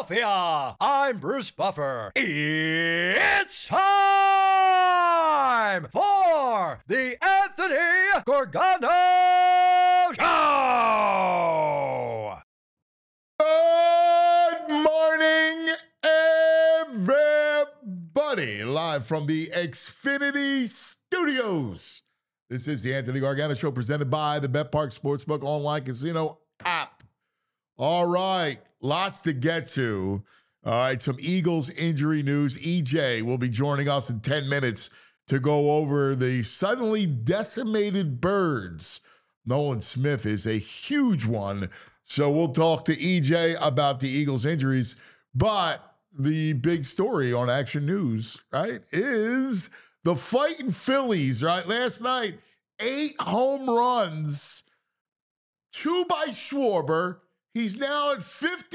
Philadelphia. I'm Bruce Buffer. It's time for the Anthony Gorgano Show. Good morning, everybody. Live from the Xfinity Studios. This is the Anthony Gargano Show presented by the BetPark Sportsbook Online Casino app. All right, lots to get to. All right, some Eagles injury news. EJ will be joining us in 10 minutes to go over the suddenly decimated Birds. Nolan Smith is a huge one, so we'll talk to EJ about the Eagles injuries. But the big story on Action News, right, is the fighting Phillies, right? Last night, 8 home runs, 2 by Schwarber. He's now at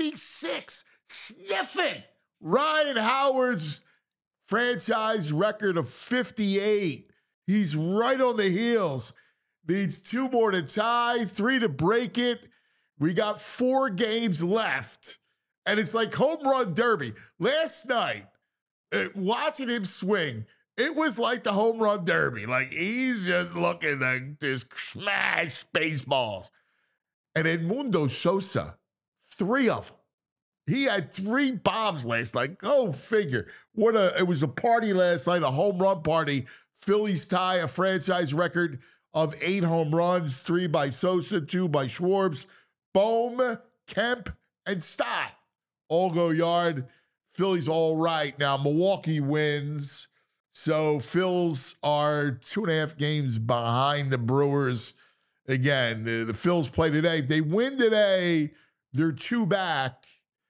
56, sniffing Ryan Howard's franchise record of 58. He's right on the heels. Needs 2 more to tie, 3 to break it. We got 4 games left, and it's like home run derby. Last night, watching him swing, it was like the home run derby. Like, he's just looking to just smash baseballs. And Edmundo Sosa, 3 of them. He had 3 bombs last night. Go figure. It was a party last night, a home run party. Phillies tie a franchise record of 8 home runs, 3 by Sosa, 2 by Schwartz. Bohm, Kemp, and Stott all go yard. Phillies all right. Now, Milwaukee wins. So Phils are 2.5 games behind the Brewers. Again, the Phils play today. If they win today, they're 2 back.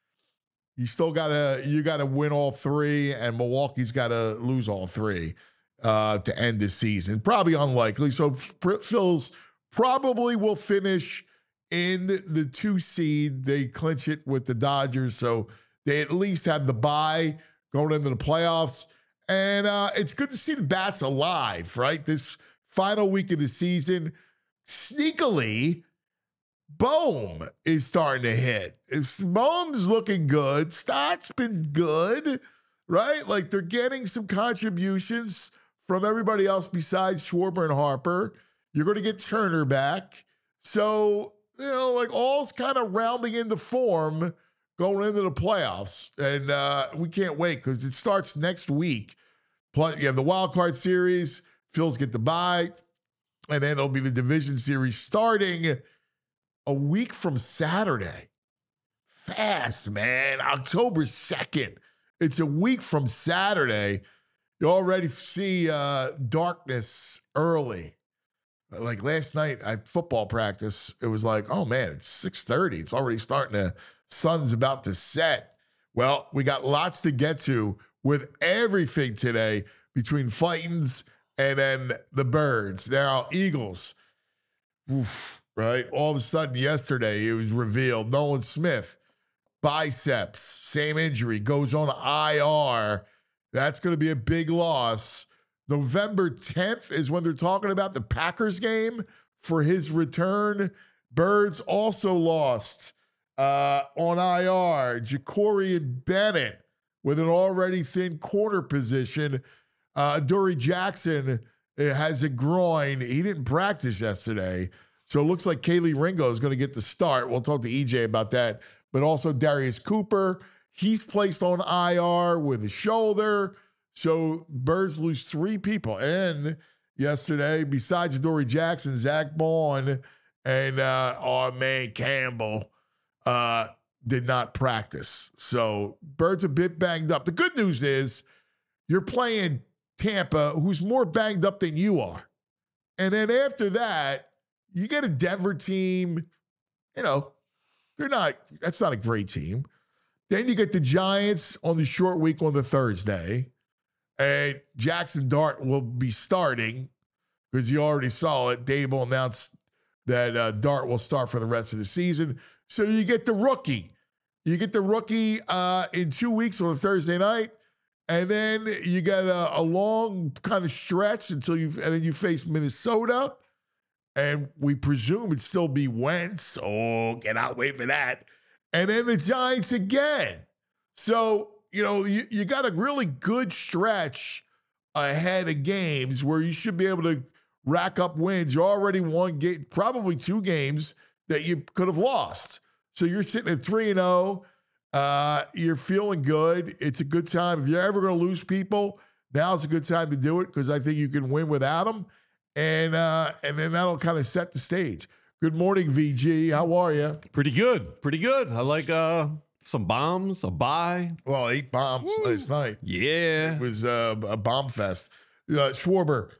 You gotta win all 3, and Milwaukee's got to lose all 3 to end the season. Probably unlikely. So Phils probably will finish in the 2 seed. They clinch it with the Dodgers, so they at least have the bye going into the playoffs. And it's good to see the bats alive, right? This final week of the season. Sneakily, Bohm is starting to hit. Bohm's looking good. Stott's been good, right? Like, they're getting some contributions from everybody else besides Schwarber and Harper. You're going to get Turner back. So, like, all's kind of rounding into form going into the playoffs. And we can't wait because it starts next week. Plus, you have the wild card series. Phils get the bye. And then it'll be the division series starting a week from Saturday. Fast, man. October 2nd. It's a week from Saturday. You already see darkness early. Like last night at football practice, it was like, oh, man, it's 6:30. It's already starting to, sun's about to set. Well, we got lots to get to with everything today between Fightins and then the Birds. Now, Eagles, right? All of a sudden yesterday, it was revealed Nolan Smith, biceps, same injury, goes on IR. That's going to be a big loss. November 10th is when they're talking about the Packers game for his return. Birds also lost on IR. Ja'Cory Bennett with an already thin corner position. Dory Jackson has a groin. He didn't practice yesterday. So it looks like Kaylee Ringo is going to get the start. We'll talk to EJ about that. But also Darius Cooper, he's placed on IR with a shoulder. So Birds lose 3 people. And yesterday, besides Dory Jackson, Zach Bond and our man Campbell did not practice. So Birds a bit banged up. The good news is you're playing Tampa, who's more banged up than you are. And then after that, you get a Denver team, that's not a great team. Then you get the Giants on the short week on the Thursday. And Jackson Dart will be starting because you already saw it. Dable announced that Dart will start for the rest of the season. So you get the rookie. You get the rookie in 2 weeks on a Thursday night. And then you got a long kind of stretch and then you face Minnesota. And we presume it'd still be Wentz. Oh, cannot wait for that. And then the Giants again. So, you got a really good stretch ahead of games where you should be able to rack up wins. You already won probably 2 games that you could have lost. So you're sitting at 3-0. You're feeling good. It's a good time. If you're ever going to lose people, now's a good time to do it because I think you can win without them. And then that'll kind of set the stage. Good morning, VG. How are you? Pretty good. Pretty good. I like some bombs, a bye. Well, 8 bombs last night. Yeah. It was a bomb fest. Schwarber,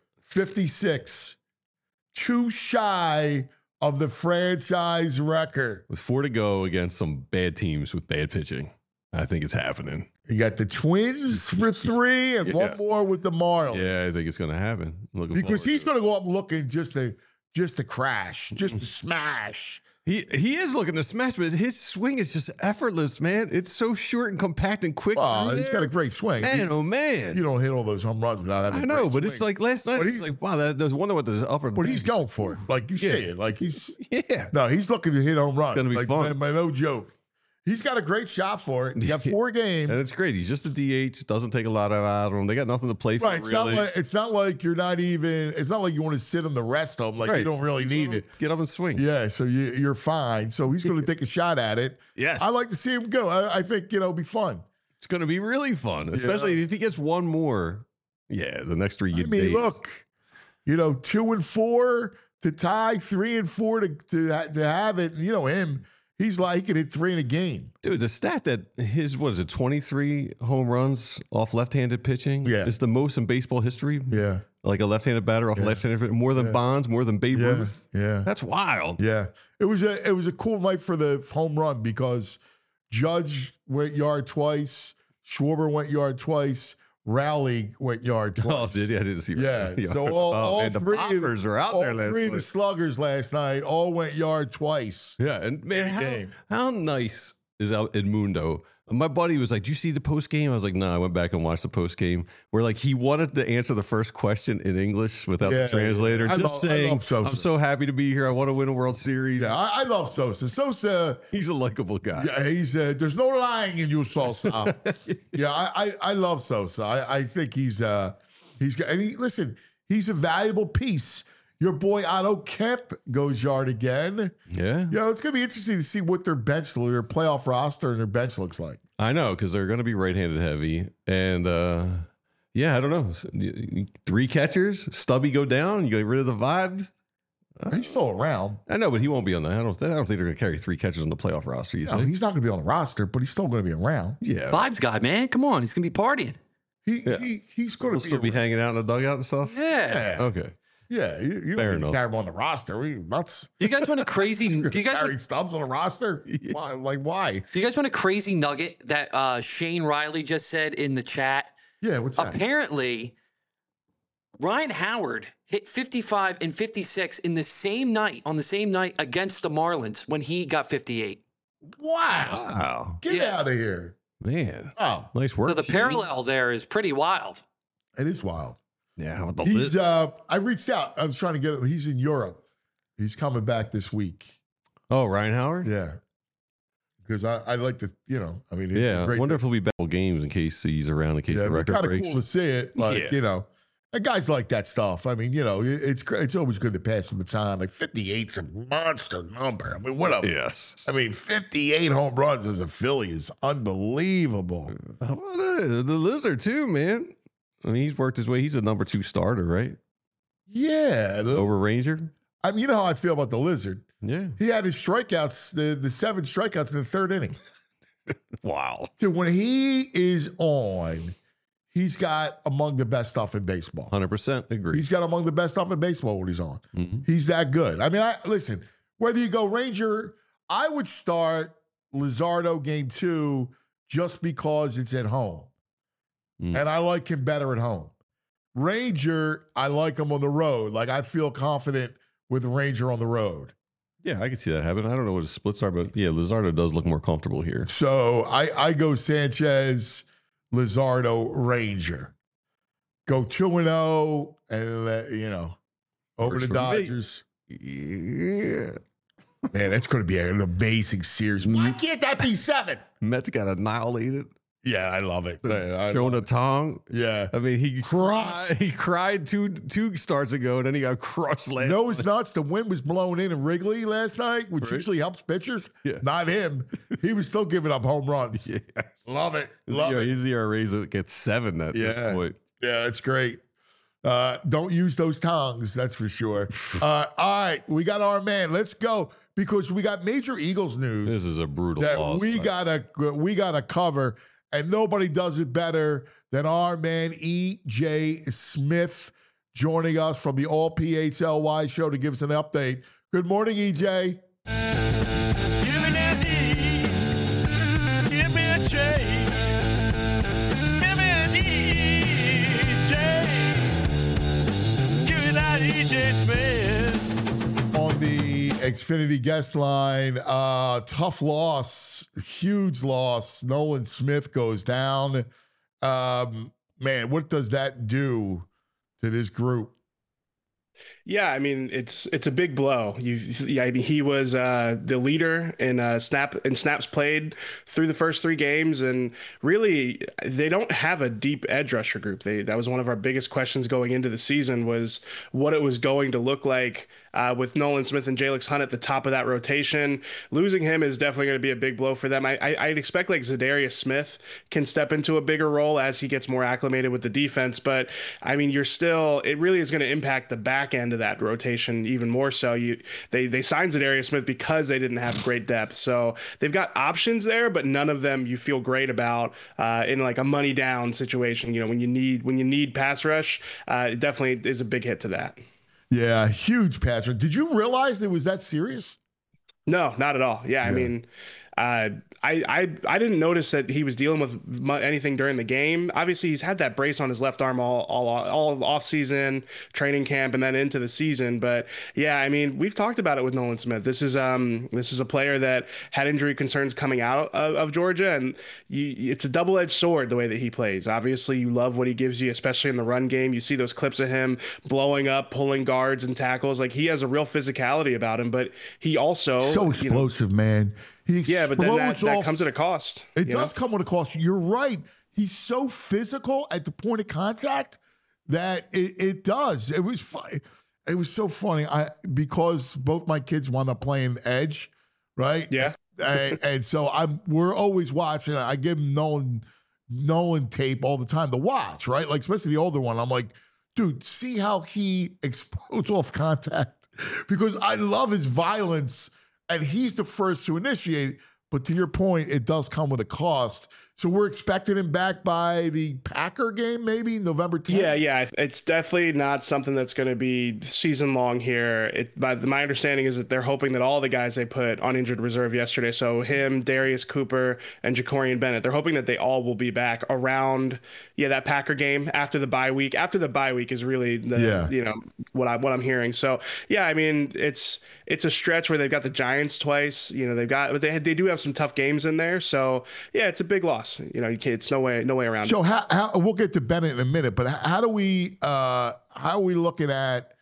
56. Too shy of the franchise record. With 4 to go against some bad teams with bad pitching. I think it's happening. You got the Twins for 3 and one more with the Marlins. Yeah, I think it's going to happen. Because he's going to go up looking just to crash, just to smash. He is looking to smash, but his swing is just effortless, man. It's so short and compact and quick. Oh, he's got a great swing. Man. You don't hit all those home runs without having I know, but swing. It's like last night. It's like, wow, there's wonder what the upper. But he's going for it. Like you say it. Like he's. Yeah. No, he's looking to hit home runs. It's going to be fun. Man, no joke. He's got a great shot for it. He got 4 games. And it's great. He's just a DH. Doesn't take a lot out of him. They got nothing to play for, right. really. It's not like you're not even, it's not like you want to sit him the rest of them. Like you don't really need it. Get up and swing. Yeah, so you're fine. So he's going to take a shot at it. Yes. I like to see him go. I think, it'll be fun. It's going to be really fun, especially if he gets one more. Yeah, the next 3 days. Look, 2 and 4 to tie, 3 and 4 to have it. Him. He's like, he can hit 3 in a game. Dude, the stat that his, 23 home runs off left-handed pitching is the most in baseball history. Yeah. Like a left-handed batter off left-handed, more than Bonds, more than Babe Ruth. Yeah. That's wild. Yeah. It was a cool night for the home run because Judge went yard twice, Schwarber went yard twice, Rowley went yard twice. Oh, did he? I didn't see. Yeah. Yard. So all man, 3 the poppers are out there last All 3 of the night. sluggers last night all went yard twice. Yeah, and man, how nice is Edmundo? My buddy was like, "Did you see the post game?" I was like, "No." I went back and watched the post game where like he wanted to answer the first question in English without the translator, saying, "I'm so happy to be here. I want to win a World Series." Yeah, I love Sosa. Sosa, he's a likable guy. Yeah, he's there's no lying in you, Sosa. Yeah, I love Sosa. I think he's got. And listen, he's a valuable piece. Your boy Otto Kemp goes yard again. Yeah. It's going to be interesting to see what their playoff roster and their bench looks like. I know, because they're going to be right-handed heavy. And, I don't know. 3 catchers, Stubby go down, you get rid of the vibe. He's still around. I know, but he won't be on that. I don't think they're going to carry 3 catchers on the playoff roster. You think? He's not going to be on the roster, but he's still going to be around. Yeah. Vibes guy, man. Come on. He's going to be partying. He's going to still be hanging out in the dugout and stuff? Yeah. Okay. Yeah, you Fair don't enough. carry him on the roster. Do you guys want a crazy? Do you guys carry Stubbs on the roster? Why? Why? Do you guys want a crazy nugget that Shane Riley just said in the chat? Yeah, what's that? Apparently, Ryan Howard hit 55 and 56 on the same night against the Marlins when he got 58. Wow! Get out of here, man! Oh, nice work. So the parallel there is pretty wild. It is wild. Yeah, he's. I reached out. I was trying to get him. He's in Europe. He's coming back this week. Oh, Ryan Howard. Yeah, because I like to. I mean, I wonder if he'll be back games in case he's around. In case the record kind of breaks. cool to see it. Like and guys like that stuff. I mean, it's always good to pass the baton. Like 58's a monster number. I mean, what a yes. I mean, 58 home runs as a Philly is unbelievable. How about the Lizard too, man? I mean, he's worked his way. He's a number 2 starter, right? Yeah. Over Ranger. I mean, you know how I feel about the Lizard. Yeah. He had his strikeouts, the 7 strikeouts in the 3rd inning. Wow. Dude, when he is on, he's got among the best stuff in baseball. 100% agree. He's got among the best stuff in baseball when he's on. Mm-hmm. He's that good. I mean, listen, whether you go Ranger, I would start Lizardo game 2 just because it's at home. And I like him better at home. Ranger, I like him on the road. Like, I feel confident with Ranger on the road. Yeah, I can see that happen. I don't know what his splits are, but yeah, Lizardo does look more comfortable here. So I go Sanchez, Lizardo, Ranger. Go 2-0 and over Works the for Dodgers. Yeah. Man, that's going to be an amazing series. Why can't that be 7? Mets got annihilated. Yeah, I love it. I Jonah love it. Tong. Yeah. I mean, he Crushed. He cried two starts ago, and then he got crushed last. No, it's nuts. The wind was blowing in Wrigley last night, which Right. usually helps pitchers. Yeah. Not him. He was still giving up home runs. Yeah. Love it. Love it. His ERAs gets 7 at this Yeah. point. Yeah, it's great. Don't use those tongues, that's for sure. All right, we got our man. Let's go because we got major Eagles news This is a brutal that loss. we gotta cover, and nobody does it better than our man E.J. Smith joining us from the All PHLY show to give us an update. Good morning, E.J. Give me that E, give me a J. Give me an EJ. Give me that EJ Smith. On the Xfinity guest line, tough loss, huge loss. Nolan Smith goes down. Man, what does that do to this group? Yeah, I mean it's a big blow. I mean he was the leader in snaps played through the first 3 games, and really they don't have a deep edge rusher group. That was one of our biggest questions going into the season, was what it was going to look like with Nolan Smith and Jalix Hunt at the top of that rotation. Losing him is definitely going to be a big blow for them. I'd expect like Zadarius Smith can step into a bigger role as he gets more acclimated with the defense, but I mean it really is going to impact the back end of that rotation even more so. They signed Zadarius Smith because they didn't have great depth, so they've got options there, but none of them you feel great about in like a money down situation. You know, when you need pass rush, it definitely is a big hit to that. Yeah, huge pass rush. Did you realize it was that serious? No, not at all. Yeah. I mean, I didn't notice that he was dealing with anything during the game. Obviously, he's had that brace on his left arm all off season, training camp, and then into the season. But yeah, I mean, we've talked about it with Nolan Smith. This is a player that had injury concerns coming out of Georgia, and it's a double-edged sword the way that he plays. Obviously, you love what he gives you, especially in the run game. You see those clips of him blowing up, pulling guards and tackles. Like, he has a real physicality about him, but he also So explosive, man. Yeah, but then that comes at a cost. It does come with a cost. You're right. He's so physical at the point of contact that it does. It was fun. It was so funny. Because both my kids wound up playing edge, right? Yeah. and so we're always watching. I give them Nolan tape all the time to watch, right? Like especially the older one. I'm like, dude, see how he explodes off contact, because I love his violence. And he's the first to initiate. But to your point, it does come with a cost. So we're expecting him back by the Packer game, maybe November 10th? Yeah. It's definitely not something that's going to be season long here. My understanding is that they're hoping that all the guys they put on injured reserve yesterday, so him, Darius Cooper, and Jacorian Bennett, they're hoping that they all will be back around that Packer game after the bye week. After the bye week is really what I'm hearing. So yeah, I mean it's a stretch where they've got the Giants twice. But they do have some tough games in there. So yeah, it's a big loss. It's no way around it. So how we'll get to Bennett in a minute, but how are we looking at,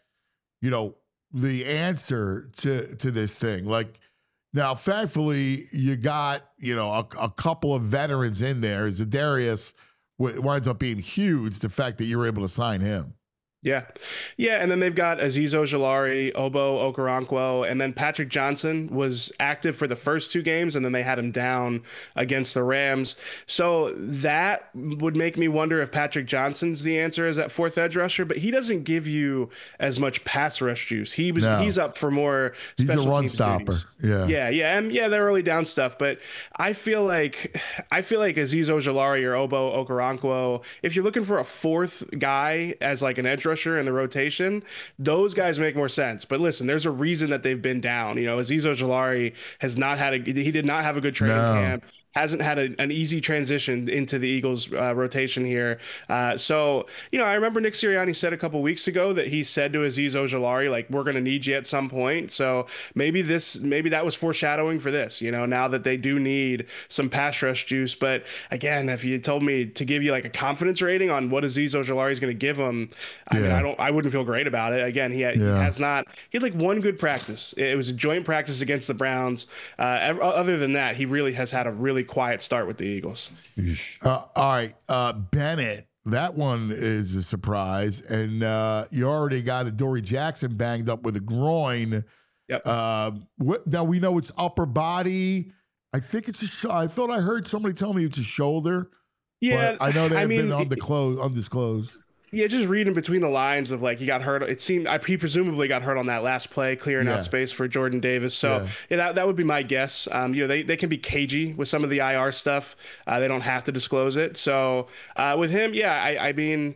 the answer to this thing? Like, now, thankfully, you got, a couple of veterans in there. Zadarius winds up being huge, the fact that you were able to sign him. Yeah. And then they've got Azeez Ojulari, Obo Okoronkwo, and then Patrick Johnson was active for the first 2 games, and then they had him down against the Rams. So that would make me wonder if Patrick Johnson's the answer as that 4th edge rusher, but he doesn't give you as much pass rush juice. He's up for more special He's a run teams stopper. duties. Yeah. And the early down stuff, but I feel like Azeez Ojulari or Obo Okoronkwo, if you're looking for a 4th guy as like an edge rusher in the rotation, those guys make more sense. But listen, there's a reason that they've been down. Azeez Ojulari he did not have a good training camp. Hasn't had an easy transition into the Eagles rotation here. So I remember Nick Sirianni said a couple weeks ago that he said to Azeez Ojulari, like, we're going to need you at some point. So maybe that was foreshadowing for this, now that they do need some pass rush juice. But again, if you told me to give you like a confidence rating on what Azeez Ojulari is going to give him, I wouldn't feel great about it. Again, he had like one good practice. It was a joint practice against the Browns. Other than that, he really has had a really quiet start with the Eagles. All right, Bennett. That one is a surprise, and you already got Adoree Jackson banged up with a groin. Yep. Now we know it's upper body. I think it's I thought I heard somebody tell me it's a shoulder. Yeah, but I know they've been undisclosed. Yeah, just reading between the lines of like he got hurt. It seemed he presumably got hurt on that last play, clearing out space for Jordan Davis. So that would be my guess. They can be cagey with some of the IR stuff. They don't have to disclose it. So with him, I mean,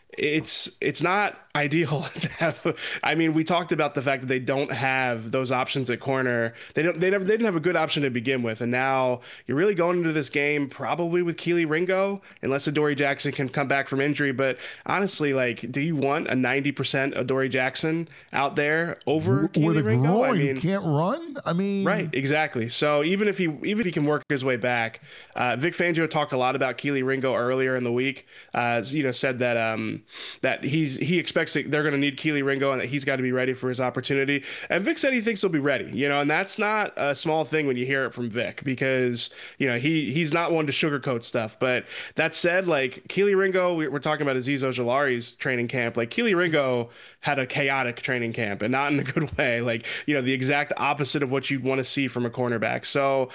it's not ideal to have. I mean, we talked about the fact that they don't have those options at corner. They didn't have a good option to begin with, and now you're really going into this game probably with Kelee Ringo, unless Adoree Jackson can come back from injury. But honestly, like, do you want a 90% Adoree Jackson out there over Kelee Ringo? Groin, I mean, he can't run. I mean, right, exactly. So even if he can work his way back, Vic Fangio talked a lot about Kelee Ringo earlier in the week. Said that he expects that they're going to need Kelee Ringo and that he's got to be ready for his opportunity. And Vic said he thinks he'll be ready, and that's not a small thing when you hear it from Vic, because, he's not one to sugarcoat stuff. But that said, like, Kelee Ringo, we're talking about Azeez Ojulari's training camp. Like, Kelee Ringo had a chaotic training camp, and not in a good way. Like, the exact opposite of what you'd want to see from a cornerback. So,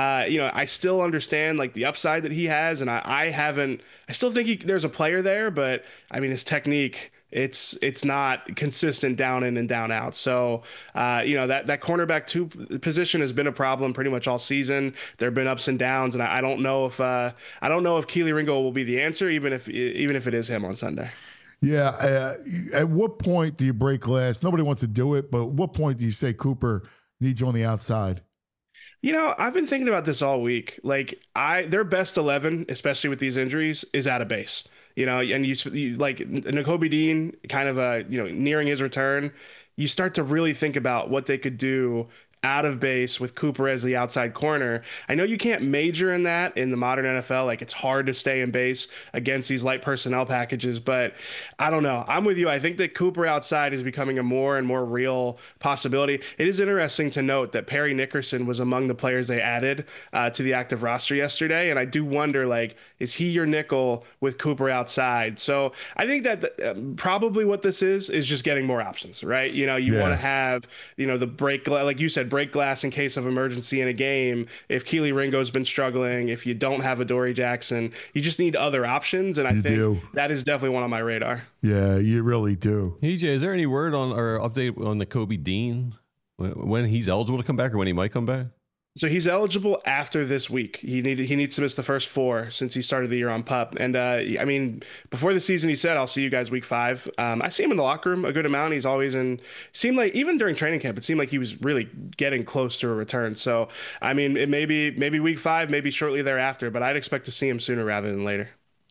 I still understand like the upside that he has. And I still think there's a player there, but I mean, his technique, it's not consistent down in and down out. So, that cornerback 2 position has been a problem pretty much all season. There have been ups and downs, and I don't know if Kelee Ringo will be the answer, even if it is him on Sunday. Yeah. At what point do you break glass? Nobody wants to do it, but at what point do you say Cooper needs you on the outside? I've been thinking about this all week. Like, their best 11, especially with these injuries, is out of base. And you like Nakobe Dean kind of nearing his return. You start to really think about what they could do out of base with Cooper as the outside corner. I know you can't major in that in the modern NFL. Like, it's hard to stay in base against these light personnel packages, but I don't know. I'm with you. I think that Cooper outside is becoming a more and more real possibility. It is interesting to note that Perry Nickerson was among the players they added to the active roster yesterday. And I do wonder, like, is he your nickel with Cooper outside? So I think that probably what this is just getting more options, right? You want to have, the break, like you said, break glass in case of emergency in a game. If Kelee Ringo's been struggling, if you don't have Adoree Jackson, you just need other options. And I think that is definitely one on my radar. Yeah, you really do. EJ, is there any word on or update on Nakobe Dean when he's eligible to come back or when he might come back? So he's eligible after this week. He needs to miss the first 4 since he started the year on PUP. And I mean, before the season, he said, "I'll see you guys week 5." I see him in the locker room a good amount. He's always seemed like even during training camp, it seemed like he was really getting close to a return. So I mean, it maybe week 5, maybe shortly thereafter, but I'd expect to see him sooner rather than later.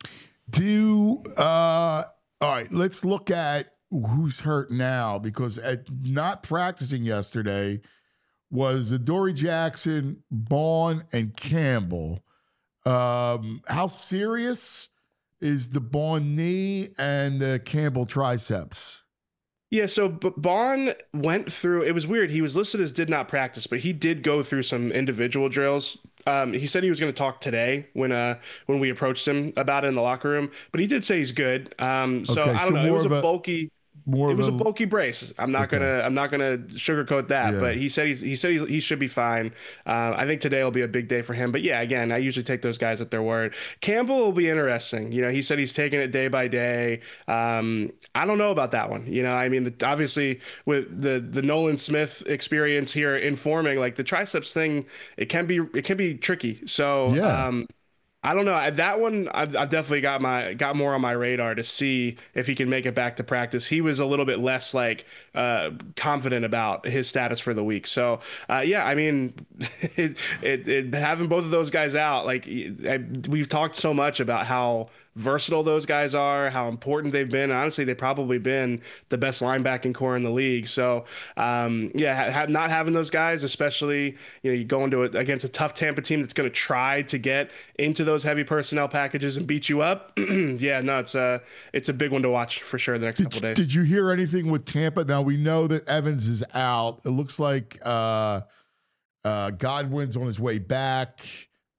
All right, let's look at who's hurt now, because at not practicing yesterday was Adoree Jackson, Bond, and Campbell. How serious is the Bond knee and the Campbell triceps? Yeah, so Bond went through, it was weird. He was listed as did not practice, but he did go through some individual drills. He said he was going to talk today when we approached him about it in the locker room, but he did say he's good. I don't know. It was a bulky brace. I'm not gonna sugarcoat that, but he said he should be fine. I think today will be a big day for him. But yeah, again, I usually take those guys at their word. Campbell will be interesting. He said he's taking it day by day. I don't know about that one. I mean, obviously with the Nolan Smith experience here informing, like the triceps thing, it can be tricky. So yeah. I don't know. That one, I've definitely got more on my radar to see if he can make it back to practice. He was a little bit less confident about his status for the week. So yeah, I mean, having both of those guys out, we've talked so much about how versatile those guys are, how important they've been. Honestly, they've probably been the best linebacking core in the league. So, not having those guys, especially, you go against a tough Tampa team that's going to try to get into those heavy personnel packages and beat you up. Yeah, no, it's a big one to watch for sure the next couple of days. Did you hear anything with Tampa? Now we know that Evans is out. It looks like Godwin's on his way back.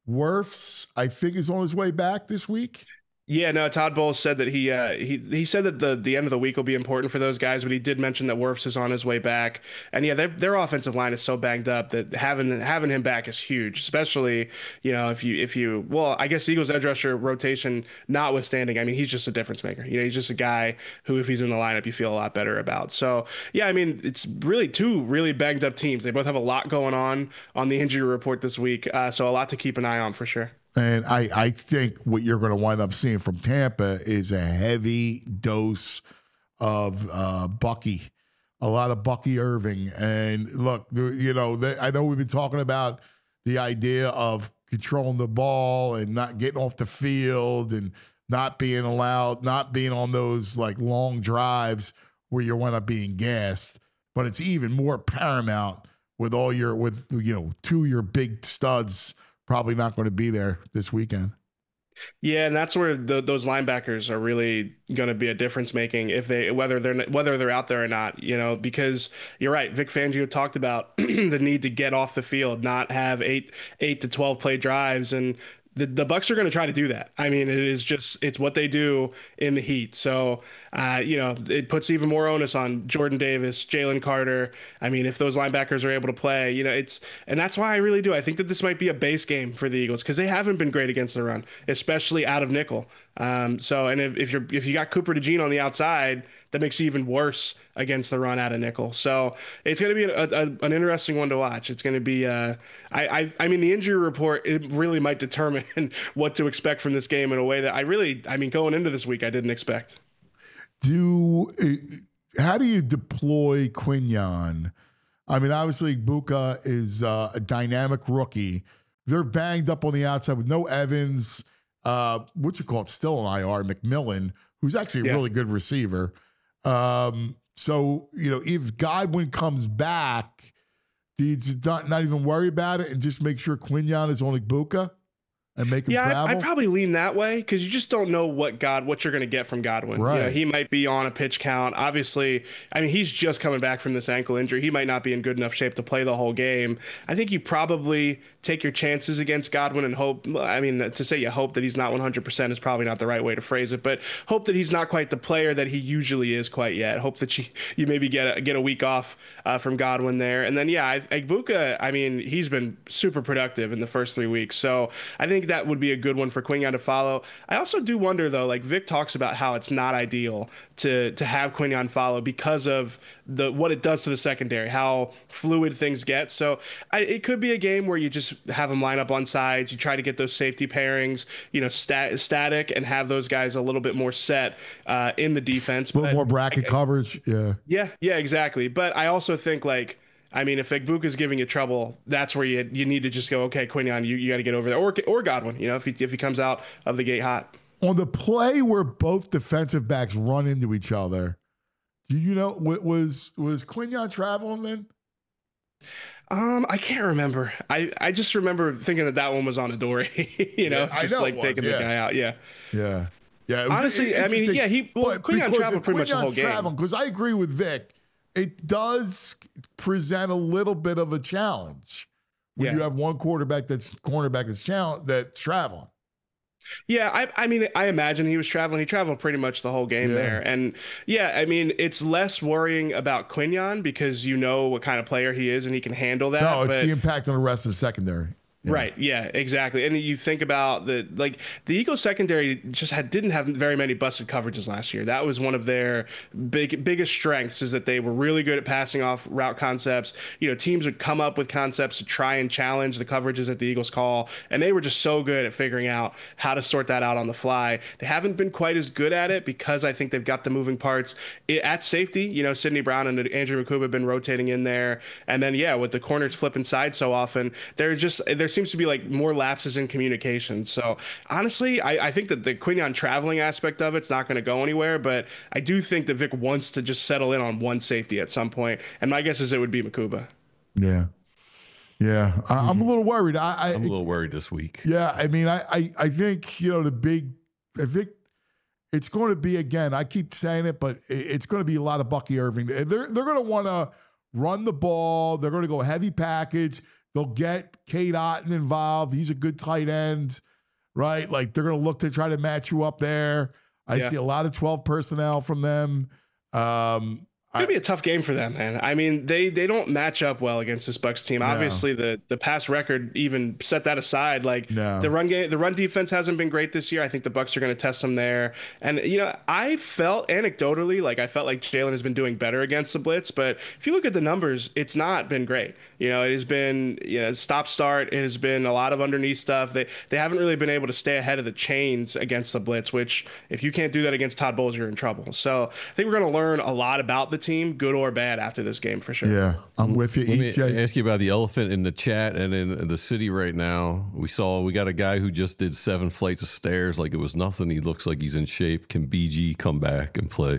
Wirfs, I think, is on his way back this week. Yeah, no, Todd Bowles said that he said that the end of the week will be important for those guys, but he did mention that Wirfs is on his way back. And yeah, their offensive line is so banged up that having him back is huge, especially, if you well, I guess Eagles edge rusher rotation notwithstanding, I mean, he's just a difference maker. He's just a guy who, if he's in the lineup, you feel a lot better about. So yeah, I mean, it's really two really banged up teams. They both have a lot going on the injury report this week, so a lot to keep an eye on for sure. And I think what you're going to wind up seeing from Tampa is a heavy dose of Bucky, a lot of Bucky Irving. And look, I know we've been talking about the idea of controlling the ball and not getting off the field and not being on those like long drives where you wind up being gassed. But it's even more paramount with two of your big studs probably not going to be there this weekend. Yeah, and that's where those linebackers are really going to be a difference making whether they're out there or not. Because you're right, Vic Fangio talked about the need to get off the field, not have 8 to 12 play drives, and the Bucs are going to try to do that. I mean, it's what they do in the heat. So, it puts even more onus on Jordan Davis, Jalen Carter. I mean, if those linebackers are able to play, and that's why I really do. I think that this might be a base game for the Eagles because they haven't been great against the run, especially out of nickel. And if you got Cooper DeJean on the outside, that makes you even worse against the run out of nickel. So it's going to be an interesting one to watch. It's going to be, I mean, the injury report, it really might determine what to expect from this game in a way that going into this week, I didn't expect. How do you deploy Quinyon? I mean, obviously Buka is a dynamic rookie. They're banged up on the outside with no Evans. Still an IR, McMillan, who's actually a really good receiver. So, if Godwin comes back, do you not even worry about it and just make sure Quinyon is on Buka and make him travel? I'd probably lean that way because you just don't know what you're going to get from Godwin. Right. He might be on a pitch count. Obviously, I mean, he's just coming back from this ankle injury. He might not be in good enough shape to play the whole game. I think you probably take your chances against Godwin and hope. I mean, to say you hope that he's not 100% is probably not the right way to phrase it, but hope that he's not quite the player that he usually is quite yet. Hope that you maybe get a week off from Godwin there. And then, Egbuka, I mean, he's been super productive in the first 3 weeks. So I think that would be a good one for Quinyon to follow. I also do wonder, though, like Vic talks about how it's not ideal to have Quinyon follow because of what it does to the secondary, how fluid things get. So it could be a game where you just have them line up on sides. You try to get those safety pairings, static, and have those guys a little bit more set in the defense. A little more bracket coverage. Yeah, exactly. But I also think if Egbuka is giving you trouble, that's where you need to just go, okay, Quinyon, you got to get over there, or Godwin, if he comes out of the gate hot. On the play where both defensive backs run into each other, do you know was Quinyon traveling then? I can't remember. I just remember thinking that one was on Adoree. Taking the guy out. Yeah. Honestly, Quinyon traveled pretty much the whole game. Because I agree with Vic. It does present a little bit of a challenge when you have one cornerback that's traveling. Yeah, I imagine he was traveling. He traveled pretty much the whole game there. And it's less worrying about Quinyon because you know what kind of player he is and he can handle that. No, it's the impact on the rest of the secondary. Yeah. Right. Yeah, exactly. And you think about the Eagles secondary just didn't have very many busted coverages last year. That was one of their biggest strengths, is that they were really good at passing off route concepts. Teams would come up with concepts to try and challenge the coverages that the Eagles call, and they were just so good at figuring out how to sort that out on the fly. They haven't been quite as good at it because I think they've got the moving parts at safety. Sidney Brown and Andrew McCoob have been rotating in there, and then with the corners flipping sides so often, there seems to be more lapses in communication. So honestly, I think that the Quinyon traveling aspect of it's not going to go anywhere, but I do think that Vic wants to just settle in on one safety at some point, and my guess is it would be Makuba. Yeah. I'm a little worried. I'm a little worried this week. Yeah, I mean, I think I think it's going to be, again, I keep saying it, but it's going to be a lot of Bucky Irving. They're going to want to run the ball. They're going to go heavy package. They'll get Cade Otton involved. He's a good tight end, right? Like they're going to look to try to match you up there. I see a lot of 12 personnel from them. It's going to be a tough game for them, man. I mean, they don't match up well against this Bucs team. Obviously, the past record even set that aside. Like the run defense hasn't been great this year. I think the Bucs are going to test them there. And I felt anecdotally like Jalen has been doing better against the blitz. But if you look at the numbers, it's not been great. It has been stop start. It has been a lot of underneath stuff. They haven't really been able to stay ahead of the chains against the blitz. Which if you can't do that against Todd Bowles, you're in trouble. So I think we're going to learn a lot about the team, good or bad, after this game for sure. Yeah, I'm with you. Let me ask you about the elephant in the chat and in the city right now. We got a guy who just did 7 flights of stairs like it was nothing. He looks like he's in shape. Can BG come back and play?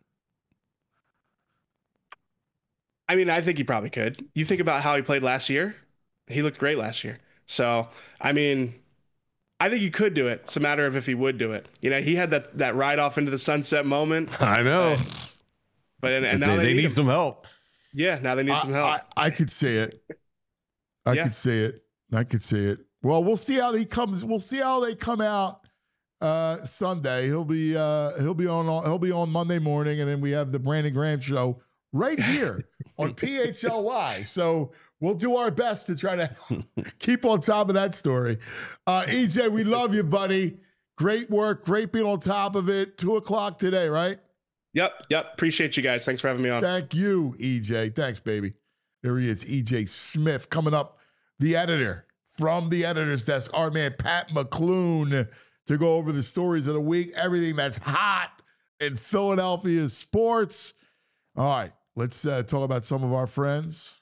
I mean, I think he probably could. You think about how he played last year. He looked great last year. So, I mean, I think he could do it. It's a matter of if he would do it. He had that ride off into the sunset moment. I know. But now they need some help. Yeah, now they need some help. I could see it. I could see it. Well, we'll see how he comes. We'll see how they come out Sunday. He'll be on Monday morning, and then we have the Brandon Graham show right here on PHLY. So we'll do our best to try to keep on top of that story. EJ, we love you, buddy. Great work. Great being on top of it. 2:00 today, right? Yep. Appreciate you guys. Thanks for having me on. Thank you, EJ. Thanks, baby. There he is, EJ Smith, coming up, the editor from the editor's desk, our man Pat McClune, to go over the stories of the week, everything that's hot in Philadelphia sports. All right, let's talk about some of our friends.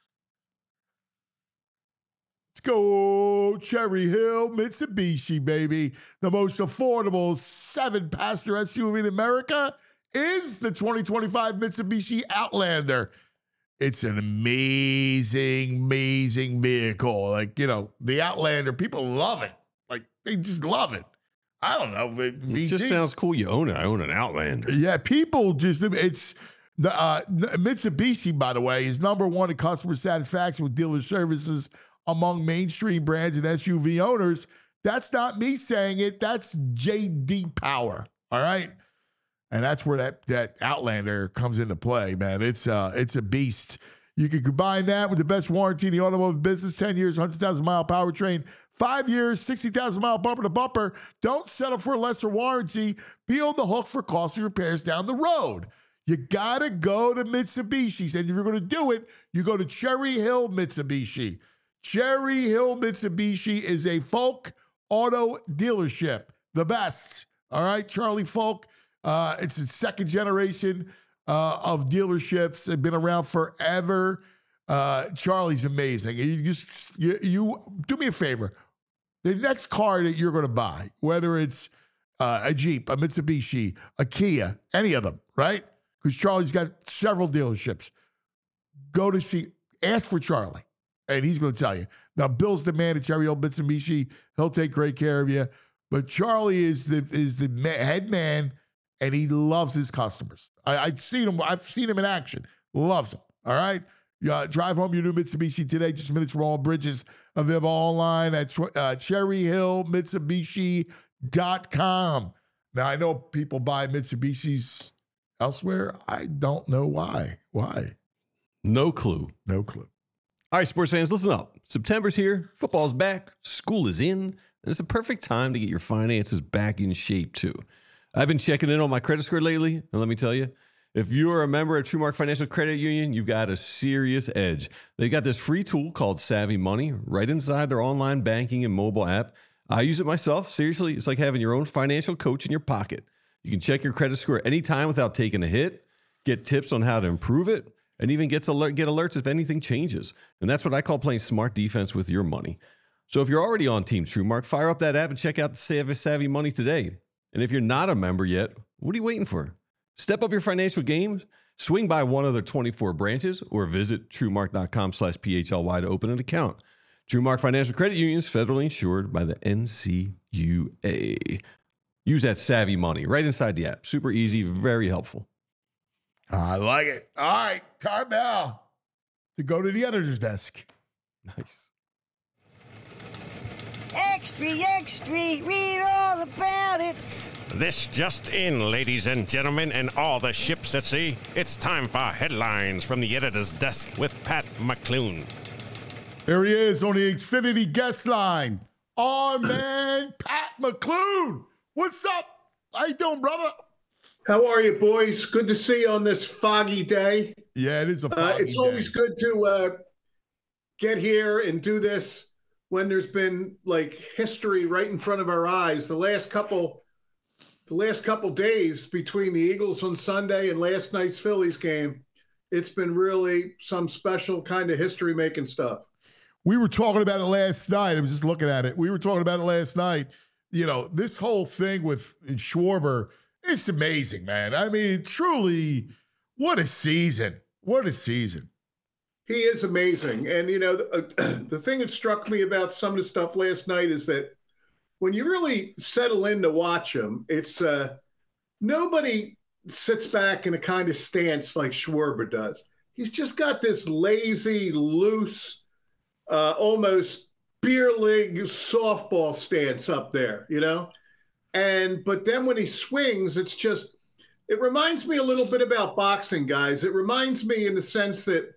Let's go Cherry Hill Mitsubishi, baby. The most affordable 7-passenger SUV in America is the 2025 Mitsubishi Outlander. It's an amazing vehicle. Like, the Outlander, people love it. Like, they just love it. I don't know. It just sounds cool. You own it. I own an Outlander. Yeah, people it's the Mitsubishi, by the way, is #1 in customer satisfaction with dealer services among mainstream brands and SUV owners. That's not me saying it. That's J.D. Power. All right. And that's where that Outlander comes into play, man. It's a beast. You can combine that with the best warranty in the automotive business, 10 years, 100,000-mile powertrain, 5 years, 60,000-mile bumper-to-bumper. Don't settle for a lesser warranty. Be on the hook for costly repairs down the road. You got to go to Mitsubishi's. And if you're going to do it, you go to Cherry Hill Mitsubishi. Cherry Hill Mitsubishi is a Folk auto dealership. The best. All right, Charlie Folk. It's the second generation of dealerships. They've been around forever. Charlie's amazing. You do me a favor. The next car that you're going to buy, whether it's a Jeep, a Mitsubishi, a Kia, any of them, right? Because Charlie's got several dealerships. Ask for Charlie, and he's going to tell you. Now, Bill's the man at Cherry Hill Mitsubishi. He'll take great care of you. But Charlie is the head man, and he loves his customers. I've seen him in action. Loves them. All right? Drive home your new Mitsubishi today, just minutes from all bridges. Available online at cherryhillmitsubishi.com. Now, I know people buy Mitsubishis elsewhere. I don't know why. Why? No clue. No clue. All right, sports fans, listen up. September's here. Football's back. School is in. And it's a perfect time to get your finances back in shape, too. I've been checking in on my credit score lately, and let me tell you, if you are a member of TrueMark Financial Credit Union, you've got a serious edge. They've got this free tool called Savvy Money right inside their online banking and mobile app. I use it myself. Seriously, it's like having your own financial coach in your pocket. You can check your credit score anytime without taking a hit, get tips on how to improve it, and even get alerts if anything changes. And that's what I call playing smart defense with your money. So if you're already on Team TrueMark, fire up that app and check out the Savvy Money today. And if you're not a member yet, what are you waiting for? Step up your financial game, swing by one of their 24 branches, or visit TrueMark.com/PHLY to open an account. TrueMark Financial Credit Union is federally insured by the NCUA. Use that Savvy Money right inside the app. Super easy, very helpful. I like it. All right, time now to go to the editor's desk. Nice. Extra, extra, read all about it. This just in, ladies and gentlemen, and all the ships at sea. It's time for headlines from the editor's desk with Pat McClune. There he is on the Xfinity guest line. Our man, Pat McClune. What's up? How you doing, brother? How are you, boys? Good to see you on this foggy day. Yeah, it is a foggy It's always good to get here and do this when there's been like history right in front of our eyes. The last couple days between the Eagles on Sunday and last night's Phillies game, it's been really some special kind of history-making stuff. We were talking about it last night. I was just looking at it. We were talking about it last night. You know, this whole thing with Schwarber, it's amazing, man. I mean, truly, what a season. What a season. He is amazing. And, you know, the thing that struck me about some of the stuff last night is that when you really settle in to watch him, it's nobody sits back in a kind of stance like Schwarber does. He's just got this lazy, loose, almost beer league softball stance up there, you know? But then when he swings, it reminds me a little bit about boxing, guys. It reminds me in the sense that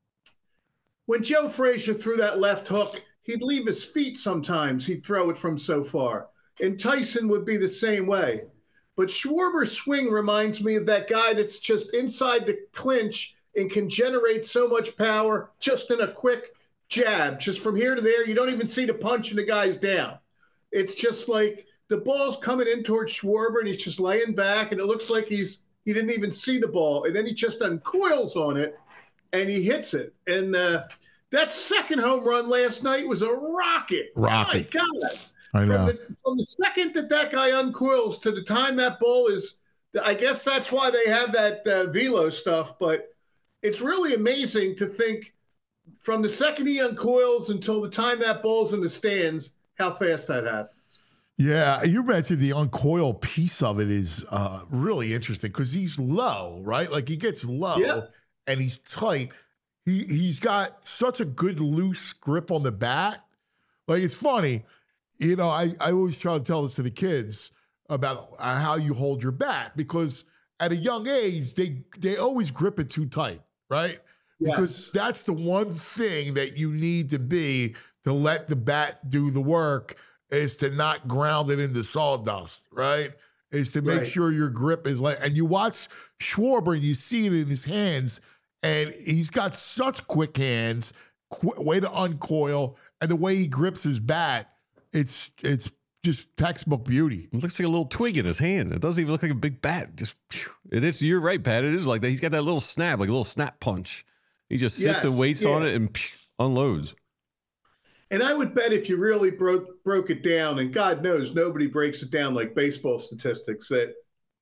when Joe Frazier threw that left hook, he'd leave his feet sometimes. He'd throw it from so far. And Tyson would be the same way. But Schwarber's swing reminds me of that guy that's just inside the clinch and can generate so much power just in a quick jab, just from here to there. You don't even see the punch and the guy's down. It's just like the ball's coming in towards Schwarber and he's just laying back and it looks like he didn't even see the ball. And then he just uncoils on it and he hits it. And that second home run last night was a rocket. My God. I know. From the second that guy uncoils to the time that ball is, I guess that's why they have that velo stuff. But it's really amazing to think from the second he uncoils until the time that ball's in the stands, how fast that happens. Yeah, you mentioned the uncoil piece of it is really interesting because he's low, right? Like he gets low and he's tight. He's got such a good loose grip on the bat. Like it's funny, you know, I always try to tell this to the kids about how you hold your bat because at a young age, they always grip it too tight, right? Because that's the one thing that you need to be to let the bat do the work is to not ground it into sawdust, right? Is to make sure your grip is like, and you watch Schwarber and you see it in his hands and he's got such quick hands, way to uncoil, and the way he grips his bat, it's just textbook beauty. It looks like a little twig in his hand. It doesn't even look like a big bat. Just, it is, you're right, Pat. It is like that. He's got that little snap, like a little snap punch. He just sits and waits on it and unloads. And I would bet if you really broke it down, and God knows nobody breaks it down like baseball statistics, that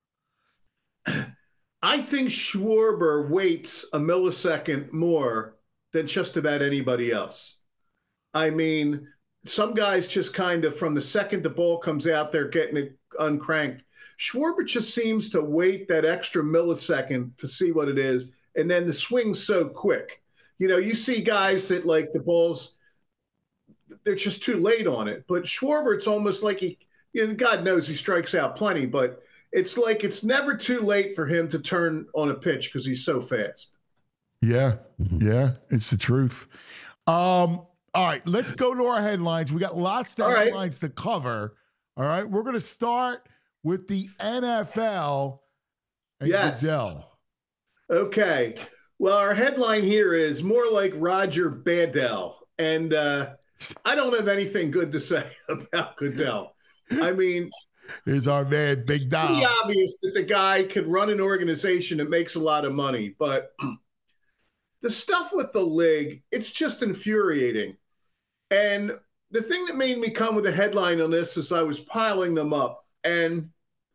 I think Schwarber waits a millisecond more than just about anybody else. I mean, some guys just kind of from the second the ball comes out, they're getting it uncranked. Schwarber just seems to wait that extra millisecond to see what it is. And then the swing's so quick. You know, you see guys that like the balls, they're just too late on it. But Schwarber, it's almost like God knows he strikes out plenty, but it's like it's never too late for him to turn on a pitch because he's so fast. Yeah, yeah, it's the truth. All right, let's go to our headlines. We got lots of headlines to cover. All right, we're going to start with the NFL and Goodell. Okay. Well, our headline here is more like Roger Badell. And I don't have anything good to say about Goodell. I mean, here's our man, Big Dom. It's pretty obvious that the guy could run an organization that makes a lot of money. But the stuff with the league, it's just infuriating. And the thing that made me come with a headline on this is I was piling them up. And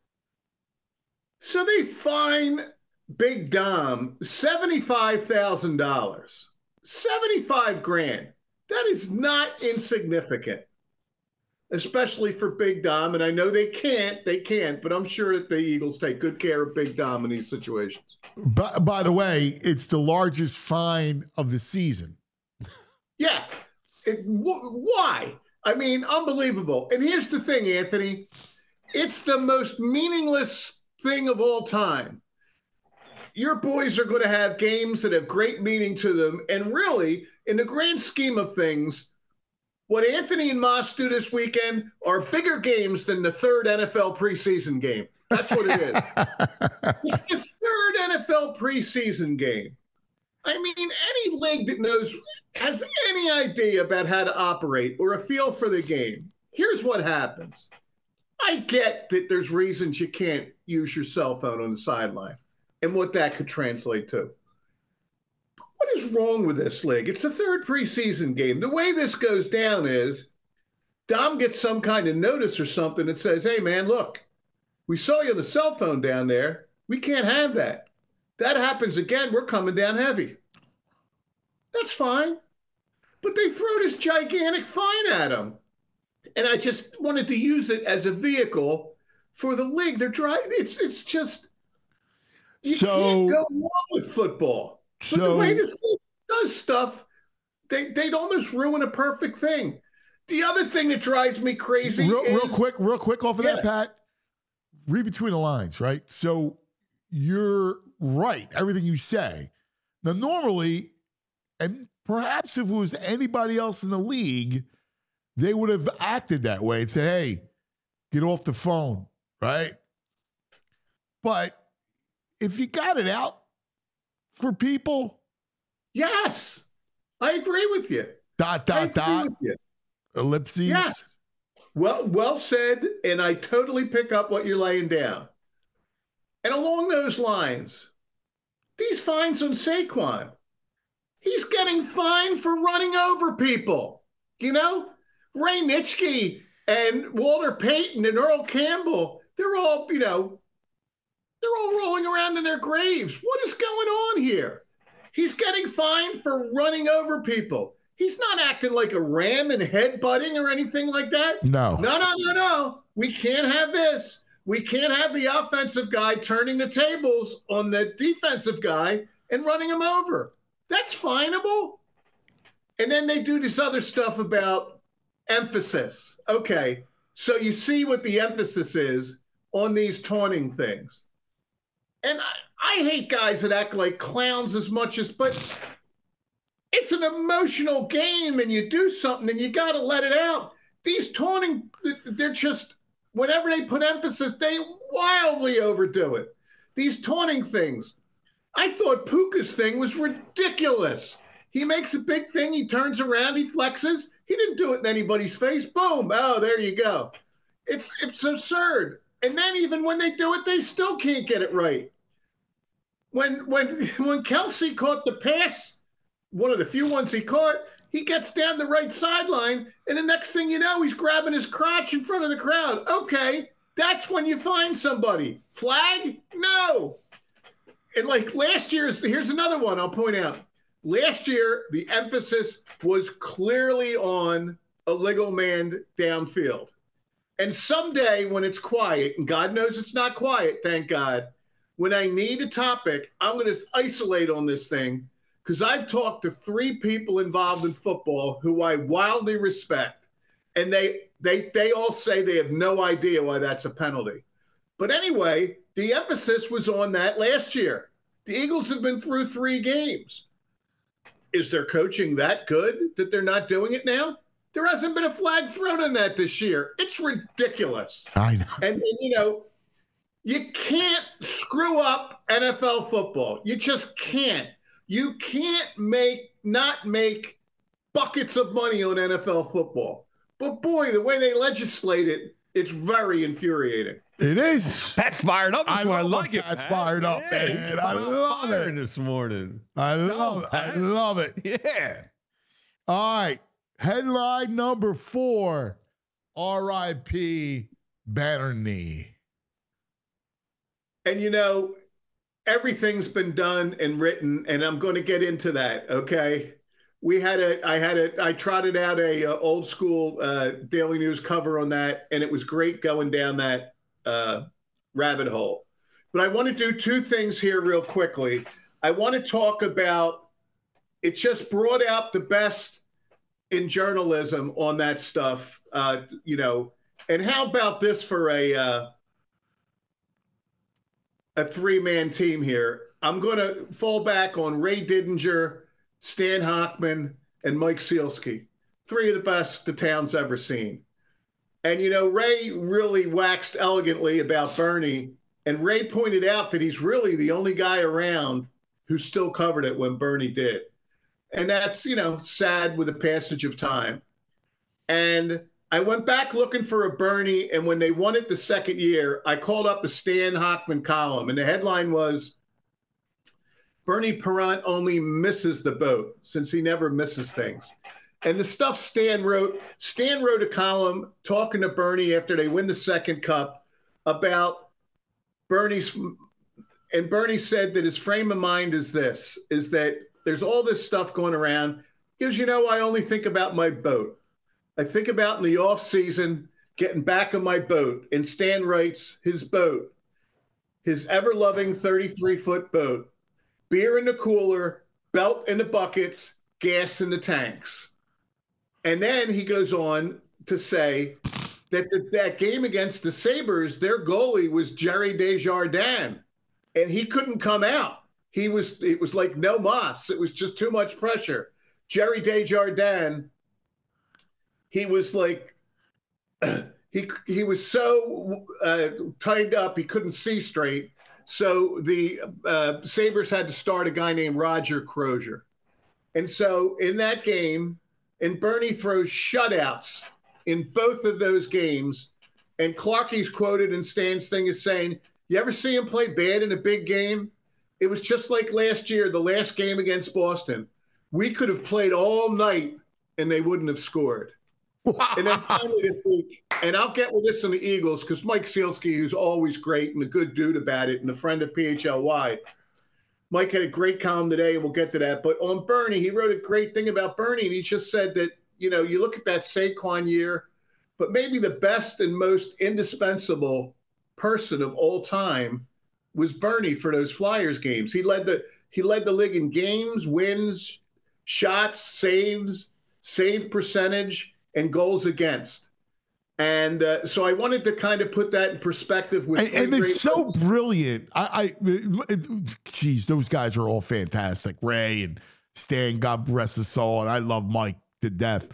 so they fine Big Dom $75,000, 75 grand. That is not insignificant, especially for Big Dom. And I know they can't, but I'm sure that the Eagles take good care of Big Dom in these situations. By the way, it's the largest fine of the season. Yeah. Why? I mean, unbelievable. And here's the thing, Anthony. It's the most meaningless thing of all time. Your boys are going to have games that have great meaning to them. And really, in the grand scheme of things, what Anthony and Moss do this weekend are bigger games than the third NFL preseason game. That's what it is. It's the third NFL preseason game. I mean, any league that has any idea about how to operate or a feel for the game, here's what happens. I get that there's reasons you can't use your cell phone on the sideline and what that could translate to. What is wrong with this league? It's the third preseason game. The way this goes down is Dom gets some kind of notice or something that says, hey, man, look, we saw you on the cell phone down there. We can't have that. That happens again, we're coming down heavy. That's fine. But they throw this gigantic fine at them. And I just wanted to use it as a vehicle for the league. They're trying. It's just you can't go wrong with football. But the way this league does stuff, they'd almost ruin a perfect thing. The other thing that drives me crazy real quick off of that, Pat. Read between the lines, right? So you're right, everything you say. Now, normally, and perhaps if it was anybody else in the league, they would have acted that way and said, hey, get off the phone, right? But if you got it out for people. Yes, I agree with you. Ellipses. Yes. Well said, and I totally pick up what you're laying down. And along those lines, these fines on Saquon, he's getting fined for running over people. You know, Ray Nitschke and Walter Payton and Earl Campbell, they're all rolling around in their graves. What is going on here? He's getting fined for running over people. He's not acting like a ram and headbutting or anything like that. No. We can't have this. We can't have the offensive guy turning the tables on the defensive guy and running him over. That's fineable. And then they do this other stuff about emphasis. Okay, so you see what the emphasis is on these taunting things. And I hate guys that act like clowns as much as, but it's an emotional game and you do something and you got to let it out. These taunting, they're just, whenever they put emphasis, they wildly overdo it. These taunting things. I thought Puka's thing was ridiculous. He makes a big thing. He turns around. He flexes. He didn't do it in anybody's face. Boom. Oh, there you go. It's absurd. And then even when they do it, they still can't get it right. When Kelsey caught the pass, one of the few ones he caught, he gets down the right sideline, and the next thing you know, he's grabbing his crotch in front of the crowd. Okay, that's when you find somebody. Flag? No. And like last year's, here's another one I'll point out. Last year, the emphasis was clearly on a legal man downfield. And someday when it's quiet, and God knows it's not quiet, thank God, when I need a topic, I'm going to isolate on this thing because I've talked to 3 people involved in football who I wildly respect, and they all say they have no idea why that's a penalty. But anyway, the emphasis was on that last year. The Eagles have been through 3 games. Is their coaching that good that they're not doing it now? There hasn't been a flag thrown on that this year. It's ridiculous. I know. And you know, you can't screw up NFL football. You just can't. You can't not make buckets of money on NFL football. But boy, the way they legislate it, it's very infuriating. It is. Pat's fired up this morning. I like it. Pat's fired up, man. I love it this morning. I love it. Yeah. All right. Headline number 4, R.I.P. Banner Knee. And you know, everything's been done and written, and I'm going to get into that. Okay. I trotted out a old school Daily News cover on that, and it was great going down that rabbit hole. But I want to do 2 things here real quickly. I want to talk about, it just brought out the best in journalism on that stuff, you know. And how about this for a three-man team here? I'm going to fall back on Ray Didinger, Stan Hochman, and Mike Sealski. Three of the best the town's ever seen. And, you know, Ray really waxed elegantly about Bernie. And Ray pointed out that he's really the only guy around who still covered it when Bernie did. And that's, you know, sad with the passage of time. And I went back looking for a Bernie, and when they won it the second year, I called up a Stan Hochman column, and the headline was, Bernie Parent only misses the boat since he never misses things. And the stuff Stan wrote a column talking to Bernie after they win the second cup about Bernie's, and Bernie said that his frame of mind is that there's all this stuff going around because, you know, I only think about my boat. I think about in the off season getting back on my boat. And Stan writes his boat, his ever-loving 33-foot boat, beer in the cooler, belt in the buckets, gas in the tanks. And then he goes on to say that that game against the Sabres, their goalie was Jerry Desjardins, and he couldn't come out. It was like no mas. It was just too much pressure. Jerry Desjardins, he was like, he was so tied up, he couldn't see straight. So the Sabres had to start a guy named Roger Crozier. And so in that game, and Bernie throws shutouts in both of those games. And Clarkie's quoted in Stan's thing as saying, you ever see him play bad in a big game? It was just like last year, the last game against Boston. We could have played all night and they wouldn't have scored. And then finally this week, and I'll get with this on the Eagles because Mike Sealski, who's always great and a good dude about it and a friend of PHLY, Mike had a great column today, and we'll get to that. But on Bernie, he wrote a great thing about Bernie, and he just said that, you know, you look at that Saquon year, but maybe the best and most indispensable person of all time was Bernie for those Flyers games. He led the league in games, wins, shots, saves, save percentage, and goals against. And so I wanted to kind of put that in perspective. And it's so brilliant. Geez, those guys are all fantastic. Ray and Stan, God rest his soul, and I love Mike to death.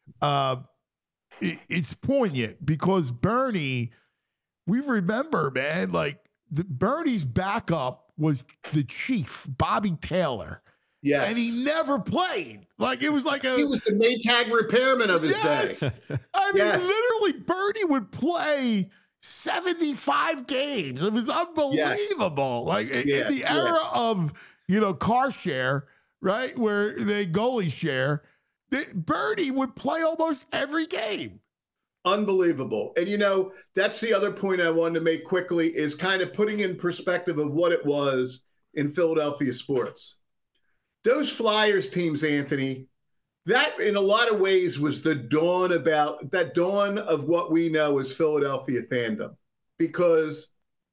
It's poignant because Bernie, we remember, man, like Bernie's backup was the Chief, Bobby Taylor. Yes. And he never played. Like, it was like he was the Maytag repairman of his day. I mean, literally, Bernie would play 75 games. It was unbelievable. Like, in the era of, you know, car share, right, where they goalie share, Bernie would play almost every game. Unbelievable. And, you know, that's the other point I wanted to make quickly is kind of putting in perspective of what it was in Philadelphia sports. Those Flyers teams, Anthony, that in a lot of ways was the dawn of what we know as Philadelphia fandom, because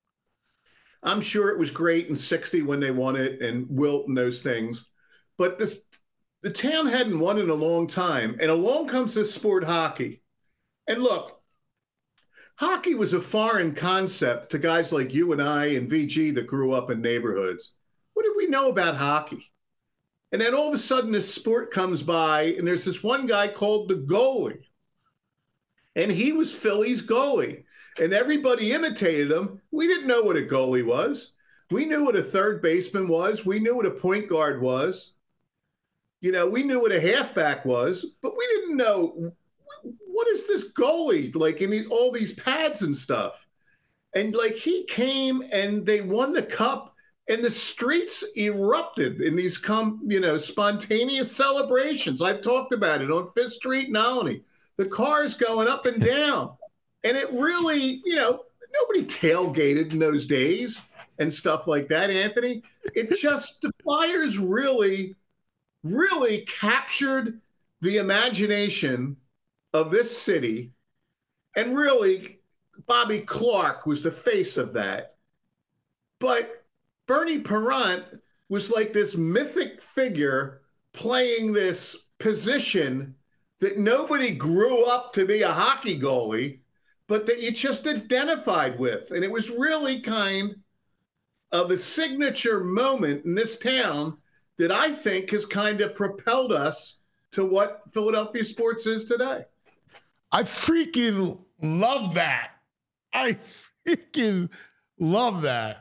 I'm sure it was great in '60 when they won it and Wilt and those things, but the town hadn't won in a long time. And along comes this sport, hockey. And look, hockey was a foreign concept to guys like you and I and VG that grew up in neighborhoods. What did we know about hockey? And then all of a sudden this sport comes by and there's this one guy called the goalie. And he was Philly's goalie. And everybody imitated him. We didn't know what a goalie was. We knew what a third baseman was. We knew what a point guard was. You know, we knew what a halfback was, but we didn't know what is this goalie like in all these pads and stuff. And like he came and they won the cup. And the streets erupted in these, spontaneous celebrations. I've talked about it on Fifth Street in Albany. The cars going up and down. And it really, nobody tailgated in those days and stuff like that, Anthony. It just, the Flyers really, really captured the imagination of this city. And really, Bobby Clarke was the face of that. But Bernie Parent was like this mythic figure playing this position that nobody grew up to be a hockey goalie, but that you just identified with. And it was really kind of a signature moment in this town that I think has kind of propelled us to what Philadelphia sports is today. I freaking love that. I freaking love that.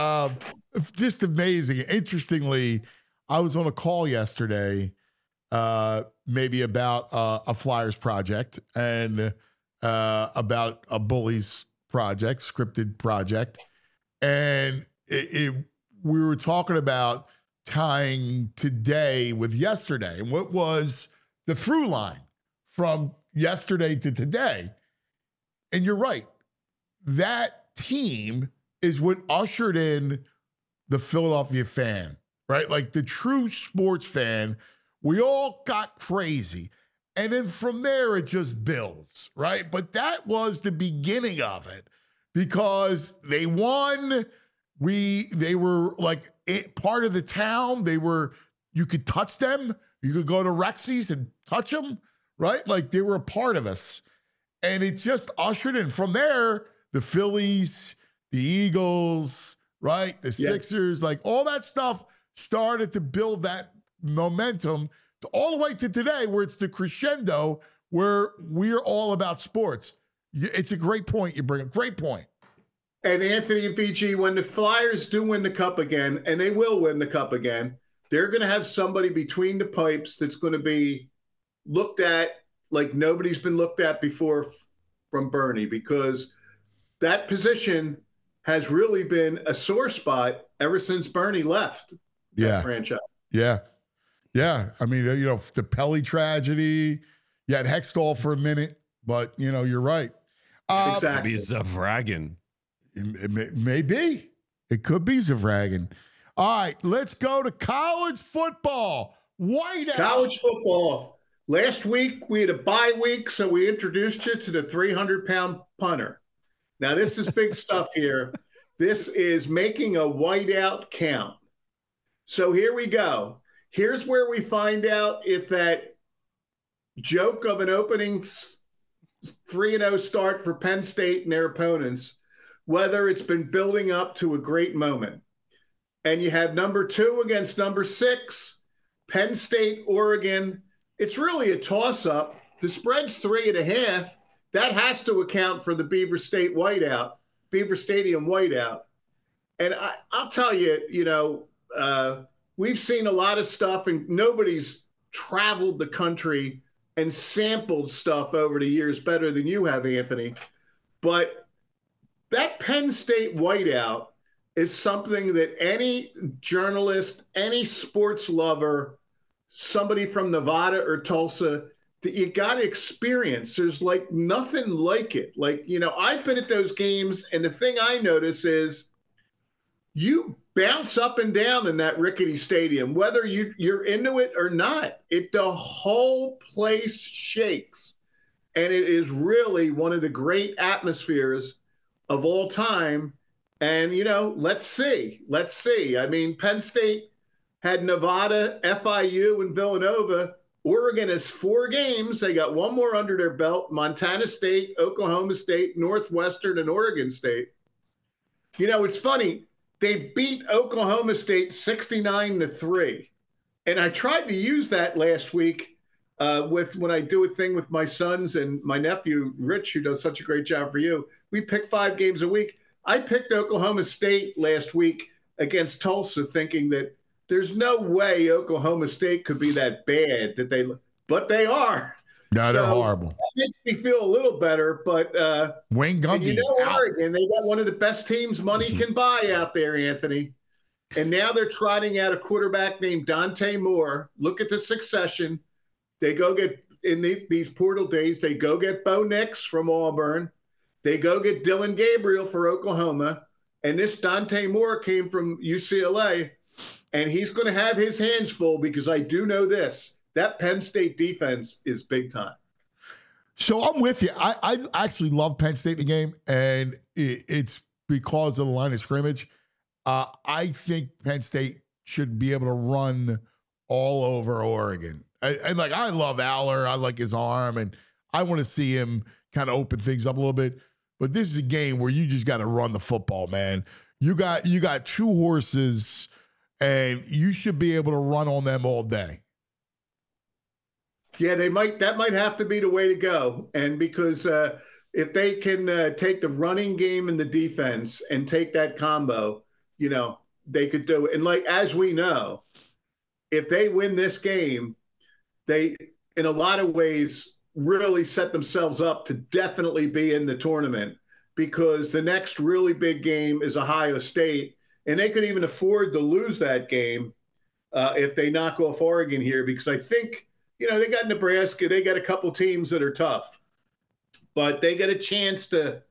Just amazing. Interestingly, I was on a call yesterday, maybe about a Flyers project and about a Bullies project, scripted project. And we were talking about tying today with yesterday and what was the through line from yesterday to today. And you're right. That team is what ushered in the Philadelphia fan, right? Like the true sports fan. We all got crazy. And then from there, it just builds, right? But that was the beginning of it because they won. They were like part of the town. You could touch them. You could go to Rexy's and touch them, right? Like they were a part of us. And it just ushered in. From there, the Phillies, the Eagles, right? The Sixers, like all that stuff started to build that momentum all the way to today where it's the crescendo where we're all about sports. It's a great point you bring up. Great point. And Anthony and VG, when the Flyers do win the cup again, and they will win the cup again, they're going to have somebody between the pipes that's going to be looked at like nobody's been looked at before from Bernie, because that position has really been a sore spot ever since Bernie left that franchise. Yeah. I mean, the Pelly tragedy, you had Hextall for a minute, but, you're right. Exactly. It could be Zavragin. It may be. It could be Zavragin. All right, let's go to college football. Whiteout. College football. Last week, we had a bye week, so we introduced you to the 300-pound punter. Now, this is big stuff here. This is making a whiteout count. So here we go. Here's where we find out if that joke of an opening 3-0 start for Penn State and their opponents, whether it's been building up to a great moment. And you have number 2 against number 6, Penn State, Oregon. It's really a toss-up. The spread's 3.5. That has to account for the Beaver Stadium whiteout. And I'll tell you, we've seen a lot of stuff, and nobody's traveled the country and sampled stuff over the years better than you have, Anthony. But that Penn State whiteout is something that any journalist, any sports lover, somebody from Nevada or Tulsa, that you got to experience. There's like nothing like it. Like, I've been at those games, and the thing I notice is you bounce up and down in that rickety stadium, whether you're into it or not. The whole place shakes. And it is really one of the great atmospheres of all time. And, let's see. I mean, Penn State had Nevada, FIU, and Villanova. Oregon has 4 games. They got 1 more under their belt: Montana State, Oklahoma State, Northwestern, and Oregon State. It's funny. They beat Oklahoma State 69-3. And I tried to use that last week when I do a thing with my sons and my nephew, Rich, who does such a great job for you. We pick 5 games a week. I picked Oklahoma State last week against Tulsa, thinking that there's no way Oklahoma State could be that bad but they are. No, they're horrible. That makes me feel a little better, but Wayne Gundy. Oregon, they got one of the best teams money can buy out there, Anthony. And now they're trotting out a quarterback named Dante Moore. Look at the succession. They go get, in these portal days, they go get Bo Nix from Auburn. They go get Dylan Gabriel for Oklahoma. And this Dante Moore came from UCLA. And he's going to have his hands full, because I do know this. That Penn State defense is big time. So I'm with you. I actually love Penn State in the game, and it's because of the line of scrimmage. I think Penn State should be able to run all over Oregon. And like, I love Aller. I like his arm, and I want to see him kind of open things up a little bit. But this is a game where you just got to run the football, man. You got 2 horses, and you should be able to run on them all day. Yeah, that might have to be the way to go. And because if they can take the running game and the defense and take that combo, they could do it. And like, as we know, if they win this game, they, in a lot of ways, really set themselves up to definitely be in the tournament, because the next really big game is Ohio State, and they could even afford to lose that game if they knock off Oregon here, because I think, they got Nebraska, they got a couple teams that are tough, but they get a chance to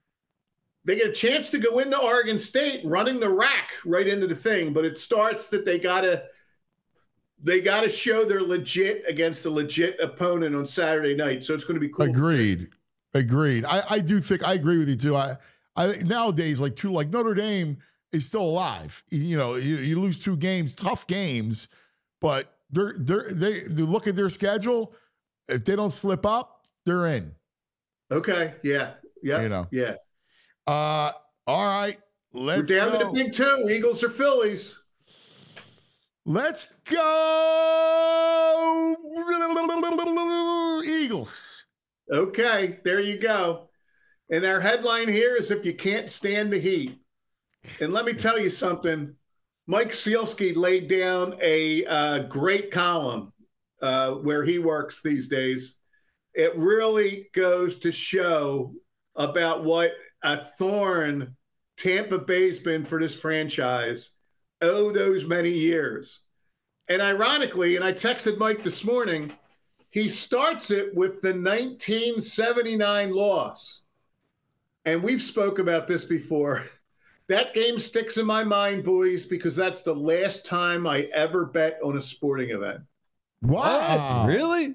go into Oregon State running the rack right into the thing. But it starts that they gotta show they're legit against a legit opponent on Saturday night. So it's going to be cool. Agreed. I do think I agree with you too. I nowadays, like Notre Dame is still alive. You lose 2 games, tough games, but they look at their schedule. If they don't slip up, they're in. Okay. Yeah. Yeah. Yeah. All right. We're down to the big 2, Eagles or Phillies. Let's go Eagles. Okay, there you go. And our headline here is, if you can't stand the heat. And let me tell you something. Mike Sealski laid down a great column where he works these days. It really goes to show about what a thorn Tampa Bay's been for this franchise those many years. And ironically, and I texted Mike this morning, he starts it with the 1979 loss. And we've spoke about this before. That game sticks in my mind, boys, because that's the last time I ever bet on a sporting event. Wow. Really?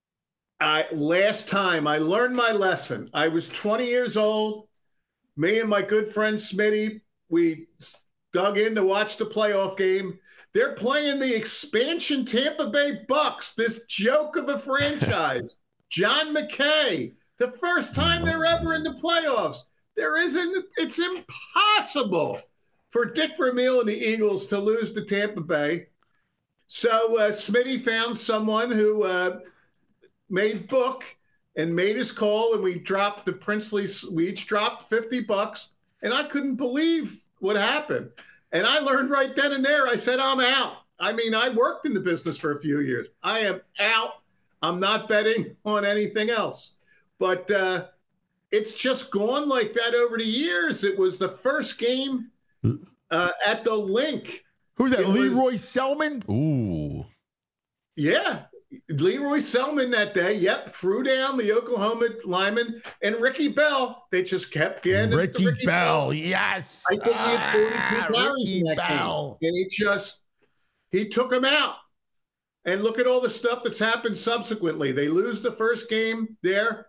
Last time I learned my lesson. I was 20 years old. Me and my good friend Smitty, we dug in to watch the playoff game. They're playing the expansion Tampa Bay Bucks, this joke of a franchise. John McKay, the first time they're ever in the playoffs. It's impossible for Dick Vermeil and the Eagles to lose to Tampa Bay. So Smitty found someone who made book and made his call, and we dropped the princely. We each dropped $50, and I couldn't believe what happened. And I learned right then and there. I said, I'm out. I mean, I worked in the business for a few years. I am out. I'm not betting on anything else. But it's just gone like that over the years. It was the first game at the Link. Who's that? Leroy Selman? Ooh. Yeah. Leroy Selman that day, yep, threw down the Oklahoma lineman, and Ricky Bell. They just kept getting Ricky Bell. Yes, I think he had 42 carries in that game, and he took him out. And look at all the stuff that's happened subsequently. They lose the first game there.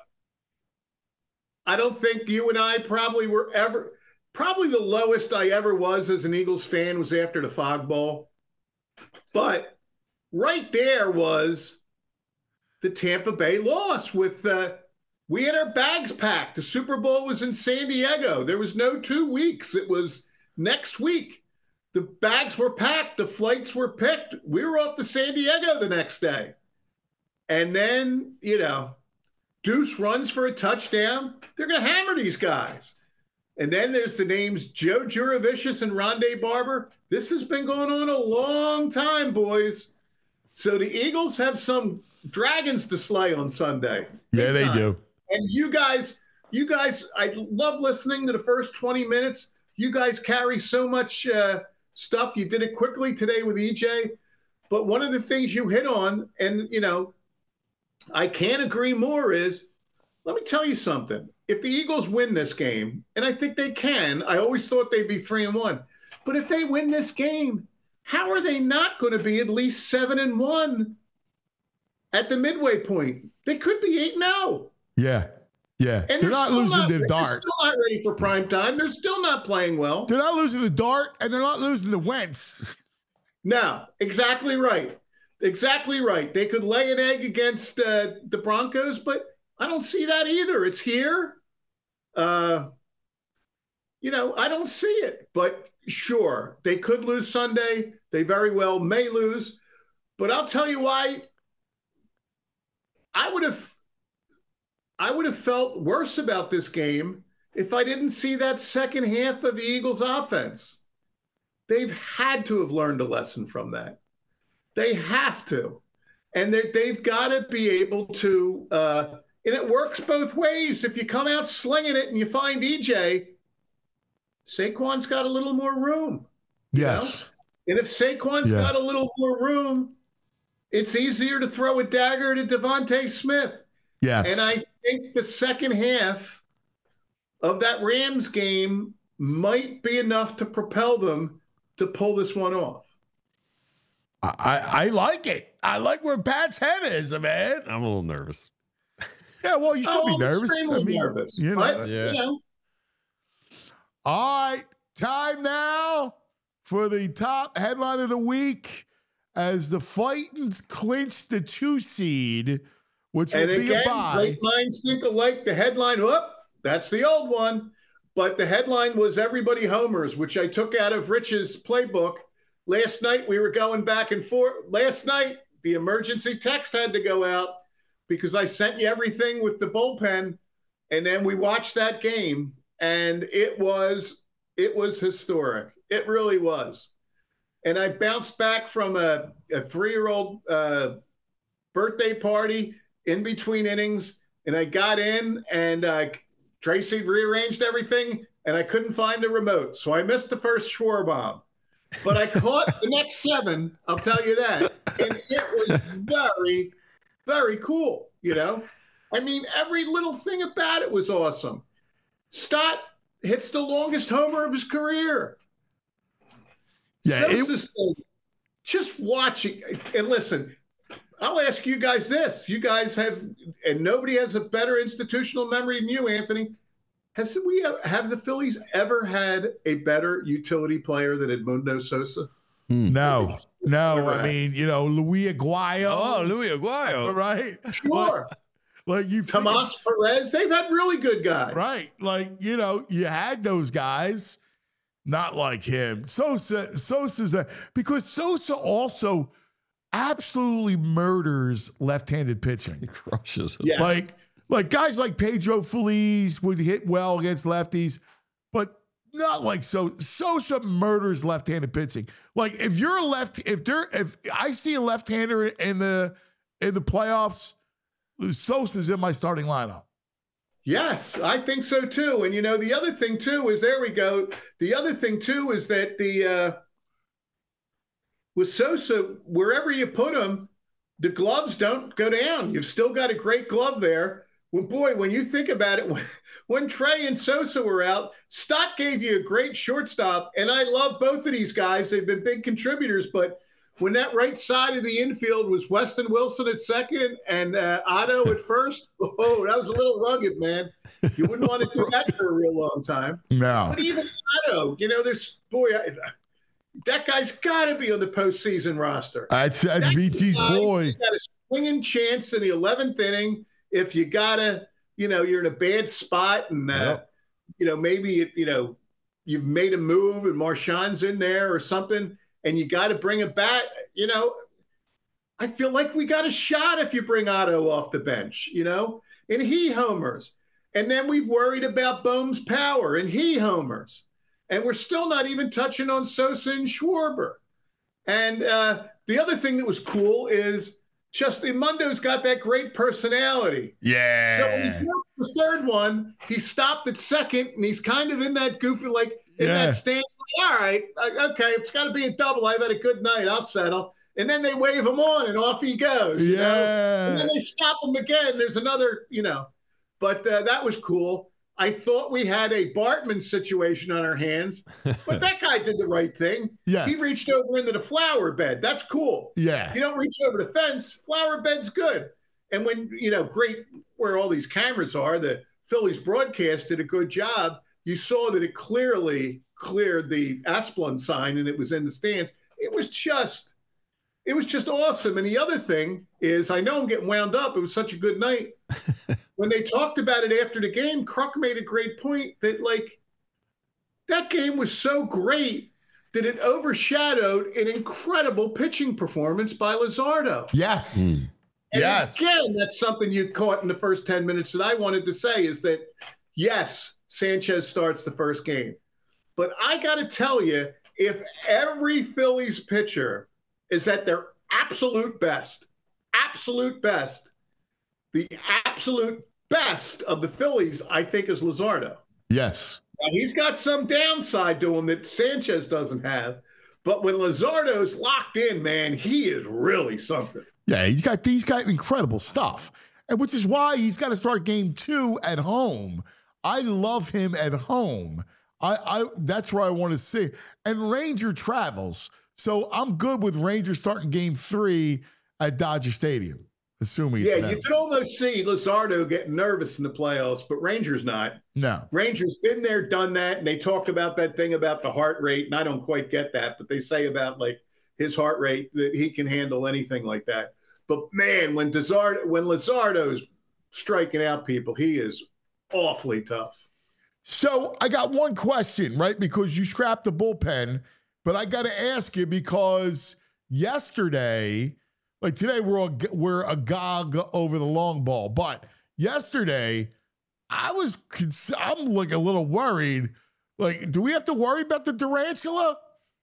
I don't think you and I probably the lowest I ever was as an Eagles fan was after the Fog Bowl, but right there was the Tampa Bay loss with we had our bags packed. The Super Bowl was in San Diego. There was no 2 weeks. It was next week. The bags were packed. The flights were picked. We were off to San Diego the next day. And then, Deuce runs for a touchdown. They're going to hammer these guys. And then there's the names Joe Juravicius and Rondé Barber. This has been going on a long time, boys. So the Eagles have some dragons to slay on Sunday. Yeah, they do. And you guys, I love listening to the first 20 minutes. You guys carry so much stuff. You did it quickly today with EJ. But one of the things you hit on, and, I can't agree more, is, let me tell you something. If the Eagles win this game, and I think they can, I always thought they'd be 3-1. But if they win this game, how are they not going to be at least 7-1 at the midway point? They could be 8-0. Yeah. Yeah. And they're not losing to Dart. They're still not ready for prime time. They're still not playing well. They're not losing to Dart, and they're not losing to Wentz. No, exactly right. Exactly right. They could lay an egg against the Broncos, but I don't see that either. It's here. I don't see it. But sure, they could lose Sunday. They very well may lose. But I'll tell you why I would have felt worse about this game if I didn't see that second half of the Eagles offense. They've had to have learned a lesson from that. They have to. And they've got to be able to, and it works both ways. If you come out slinging it and you find EJ, Saquon's got a little more room. Yes. And if Saquon's got a little more room, it's easier to throw a dagger to Devontae Smith. Yes. And I think the second half of that Rams game might be enough to propel them to pull this one off. I like it. I like where Pat's head is, man. I'm a little nervous. Yeah, well, you should be nervous. Nervous. All right, time now for the top headline of the week as the Titans clinch the 2 seed, which will be a bye. Great minds think alike. The headline, that's the old one. But the headline was everybody homers, which I took out of Rich's playbook. Last night, we were going back and forth. Last night, the emergency text had to go out because I sent you everything with the bullpen. And then we watched that game, and it was historic. It really was. And I bounced back from a 3-year-old birthday party in between innings, and I got in, and Tracy rearranged everything, and I couldn't find a remote. So I missed the first Schwarbaum. But I caught the next 7, I'll tell you that. And it was very, very cool, I mean, every little thing about it was awesome. Stott hits the longest homer of his career. Yeah, just watching. And listen, I'll ask you guys this. You guys have, and nobody has a better institutional memory than you, Anthony. Have the Phillies ever had a better utility player than Edmundo Sosa? No. I mean, Luis Aguayo. Oh, Luis Aguayo. Right? Sure. Like you, Tomas Perez, they've had really good guys. Right. Like, you had those guys, not like him. Sosa's because Sosa also absolutely murders left-handed pitching. He crushes it. Yes. Like guys like Pedro Feliz would hit well against lefties, but not like Sosa murders left-handed pitching. Like if I see a left-hander in the playoffs, Sosa's in my starting lineup. Yes, I think so too. And the other thing too is there we go. The other thing too is that with Sosa, wherever you put him, the gloves don't go down. You've still got a great glove there. Well, boy, when you think about it, when Trey and Sosa were out, Stott gave you a great shortstop, and I love both of these guys. They've been big contributors, but when that right side of the infield was Weston Wilson at second and Otto at first, that was a little rugged, man. You wouldn't want to do that for a real long time. No. But even Otto, that guy's got to be on the postseason roster. That's VT's boy. He's got a swinging chance in the 11th inning. If you gotta, you're in a bad spot, and maybe you've made a move and Marchand's in there or something, and you got to bring a bat. I feel like we got a shot if you bring Otto off the bench. And he homers, and then we've worried about Bohm's power, and he homers. And we're still not even touching on Sosa and Schwarber. And the other thing that was cool is just Edmundo's got that great personality. Yeah. So when he broke the third one, he stopped at second, and he's kind of in that goofy, that stance. All right, okay, it's got to be a double. I've had a good night. I'll settle. And then they wave him on, and off he goes. And then they stop him again. There's another, But that was cool. I thought we had a Bartman situation on our hands, but that guy did the right thing. Yes. He reached over into the flower bed. That's cool. Yeah. You don't reach over the fence. Flower bed's good. And when, great where all these cameras are, the Phillies broadcast did a good job. You saw that it clearly cleared the Asplund sign and it was in the stands. it was just awesome. And the other thing is, I know I'm getting wound up. It was such a good night. When they talked about it after the game, Kruk made a great point that, like, that game was so great that it overshadowed an incredible pitching performance by Luzardo. Yes. And yes. Again, that's something you caught in the first 10 minutes that I wanted to say is that, yes, Sanchez starts the first game. But I got to tell you, if every Phillies pitcher is at their absolute best, the absolute best of the Phillies, I think, is Luzardo. Yes. Now, he's got some downside to him that Sanchez doesn't have. But when Luzardo's locked in, man, he is really something. Yeah, he's got incredible stuff. And which is why he's got to start game 2 at home. I love him at home. I that's where I want to see. And Ranger travels. So I'm good with Ranger starting game 3 at Dodger Stadium, assuming. Yeah, you could almost see Luzardo getting nervous in the playoffs, but Ranger's not. No. Ranger's been there, done that, and they talk about that thing about the heart rate, and I don't quite get that, but they say about, like, his heart rate that he can handle anything like that. But, man, when Luzardo's striking out people, he is awfully tough. So I got one question, right? Because you scrapped the bullpen, but I got to ask you because yesterday, like today we're agog over the long ball, but yesterday I'm like a little worried. Like, do we have to worry about the tarantula?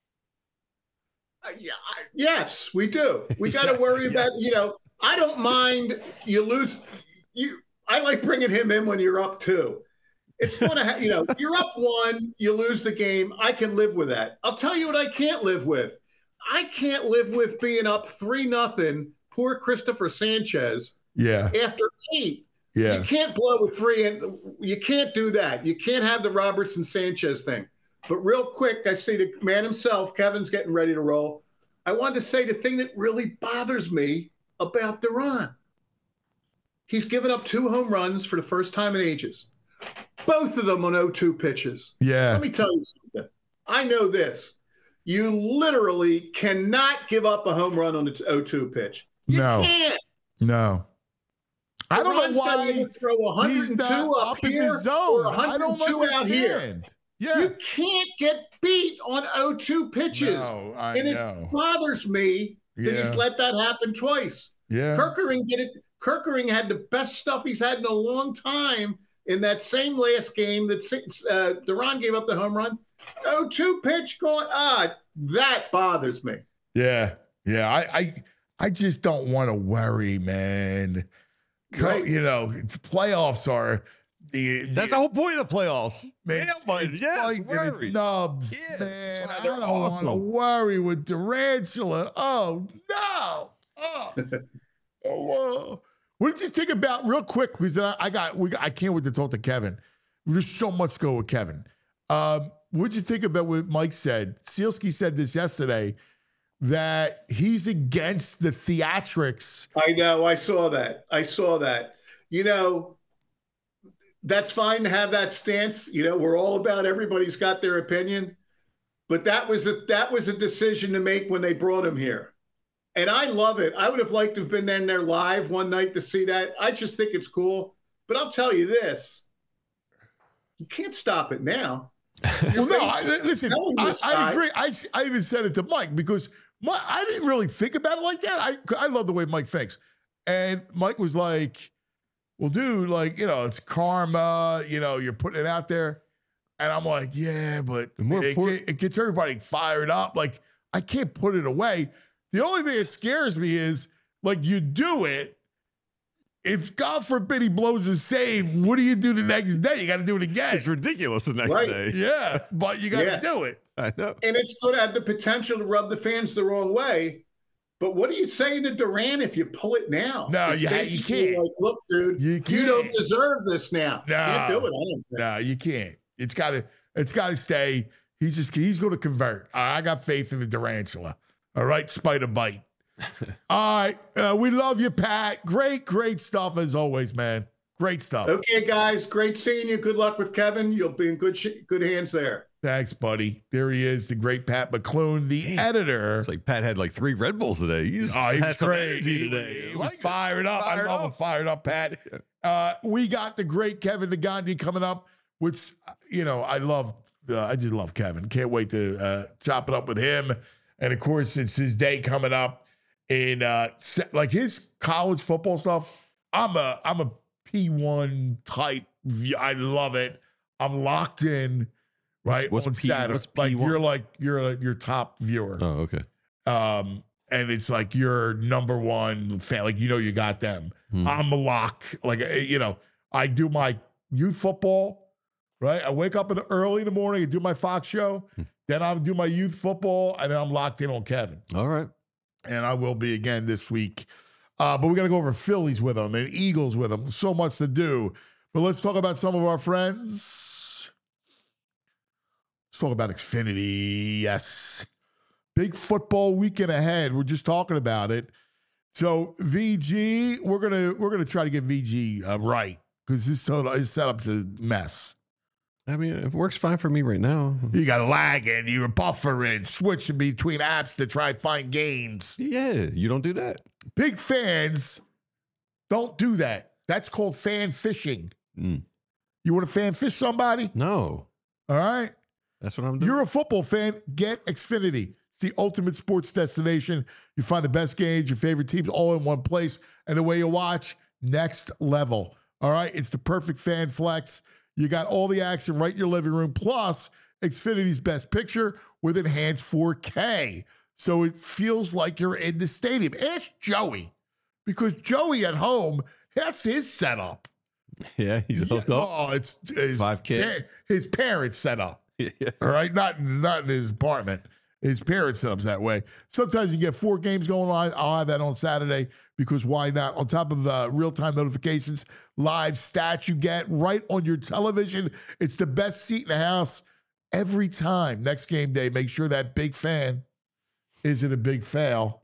Yes, we do. We got to worry about, I don't mind you lose. I like bringing him in when you're up 2. It's going to you're up 1, you lose the game. I can live with that. I'll tell you what I can't live with. I can't live with being up 3-0. Poor Christopher Sanchez. Yeah. After 8. Yeah. You can't blow with 3, and you can't do that. You can't have the Robertson Sanchez thing. But real quick, I see the man himself, Kevin's getting ready to roll. I wanted to say the thing that really bothers me about Duran. He's given up 2 home runs for the first time in ages. Both of them on 0-2 pitches. Yeah. Let me tell you something. I know this. You literally cannot give up a home run on the 0-2 pitch. You can't. No. I don't know why you throw 102 up in here the zone. or 102 out here. Yeah. You can't get beat on 0-2 pitches. No, It bothers me that he's let that happen twice. Yeah. Kerkering did it. Kerkering had the best stuff he's had in a long time in that same last game that Duran gave up the home run. 0-2 pitch going, that bothers me. Yeah. Yeah. I just don't want to worry, man. Right. Playoffs are that's the whole point of the playoffs. Man, it's like worry. nubs, Yeah, man. that's I why they're don't want to awesome. worry with Tarantula. Oh no! Oh, what did you think about real quick? Because I can't wait to talk to Kevin. There's so much to go with Kevin. What did you think about what Mike said? Sealski said this yesterday that he's against the theatrics. I know. I saw that. That's fine to have that stance. We're all about everybody's got their opinion. But that was a decision to make when they brought him here. And I love it. I would have liked to have been in there live one night to see that. I just think it's cool. But I'll tell you this. You can't stop it now. Well, no, listen, I agree. I even said it to Mike because I didn't really think about it like that. I love the way Mike thinks. And Mike was like, well, dude, it's karma, you're putting it out there. And I'm like, yeah, but it gets everybody fired up. Like, I can't put it away. The only thing that scares me is, you do it. If, God forbid, he blows a save, what do you do the next day? You got to do it again. It's ridiculous the next day. Yeah, but you got to do it. I know. And it's going to have the potential to rub the fans the wrong way. But what are you saying to Duran if you pull it now? No, you can't. Like, look, dude, you don't deserve this now. No, you can't do it. I don't think. No, you can't. It's got to stay. He's going to convert. I got faith in the Durantula. All right, spider bite. All right, we love you, Pat. Great stuff as always, man. Great stuff. Okay, guys, great seeing you. Good luck with Kevin. You'll be in good hands there. Thanks, buddy. There he is, the great Pat McClune, the editor. It's like Pat had like 3 Red Bulls today. He was crazy today. He was fired up. I love him fired up, Pat. We got the great Kevin Negandhi coming up, which, I love. I just love Kevin. Can't wait to chop it up with him. And, of course, it's his day coming up in, like, his college football stuff. I'm a P1 type. I love it. I'm locked in. Right. What's on Saturday. What's like P1? you're your top viewer. Oh, okay. And it's like your number one fan. Like, you got them. I'm a lock. Like, I do my youth football, right? I wake up early in the morning and do my Fox show. Then I'll do my youth football, and then I'm locked in on Kevin. All right. And I will be again this week. But we got to go over Phillies with them and Eagles with them. So much to do. But let's talk about some of our friends. Let's talk about Xfinity. Yes. Big football weekend ahead. We're just talking about it. So VG, we're gonna try to get VG right, because his setup's a mess. I mean, it works fine for me right now. You got lagging, you're buffering, switching between apps to try to find games. Yeah, you don't do that. Big fans don't do that. That's called fan fishing. You want to fan fish somebody? No. All right. That's what I'm doing. You're a football fan, get Xfinity. It's the ultimate sports destination. You find the best games, your favorite teams all in one place. And the way you watch, next level. All right? It's the perfect fan flex. You got all the action right in your living room. Plus, Xfinity's best picture with enhanced 4K. So it feels like you're in the stadium. Ask Joey, because Joey at home, that's his setup. Yeah, he's hooked up. Oh, it's his 5K. His parents set up. Yeah. All right, not in his apartment. His parents set up that way. Sometimes you get 4 games going on. I'll have that on Saturday, because why not? On top of real-time notifications, live stats you get right on your television. It's the best seat in the house every time. Next game day, make sure that big fan isn't a big fail.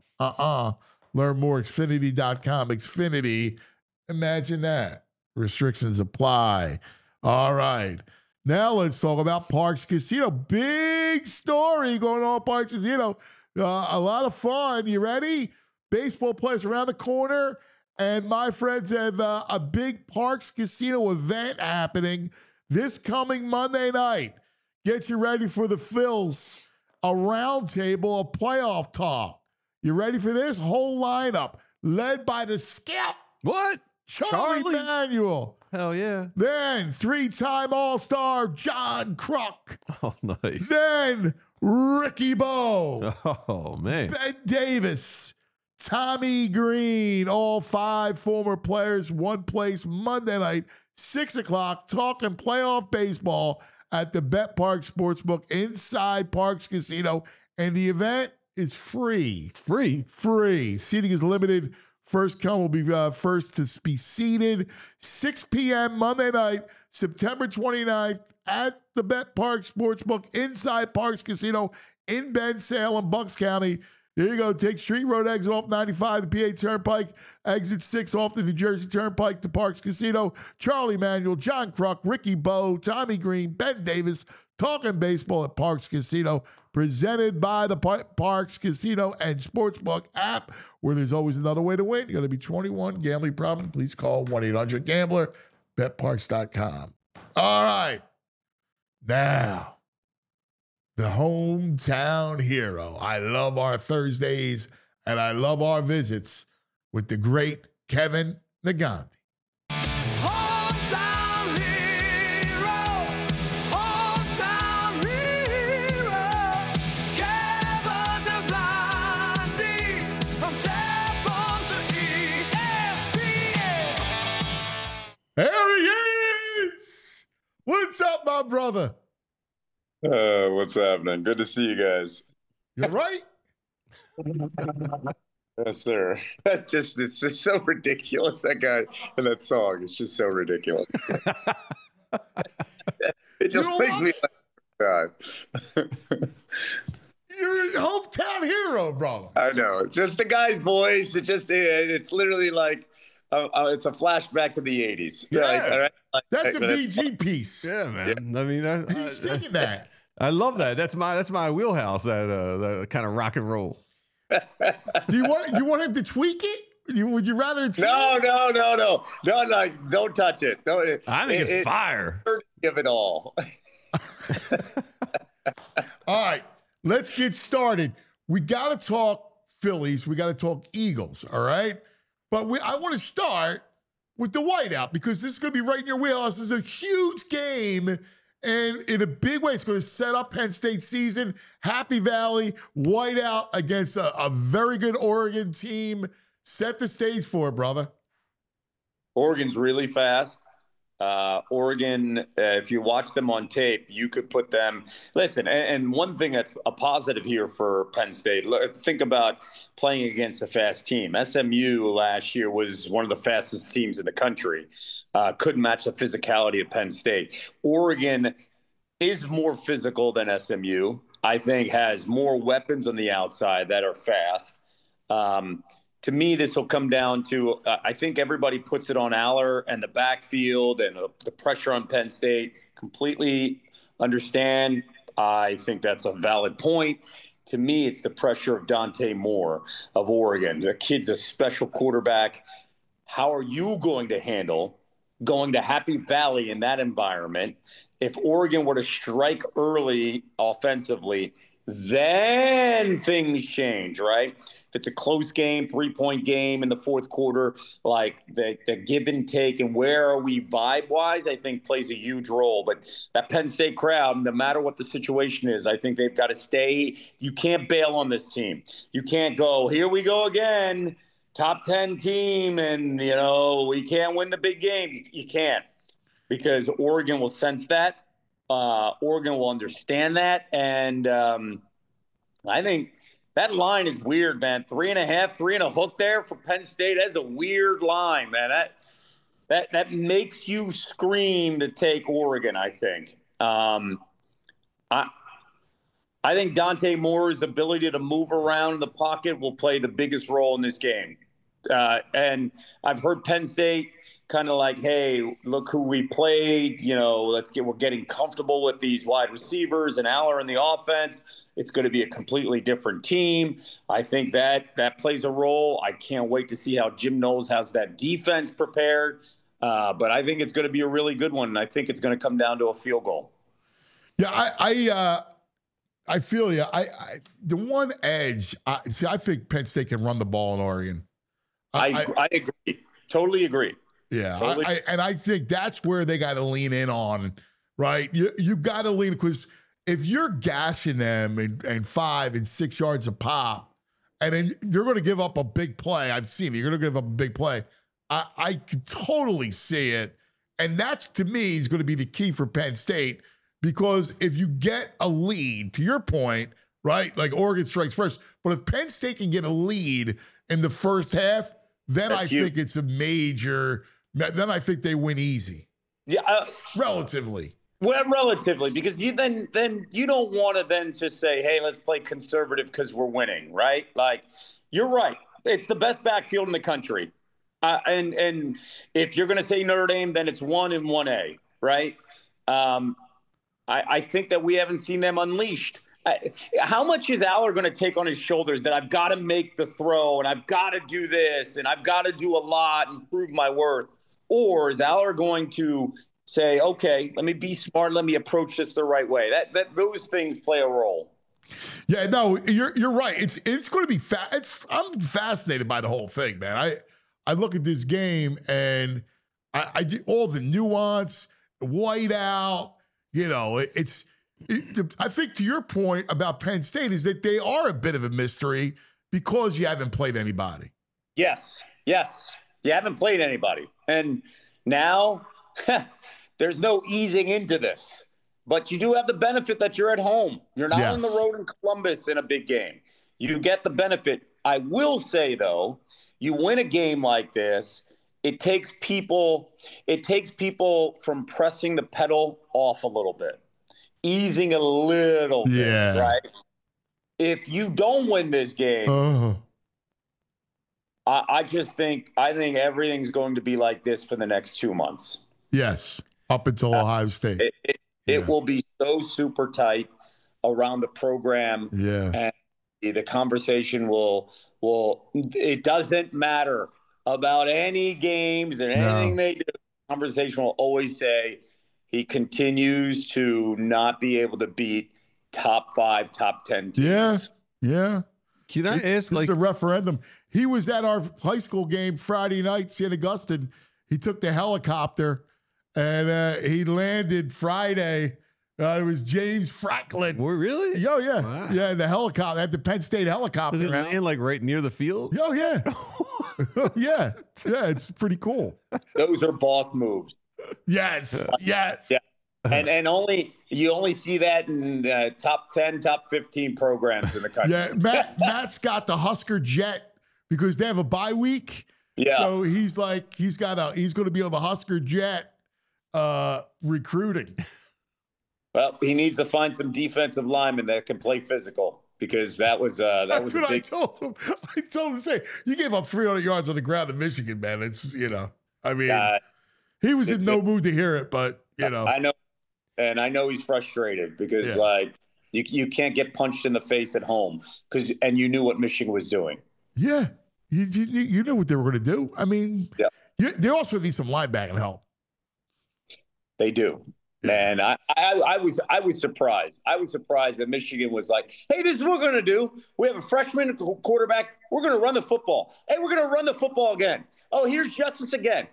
Learn more, Xfinity.com. Xfinity, imagine that. Restrictions apply. All right. Now let's talk about Parx Casino. Big story going on at Parx Casino. A lot of fun. You ready? Baseball players around the corner. And my friends have a big Parx Casino event happening this coming Monday night. Get you ready for the Phils. A roundtable of playoff talk. You ready for this? Whole lineup led by the skip. What? Charlie Manuel. Hell yeah. Then 3-time All-Star John Kruk. Oh, nice. Then Ricky Bo. Oh, man. Ben Davis. Tommy Green. All 5 former players, one place Monday night, 6 o'clock, talking playoff baseball at the BetParx Sportsbook inside Parx Casino. And the event is free. Free. Seating is limited. First come will be first to be seated. 6 p.m. Monday night, September 29th at the BetParx Sportsbook inside Parx Casino in Ben, Salem, Bucks County. There you go. Take Street Road exit off 95, the PA Turnpike, exit 6 off the New Jersey Turnpike to Parx Casino. Charlie Manuel, John Kruk, Ricky Bo, Tommy Green, Ben Davis, talking baseball at Parx Casino, presented by the Parx Casino and Sportsbook app, where there's always another way to win. You got to be 21. Gambling problem? Please call 1-800-GAMBLER. BetParx.com. All right. Now, the hometown hero. I love our Thursdays, and I love our visits with the great Kevin Negandhi. There he is! What's up, my brother? What's happening? Good to see you guys. You're right. Yes, sir. It's just so ridiculous, that guy and that song. It's just so ridiculous. It just makes me laugh. You're a hometown hero, brother. I know. Just the guy's voice. It's literally like it's a flashback to the 80s. Yeah. Like, all right? That's a VG piece. Yeah, man. I mean, He's singing that. I love that. That's my wheelhouse. That kind of rock and roll. Do you want him to tweak it? Would you rather? No. Don't touch it. I think it's fire. Give it all. All right, let's get started. We got to talk Phillies. We got to talk Eagles. All right, but I want to start with the whiteout because this is going to be right in your wheelhouse. This is a huge game. And in a big way, it's going to set up Penn State's season. Happy Valley, whiteout against a very good Oregon team. Set the stage for it, brother. Oregon's really fast. Oregon, if you watch them on tape, you could put them. Listen, and one thing that's a positive here for Penn State, think about playing against a fast team. SMU last year was one of the fastest teams in the country. Couldn't match the physicality of Penn State. Oregon is more physical than SMU. I think has more weapons on the outside that are fast. To me, this will come down to, I think everybody puts it on Aller and the backfield and the pressure on Penn State. Completely understand. I think that's a valid point. To me, it's the pressure of Dante Moore of Oregon. The kid's a special quarterback. How are you going to handle going to Happy Valley in that environment? If Oregon were to strike early offensively, then things change, right? If it's a close game, 3-point game in the fourth quarter, like the give and take and where are we vibe-wise, I think plays a huge role. But that Penn State crowd, no matter what the situation is, I think they've got to stay. You can't bail on this team. You can't go, here we go again, top 10 team, and, we can't win the big game. You can't, because Oregon will sense that. Oregon will understand that. And I think that line is weird, man. 3.5, 3 and a hook there for Penn State. That's a weird line, man. That makes you scream to take Oregon, I think. I think Dante Moore's ability to move around the pocket will play the biggest role in this game. And I've heard Penn State kind of like, hey, look who we played. We're getting comfortable with these wide receivers and Aller in the offense. It's going to be a completely different team. I think that plays a role. I can't wait to see how Jim Knowles has that defense prepared. But I think it's going to be a really good one, and I think it's going to come down to a field goal. Yeah, I feel you. The one edge, I think Penn State can run the ball in Oregon. I agree. Totally agree. Yeah, I think that's where they got to lean in on, right? You got to lean, because if you're gashing them and 5 and 6 yards a pop, and then you're going to give up a big play. I've seen it. You're going to give up a big play. I can totally see it. And that's, to me, is going to be the key for Penn State, because if you get a lead, to your point, right, like Oregon strikes first, but if Penn State can get a lead in the first half, then I think it's a major. Then I think they win easy. Yeah, relatively. Well, relatively, because you then you don't want to then just say, hey, let's play conservative because we're winning, right? Like, you're right. It's the best backfield in the country. And if you're going to say Notre Dame, then it's 1 and 1A, right? I think that we haven't seen them unleashed. How much is Aller going to take on his shoulders that I've got to make the throw and I've got to do this and I've got to do a lot and prove my worth? Or is Aller going to say, okay, let me be smart, let me approach this the right way? That those things play a role. Yeah, no, you're right. It's going to be I'm fascinated by the whole thing, man. I look at this game and I do all the nuance, white out, I think to your point about Penn State is that they are a bit of a mystery because you haven't played anybody. Yes. You haven't played anybody. And now there's no easing into this. But you do have the benefit that you're at home. You're not on the road in Columbus in a big game. You get the benefit. I will say, though, you win a game like this, it takes people from pressing the pedal off a little bit. Easing a little bit, right? If you don't win this game, I think everything's going to be like this for the next 2 months. Yes, up until Ohio State. It will be so super tight. around the program. Yeah. And the conversation it doesn't matter about any games and anything they do. The conversation will always say he continues to not be able to beat top 5, top 10 teams. Yeah. Can I ask, like, the referendum? He was at our high school game Friday night, St. Augustine. He took the helicopter and he landed Friday. It was James Franklin. Oh, really? Oh, yeah. Wow. Yeah, the helicopter, at the Penn State helicopter. Does it land like right near the field? Oh, yeah. Yeah, it's pretty cool. Those are boss moves. Yes. Yeah. And you only see that in top 10, top 15 programs in the country. Yeah, Matt's got the Husker jet because they have a bye week. Yeah. So he's going to be on the Husker jet recruiting. Well, he needs to find some defensive linemen that can play physical because that was a big. I told him. I told him, say, you gave up 300 yards on the ground in Michigan, man. It's, I mean, he was in no mood to hear it, but, I know. And I know he's frustrated because, you can't get punched in the face at home and you knew what Michigan was doing. Yeah. You knew what they were going to do. I mean, they also need some linebacking help. They do. And I was surprised. I was surprised that Michigan was like, hey, this is what we're going to do. We have a freshman quarterback. We're going to run the football. Hey, we're going to run the football again. Oh, here's Justice again.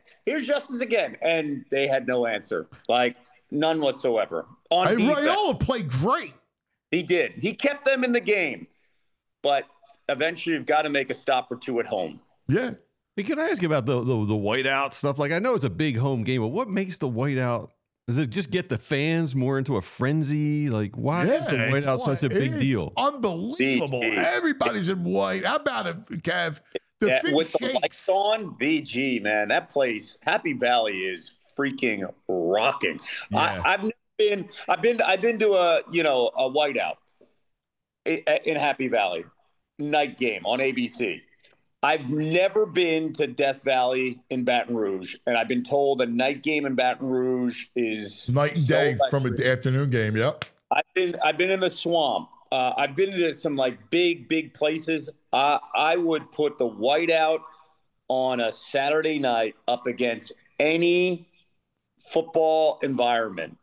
And they had no answer. Like, none whatsoever. Raiola played great. He did. He kept them in the game. But eventually you've got to make a stop or two at home. Yeah. Hey, can I ask you about the whiteout stuff? Like, I know it's a big home game, but what makes the whiteout? Does it just get the fans more into a frenzy? Like, why is the whiteout such a big deal? Unbelievable. Everybody's in white. How about it, Kev? With the lights on, VG, man, that place, Happy Valley, is freaking rocking. Yeah. I've been to a whiteout in Happy Valley, night game on ABC. I've never been to Death Valley in Baton Rouge, and I've been told a night game in Baton Rouge is night and day from an afternoon game. Yep. I've been in the Swamp. I've been to some like big places. I would put the whiteout on a Saturday night up against any football environment,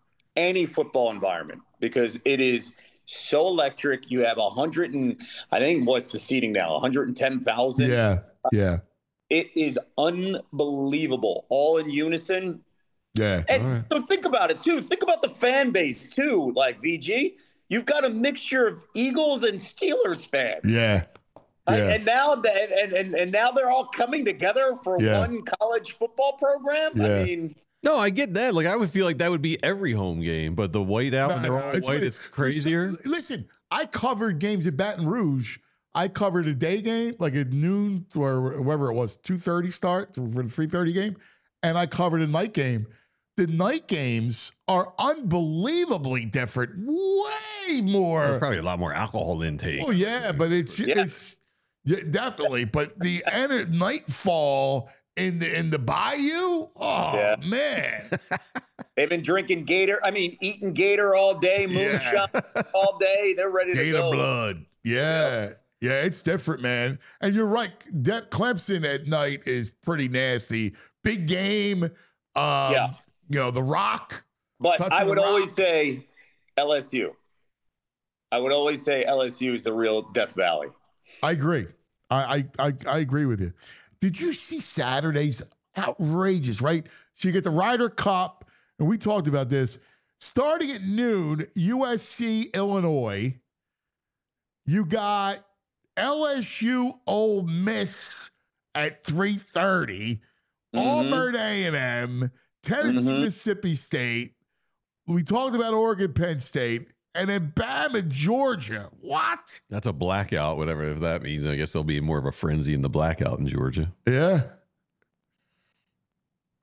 because it is so electric. You have 100 and I think what's the seating now? 110,000. Yeah. It is unbelievable. All in unison. Yeah. And so think about it too. Think about the fan base too. Like VG, you've got a mixture of Eagles and Steelers fans. Yeah. And now they're all coming together for one college football program. Yeah. I mean, no, I get that. Like, I would feel like that would be every home game, but the whiteout and they're all white, it's crazier. Listen, I covered games at Baton Rouge. I covered a day game, like at noon or whatever it was, 2:30 start for the 3:30 game, and I covered a night game. The night games are unbelievably different, way more. There's probably a lot more alcohol intake. Oh yeah, but it's definitely. But the nightfall in the bayou, man. They've been drinking Gator. I mean, eating Gator all day, moonshine all day. They're ready to Gator go. blood. Yeah, it's different, man. And you're right. Clemson at night is pretty nasty. Big game. The Rock. But I would always say LSU. I would always say LSU is the real Death Valley. I agree. I agree with you. Did you see Saturday's outrageous, right? So you get the Ryder Cup, and we talked about this. Starting at noon, USC, Illinois. You got LSU, Ole Miss at 3:30. Auburn A&M, Tennessee, Mississippi State. We talked about Oregon, Penn State. And then Bama, Georgia. What? That's a blackout, whatever if that means. I guess there'll be more of a frenzy in the blackout in Georgia. Yeah.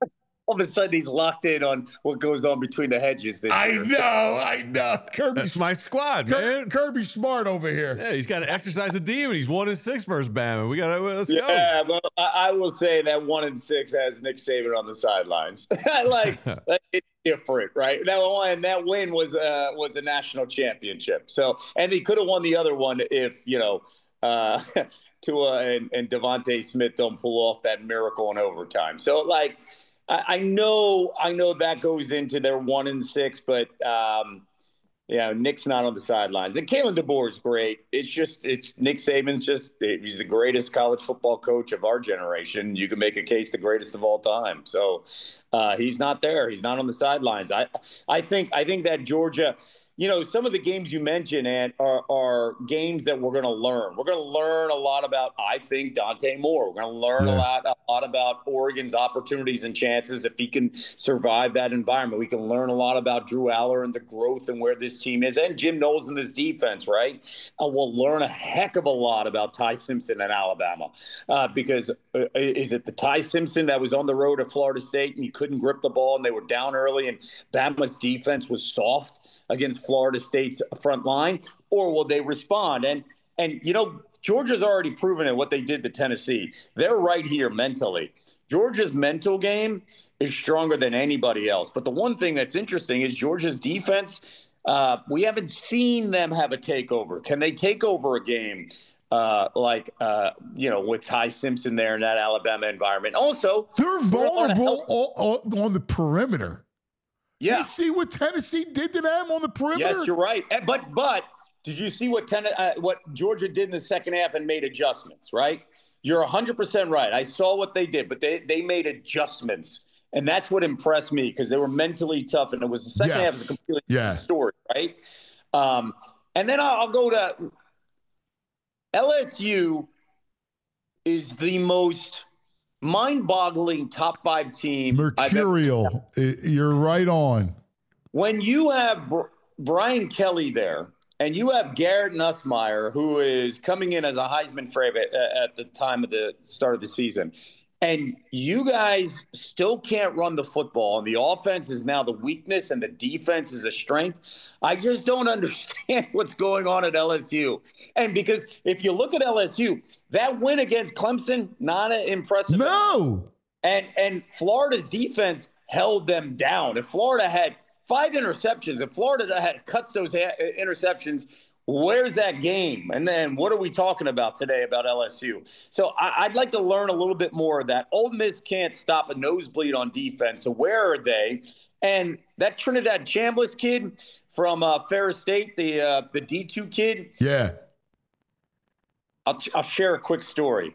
All of a sudden, he's locked in on what goes on between the hedges. This year. I know. That's my squad, man. Kirby Smart over here. Yeah, he's got to exercise a demon. He's 1-6 versus Bama. Let's go. Yeah, but I will say that 1-6 has Nick Saban on the sidelines. It's different, right? That win was a national championship. So, and he could have won the other one if Tua and Devontae Smith don't pull off that miracle in overtime. So, I know that goes into their 1-6, but Nick's not on the sidelines. And Kalen DeBoer is great. It's Nick Saban's he's the greatest college football coach of our generation. You can make a case the greatest of all time. So he's not there. He's not on the sidelines. I think that Georgia. Some of the games you mentioned, Ant, are games that we're going to learn. We're going to learn a lot about, I think, Dante Moore. We're going to learn a lot about Oregon's opportunities and chances if he can survive that environment. We can learn a lot about Drew Aller and the growth and where this team is, and Jim Knowles and this defense, right? We'll learn a heck of a lot about Ty Simpson in Alabama because is it the Ty Simpson that was on the road at Florida State and you couldn't grip the ball and they were down early and Bama's defense was soft against Florida State's front line, or will they respond? And Georgia's already proven it, what they did to Tennessee. They're right here mentally. Georgia's mental game is stronger than anybody else. But the one thing that's interesting is Georgia's defense, we haven't seen them have a takeover. Can they take over a game with Ty Simpson there in that Alabama environment? Also, they're vulnerable on the perimeter. Yeah. You see what Tennessee did to them on the perimeter? Yes, you're right. But did you see what Georgia did in the second half and made adjustments, right? You're 100% right. I saw what they did, but they made adjustments. And that's what impressed me because they were mentally tough. And it was the second half of a completely different story, right? And then I'll go to LSU is the most mind-boggling top 5 team. Mercurial. You're right on. When you have Brian Kelly there and you have Garrett Nussmeier, who is coming in as a Heisman favorite at the time of the start of the season, and you guys still can't run the football, and the offense is now the weakness and the defense is a strength, I just don't understand what's going on at LSU. And because if you look at LSU, that win against Clemson, not impressive. No. And Florida's defense held them down. If Florida had 5 interceptions, if Florida had cuts those interceptions, where's that game? And then what are we talking about today about LSU? So I'd like to learn a little bit more of that. Ole Miss can't stop a nosebleed on defense. So where are they? And that Trinidad Chambliss kid from Ferris State, the D2 kid. Yeah. I'll share a quick story.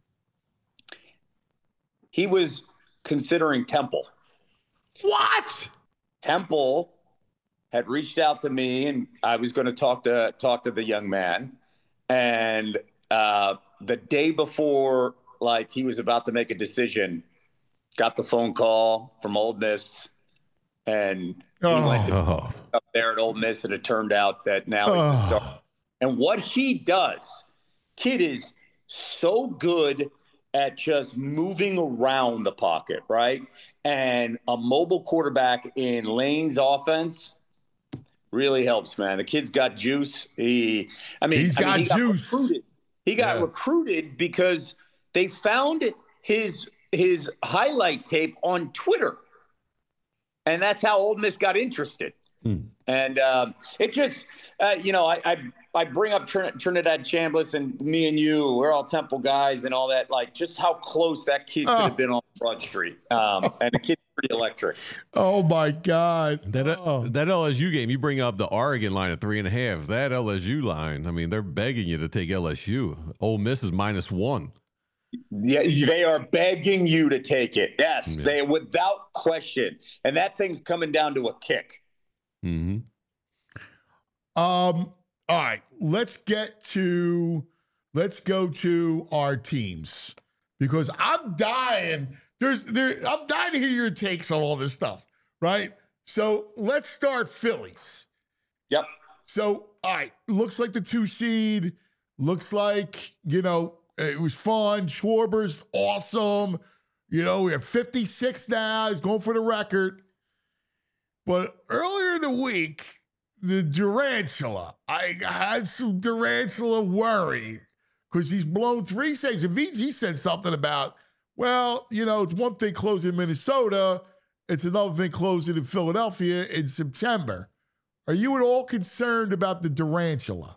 He was considering Temple. What? Temple had reached out to me, and I was going to talk to the young man. And the day before, he was about to make a decision, got the phone call from Ole Miss, and he went up there at Ole Miss, and it turned out that now he's the starter. And what he does, kid is so good at just moving around the pocket, right? And a mobile quarterback in Lane's offense really helps, man. The kid's got juice. He got juice. He got recruited because they found his highlight tape on Twitter. And that's how Ole Miss got interested. And it just, I bring up Trinidad Chambliss, and me and you, we're all Temple guys and all that, just how close that kid could have been on Broad Street. And the kid's pretty electric. Oh, my God. That LSU game, you bring up the Oregon line at 3.5. That LSU line, I mean, they're begging you to take LSU. Ole Miss is -1. Yeah, they are begging you to take it. Yes, they without question. And that thing's coming down to a kick. Mm-hmm. All right, let's go to our teams because I'm dying. I'm dying to hear your takes on all this stuff, right? So let's start Phillies. Yep. So, all right, looks like the 2 seed. Looks like, it was fun. Schwarber's awesome. You know, we're 56 now. He's going for the record. But earlier in the week, the Durantula, I had some Durantula worry because he's blown 3 saves. And VG said something about, well, you know, it's one thing closing in Minnesota. It's another thing closing in Philadelphia in September. Are you at all concerned about the Durantula?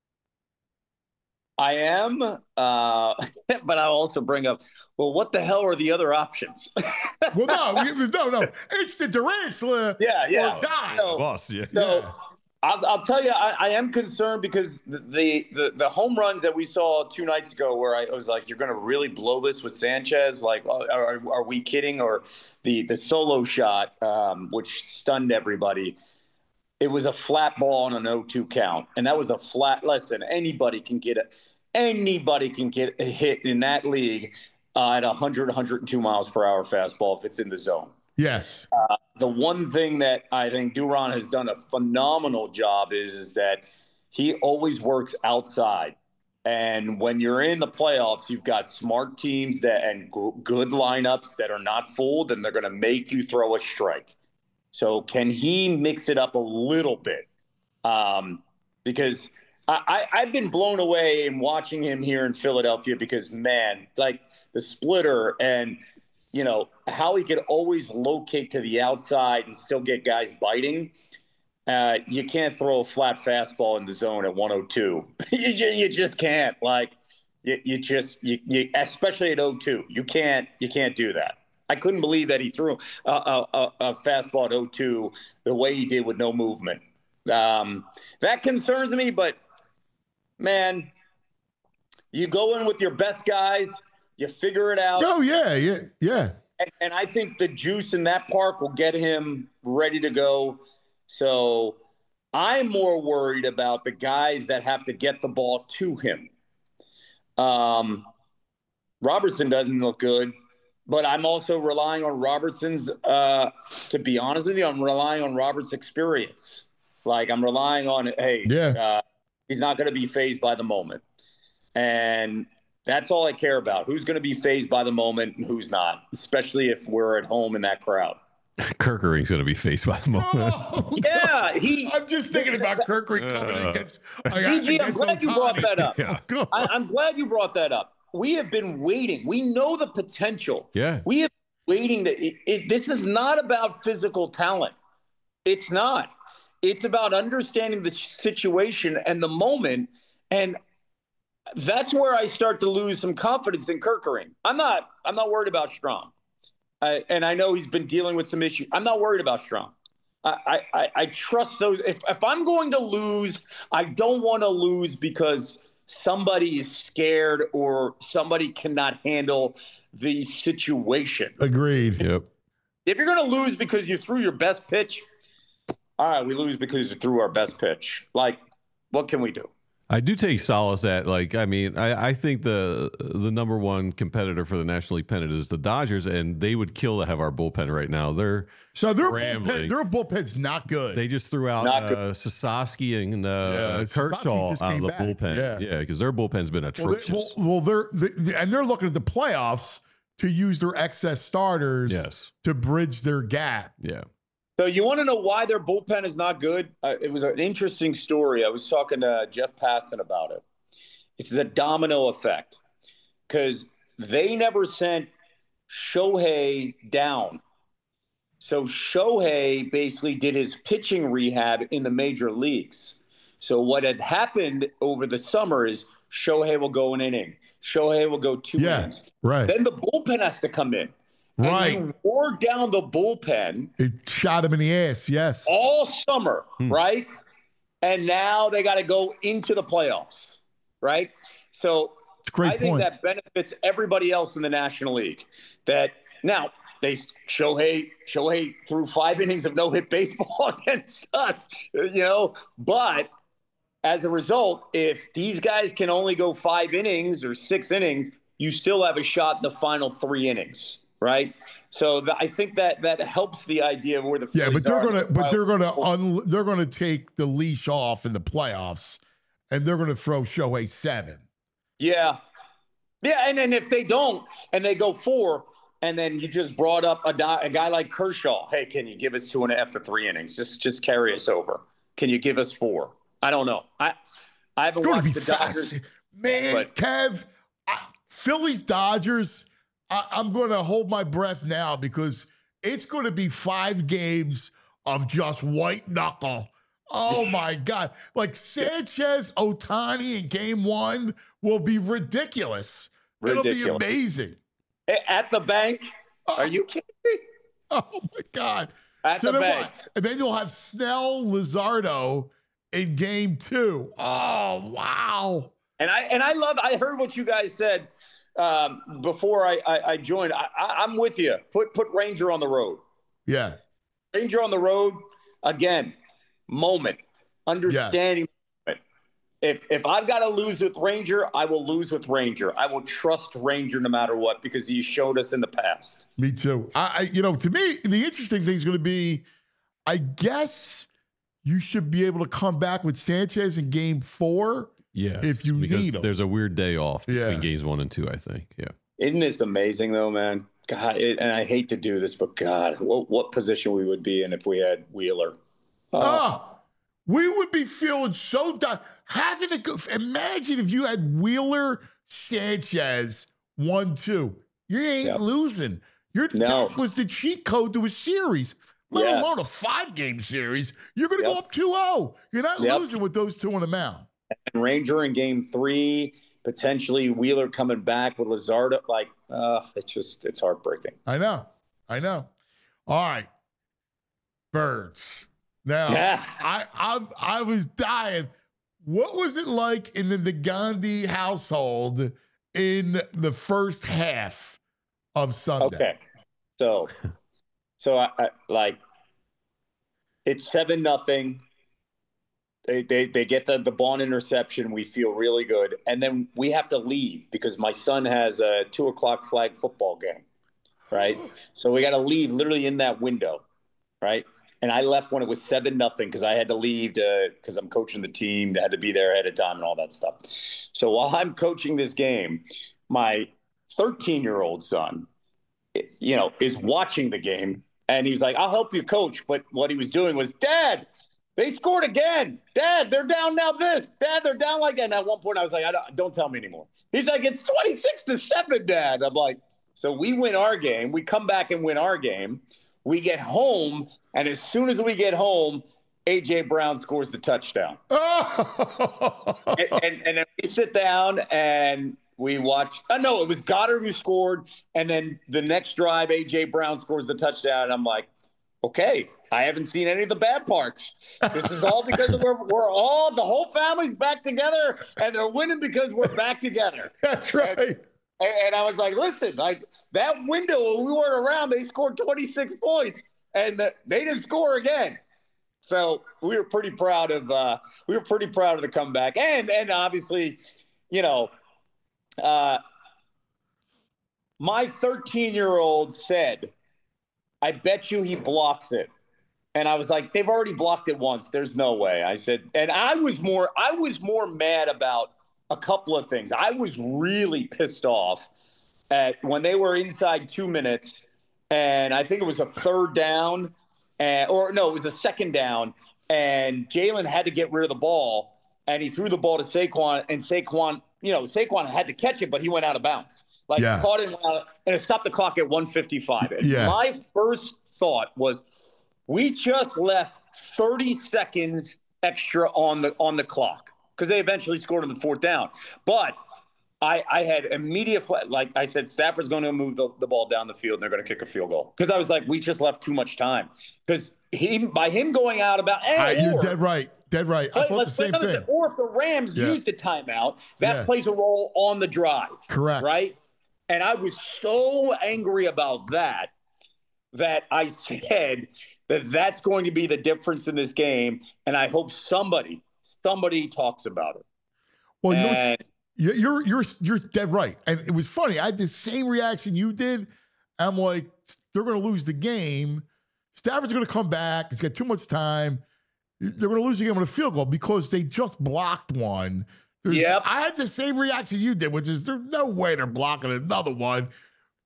I am, but I'll also bring up, well, what the hell are the other options? Well, no. It's the Durantula. Yeah. Or die. So I'll tell you, I am concerned because the home runs that we saw 2 nights ago, where I was like, you're going to really blow this with Sanchez? Like, are we kidding? Or the solo shot, which stunned everybody. It was a flat ball on an 0-2 count, and that was a flat. Listen, anybody can get a hit in that league at 100, 102 miles per hour fastball if it's in the zone. Yes. The one thing that I think Duran has done a phenomenal job is that he always works outside. And when you're in the playoffs, you've got smart teams and good lineups that are not fooled, and they're going to make you throw a strike. So can he mix it up a little bit? Because I've been blown away in watching him here in Philadelphia because, man, like the splitter and, you know, how he could always locate to the outside and still get guys biting. You can't throw a flat fastball in the zone at 102. You just can't. Like, you especially at 0-2. You can't do that. I couldn't believe that he threw a fastball at 0-2 the way he did with no movement. That concerns me, but, man, you go in with your best guys, you figure it out. Oh, yeah. And I think the juice in that park will get him ready to go. So I'm more worried about the guys that have to get the ball to him. Robertson doesn't look good. But I'm also relying on Robertson's, to be honest with you, I'm relying on Robert's experience. Like, I'm relying on, he's not going to be fazed by the moment. And that's all I care about. Who's going to be fazed by the moment and who's not, especially if we're at home in that crowd. Kerkering's going to be fazed by the moment. Oh, yeah. I'm just thinking about Kerkering coming against BG, I'm glad you brought that up. Yeah. I'm glad you brought that up. We have been waiting. We know the potential. Yeah. We have been waiting this is not about physical talent. It's not. It's about understanding the situation and the moment. And that's where I start to lose some confidence in Kerkering. I'm not worried about Strong. And I know he's been dealing with some issues. I'm not worried about Strong. I trust those. If I'm going to lose, I don't want to lose because somebody is scared or somebody cannot handle the situation. Agreed. Yep. If you're going to lose because you threw your best pitch, all right, we lose because we threw our best pitch. Like, what can we do? I do take solace at, like, I mean, I think the number one competitor for the National League pennant is the Dodgers, and they would kill to have our bullpen right now. Their bullpen's not good. They just threw out Sasaki and Kershaw out of the bullpen. Yeah, because their bullpen's been atrocious. They're looking at the playoffs to use their excess starters to bridge their gap. Yeah. So you want to know why their bullpen is not good? It was an interesting story. I was talking to Jeff Passan about it. It's the domino effect because they never sent Shohei down. So Shohei basically did his pitching rehab in the major leagues. So what had happened over the summer is Shohei will go an inning. Shohei will go 2 innings. Right. Then the bullpen has to come in. Right. And you wore down the bullpen. It shot him in the ass, yes. All summer, right? And now they got to go into the playoffs, right? So I think that benefits everybody else in the National League. That now Shohei threw 5 innings of no-hit baseball against us, but as a result, if these guys can only go 5 innings or 6 innings, you still have a shot in the final 3 innings. Right, so I think that helps the idea of where the Phillies they're gonna take the leash off in the playoffs, and they're gonna throw Shohei 7. Yeah, and then if they don't and they go 4, and then you just brought up a guy like Kershaw. Hey, can you give us 2.5 after 3 innings? Just carry us over. Can you give us 4? I don't know. I haven't watched the Dodgers. Man, but Kev, Phillies Dodgers, I'm going to hold my breath now because it's going to be 5 games of just white knuckle. Oh, my God. Like Sanchez, Ohtani in game 1 will be ridiculous. It'll be amazing. At the bank? Are you kidding me? Oh, my God. At the bank. And then you'll have Snell, Luzardo in game 2. Oh, wow. And I heard what you guys said before I joined. I'm with you. Put Ranger on the road. Yeah. Ranger on the road, again, moment, understanding. Yes. If I've got to lose with Ranger, I will lose with Ranger. I will trust Ranger no matter what because he showed us in the past. Me too. To me, the interesting thing is going to be, I guess you should be able to come back with Sanchez in game 4. Yeah, if you need him. There's a weird day off between games 1 and 2, I think. Yeah. Isn't this amazing though, man? God, and I hate to do this, but God, what position we would be in if we had Wheeler? We would be feeling so done. Imagine if you had Wheeler, Sanchez, 1-2. You ain't losing. That was the cheat code to a series, let alone a 5-game series. You're going to go up 2-0. You're not losing with those 2 on the mound. And Ranger in game 3, potentially Wheeler coming back with Luzardo. Like, it's heartbreaking. I know. All right. Birds. Now, I was dying. What was it like in the Gandhi household in the first half of Sunday? Okay. So I like it's 7-0. They get the Bond interception. We feel really good. And then we have to leave because my son has a 2:00 flag football game, right? So we got to leave literally in that window, right? And I left when it was 7-0 because I had to leave because I'm coaching the team. I had to be there ahead of time and all that stuff. So while I'm coaching this game, my 13-year-old son, is watching the game. And he's like, I'll help you, coach. But what he was doing was, Dad, they scored again. Dad, they're down now this. Dad, they're down like that. And at one point I was like, don't tell me anymore. He's like, it's 26-7, Dad. I'm like, so we win our game. We come back and win our game. We get home, and as soon as we get home, A.J. Brown scores the touchdown. and then we sit down and we watch. No, it was Goddard who scored, and then the next drive, A.J. Brown scores the touchdown, and I'm like, okay, I haven't seen any of the bad parts. This is all because the whole family's back together, and they're winning because we're back together. That's right. And I was like, listen, like that window when we weren't around, they scored 26 points, and they didn't score again. So we were pretty proud of the comeback, and obviously, my 13-year-old said, "I bet you he blocks it," and I was like, "They've already blocked it once. There's no way." I said, and I was more mad about a couple of things. I was really pissed off at when they were inside 2 minutes, and I think it was a third down, it was a second down, and Jalen had to get rid of the ball, and he threw the ball to Saquon, and Saquon had to catch it, but he went out of bounds. Caught it and it stopped the clock at 1:55. My first thought was, we just left 30 seconds extra on the clock, because they eventually scored on the 4th down. But I had immediate, like I said, Stafford's going to move the ball down the field and they're going to kick a field goal. Because I was like, we just left too much time. Because by him going out about, you're dead right. I thought the same thing. Or if the Rams used the timeout, that plays a role on the drive. Correct. Right? And I was so angry about that I said that's going to be the difference in this game. And I hope somebody talks about it. Well, you're dead right. And it was funny. I had the same reaction you did. I'm like, they're going to lose the game. Stafford's going to come back. He's got too much time. They're going to lose the game on a field goal because they just blocked one. I had the same reaction you did, which is there's no way they're blocking another one.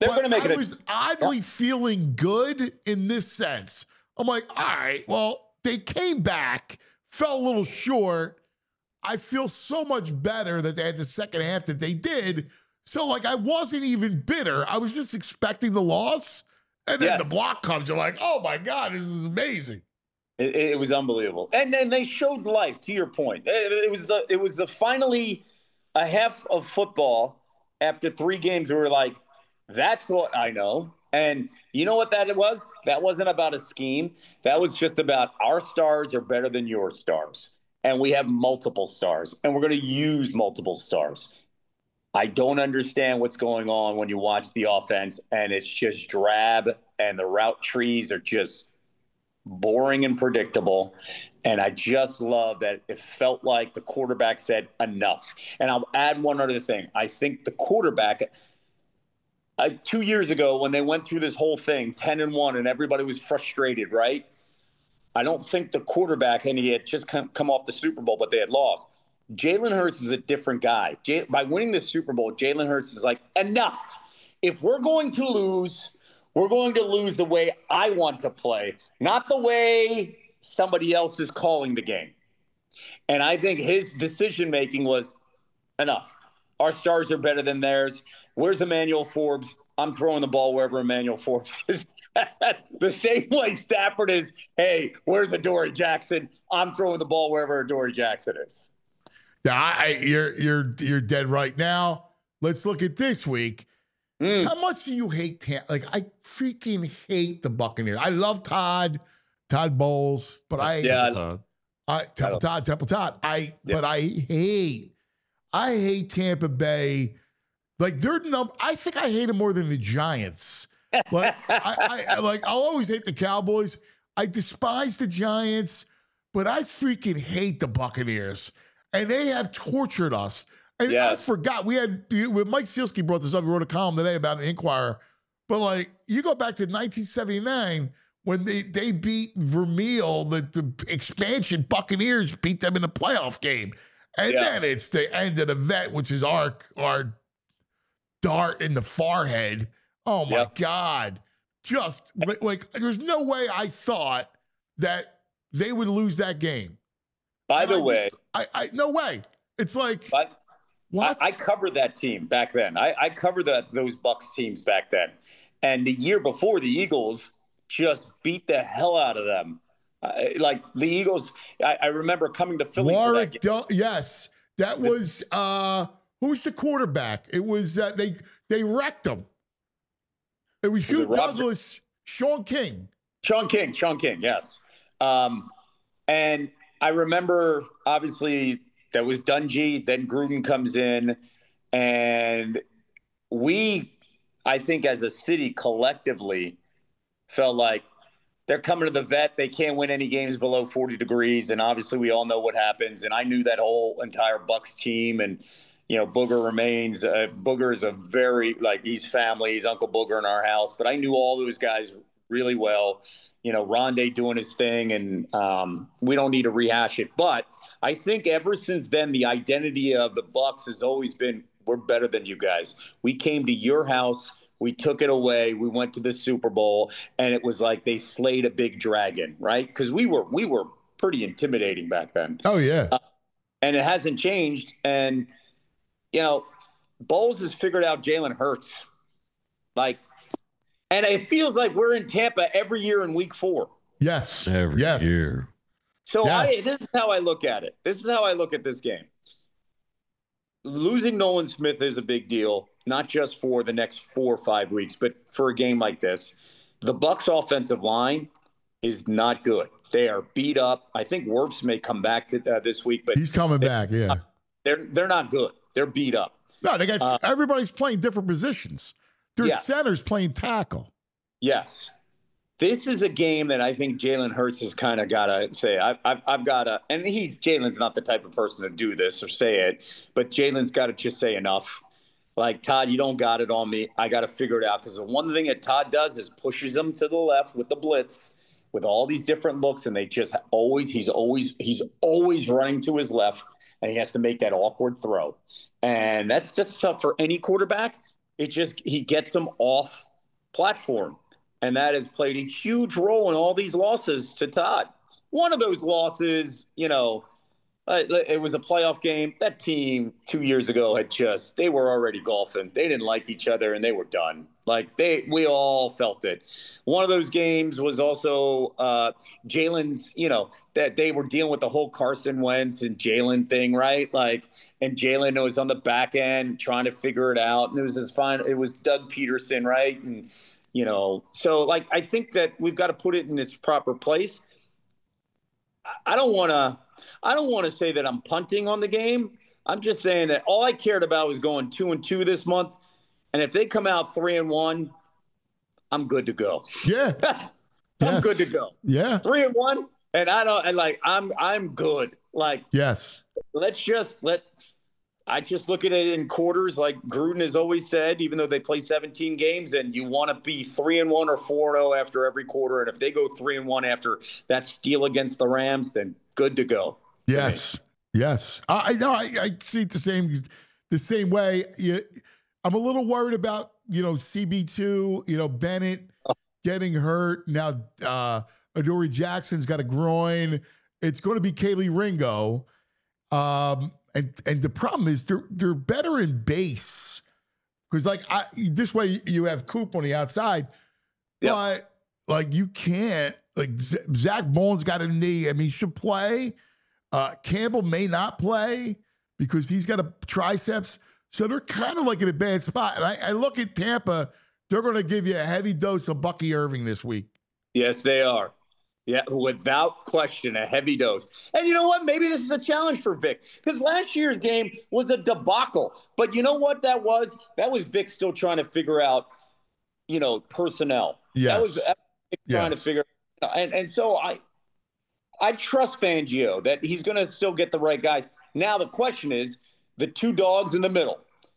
They're going to make it. I was oddly feeling good in this sense. I'm like, all right, well, they came back, fell a little short. I feel so much better that they had the second half that they did. So, like, I wasn't even bitter. I was just expecting the loss. And then the block comes. You're like, oh, my God, this is amazing. It was unbelievable. And then they showed life, to your point. It was the finally a half of football after 3 games we were like, that's what I know. And you know what that was? That wasn't about a scheme. That was just about our stars are better than your stars. And we have multiple stars. And we're going to use multiple stars. I don't understand what's going on when you watch the offense and it's just drab and the route trees are just boring and predictable. And I just love that it felt like the quarterback said enough. And I'll add one other thing. I think the quarterback 2 years ago when they went through this whole thing, 10-1, and everybody was frustrated, right? I don't think the quarterback, and he had just come off the Super Bowl, but they had lost. Jalen Hurts is a different guy. By winning the Super Bowl, Jalen Hurts is like, enough. If we're going to lose, we're going to lose the way I want to play, not the way somebody else is calling the game. And I think his decision-making was enough. Our stars are better than theirs. Where's Emmanuel Forbes? I'm throwing the ball wherever Emmanuel Forbes is. The same way Stafford is, hey, where's Adoree Jackson? I'm throwing the ball wherever Adoree Jackson is. Yeah, you're dead right now. Let's look at this week. How much do you hate Tampa? Like, I freaking hate the Buccaneers. I love Todd Bowles, but Temple Todd. But I hate Tampa Bay. Like, I think I hate them more than the Giants. Like, I'll always hate the Cowboys. I despise the Giants, but I freaking hate the Buccaneers. And they have tortured us. And I forgot, when Mike Sealski brought this up, he wrote a column today about an Inquirer. But, like, you go back to 1979 when they beat Vermeil, the expansion Buccaneers beat them in the playoff game. And then it's the end of the vet, which is our dart in the forehead. Oh, my God. Just, like, there's no way I thought that they would lose that game. By the way. No way. It's like, what? I covered that team back then. I covered those Bucs teams back then. And the year before, the Eagles just beat the hell out of them. Like, the Eagles, I remember coming to Philly for that game. Yes. That was, who was the quarterback? It was, they wrecked them. It was Hugh Douglas, Sean King. Sean King, yes. And I remember, obviously, that was Dungy. Then Gruden comes in. And we, I think, as a city collectively felt like they're coming to the vet. They can't win any games below 40 degrees. And obviously, we all know what happens. And I knew that whole entire Bucs team. And Booger remains. Booger is a very, he's family. He's Uncle Booger in our house. But I knew all those guys really well. Rondé doing his thing, and we don't need to rehash it. But I think ever since then, the identity of the Bucs has always been, we're better than you guys. We came to your house. We took it away. We went to the Super Bowl, and it was like they slayed a big dragon, right? Because we were pretty intimidating back then. Oh, yeah. And it hasn't changed. And Bowles has figured out Jalen Hurts. And it feels like we're in Tampa every year in week 4. Yes. Every year. So this is how I look at it. This is how I look at this game. Losing Nolan Smith is a big deal, not just for the next 4 or 5 weeks, but for a game like this. The Bucs offensive line is not good. They are beat up. I think Wirfs may come back to this week, but he's coming back. Yeah. They're not good. They're beat up. No, they got everybody's playing different positions. Their center's playing tackle. Yes. This is a game that I think Jalen Hurts has kind of got to say, I've got to, and Jalen's not the type of person to do this or say it, but Jalen's got to just say enough. Like, Todd, you don't got it on me. I got to figure it out. Because the one thing that Todd does is pushes them to the left with the blitz, with all these different looks, and he's always running to his left, and he has to make that awkward throw. And that's just tough for any quarterback. he gets them off platform. And that has played a huge role in all these losses to Todd. One of those losses, it was a playoff game. That team 2 years ago they were already golfing. They didn't like each other and they were done. We all felt it. One of those games was also Jalen's, that they were dealing with the whole Carson Wentz and Jalen thing, right? And Jalen was on the back end trying to figure it out. And it was Doug Peterson, right? And, so I think that we've got to put it in its proper place. I don't want to say that I'm punting on the game. I'm just saying that all I cared about was going 2-2 this month. And if they come out 3-1, I'm good to go. Yeah. I'm good to go. Yeah. 3-1. And I'm good. Yes. I just look at it in quarters, like Gruden has always said, even though they play 17 games, and you want to be 3-1 or 4-0 after every quarter. And if they go 3-1 after that steal against the Rams, then good to go. Yes. Yes. I know. I see it the same way. I'm a little worried about, CB2, Bennett getting hurt. Now, Adoree Jackson's got a groin. It's going to be Kaylee Ringo. And the problem is they're better in base because this way you have Coop on the outside, but you can't Zach Bowen's got a knee. I mean, he should play. Campbell may not play because he's got a triceps. So they're kind of in a bad spot. And I look at Tampa, they're going to give you a heavy dose of Bucky Irving this week. Yes, they are. Yeah, without question, a heavy dose. And you know what? Maybe this is a challenge for Vic because last year's game was a debacle. But you know what that was? That was Vic still trying to figure out, personnel. Yes. That was Vic trying to figure out. And so I trust Fangio that he's going to still get the right guys. Now the question is the two dogs in the middle.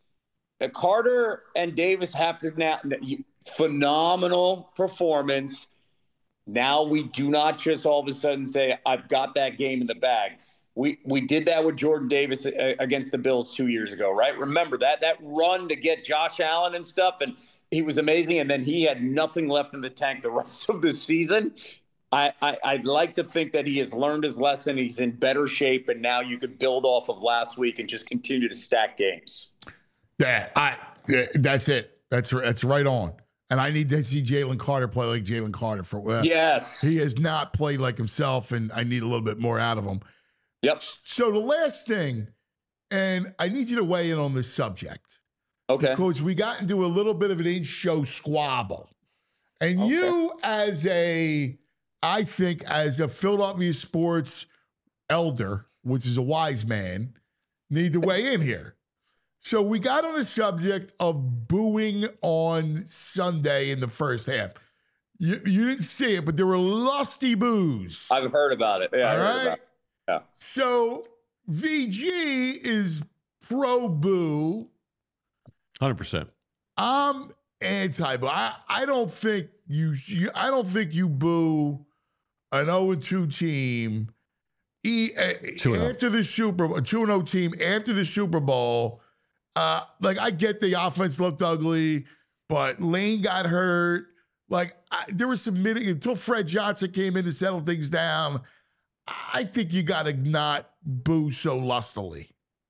Carter and Davis have to now phenomenal performance. Now we do not just all of a sudden say, I've got that game in the bag. We did that with Jordan Davis against the Bills 2 years ago, right? Remember that run to get Josh Allen and stuff, and he was amazing, and then he had nothing left in the tank the rest of the season. I'd like to think that he has learned his lesson. He's in better shape, and now you could build off of last week and just continue to stack games. Yeah, that's it. That's right on. And I need to see Jalen Carter play like Jalen Carter yes. He has not played like himself, and I need a little bit more out of him. Yep. So the last thing, and I need you to weigh in on this subject. Okay. Because we got into a little bit of an in-show squabble. And you as a Philadelphia sports elder, which is a wise man, need to weigh in here. So we got on the subject of booing on Sunday in the first half. You didn't see it, but there were lusty boos. I've heard about it. Yeah, all I heard right? about it. Yeah. So VG is pro boo. 100%. I'm anti-boo. I don't think you boo an 0-2 team after the Super Bowl, 2-0 team after the Super Bowl. I get the offense looked ugly, but Lane got hurt. There was some until Fred Johnson came in to settle things down. I think you got to not boo so lustily.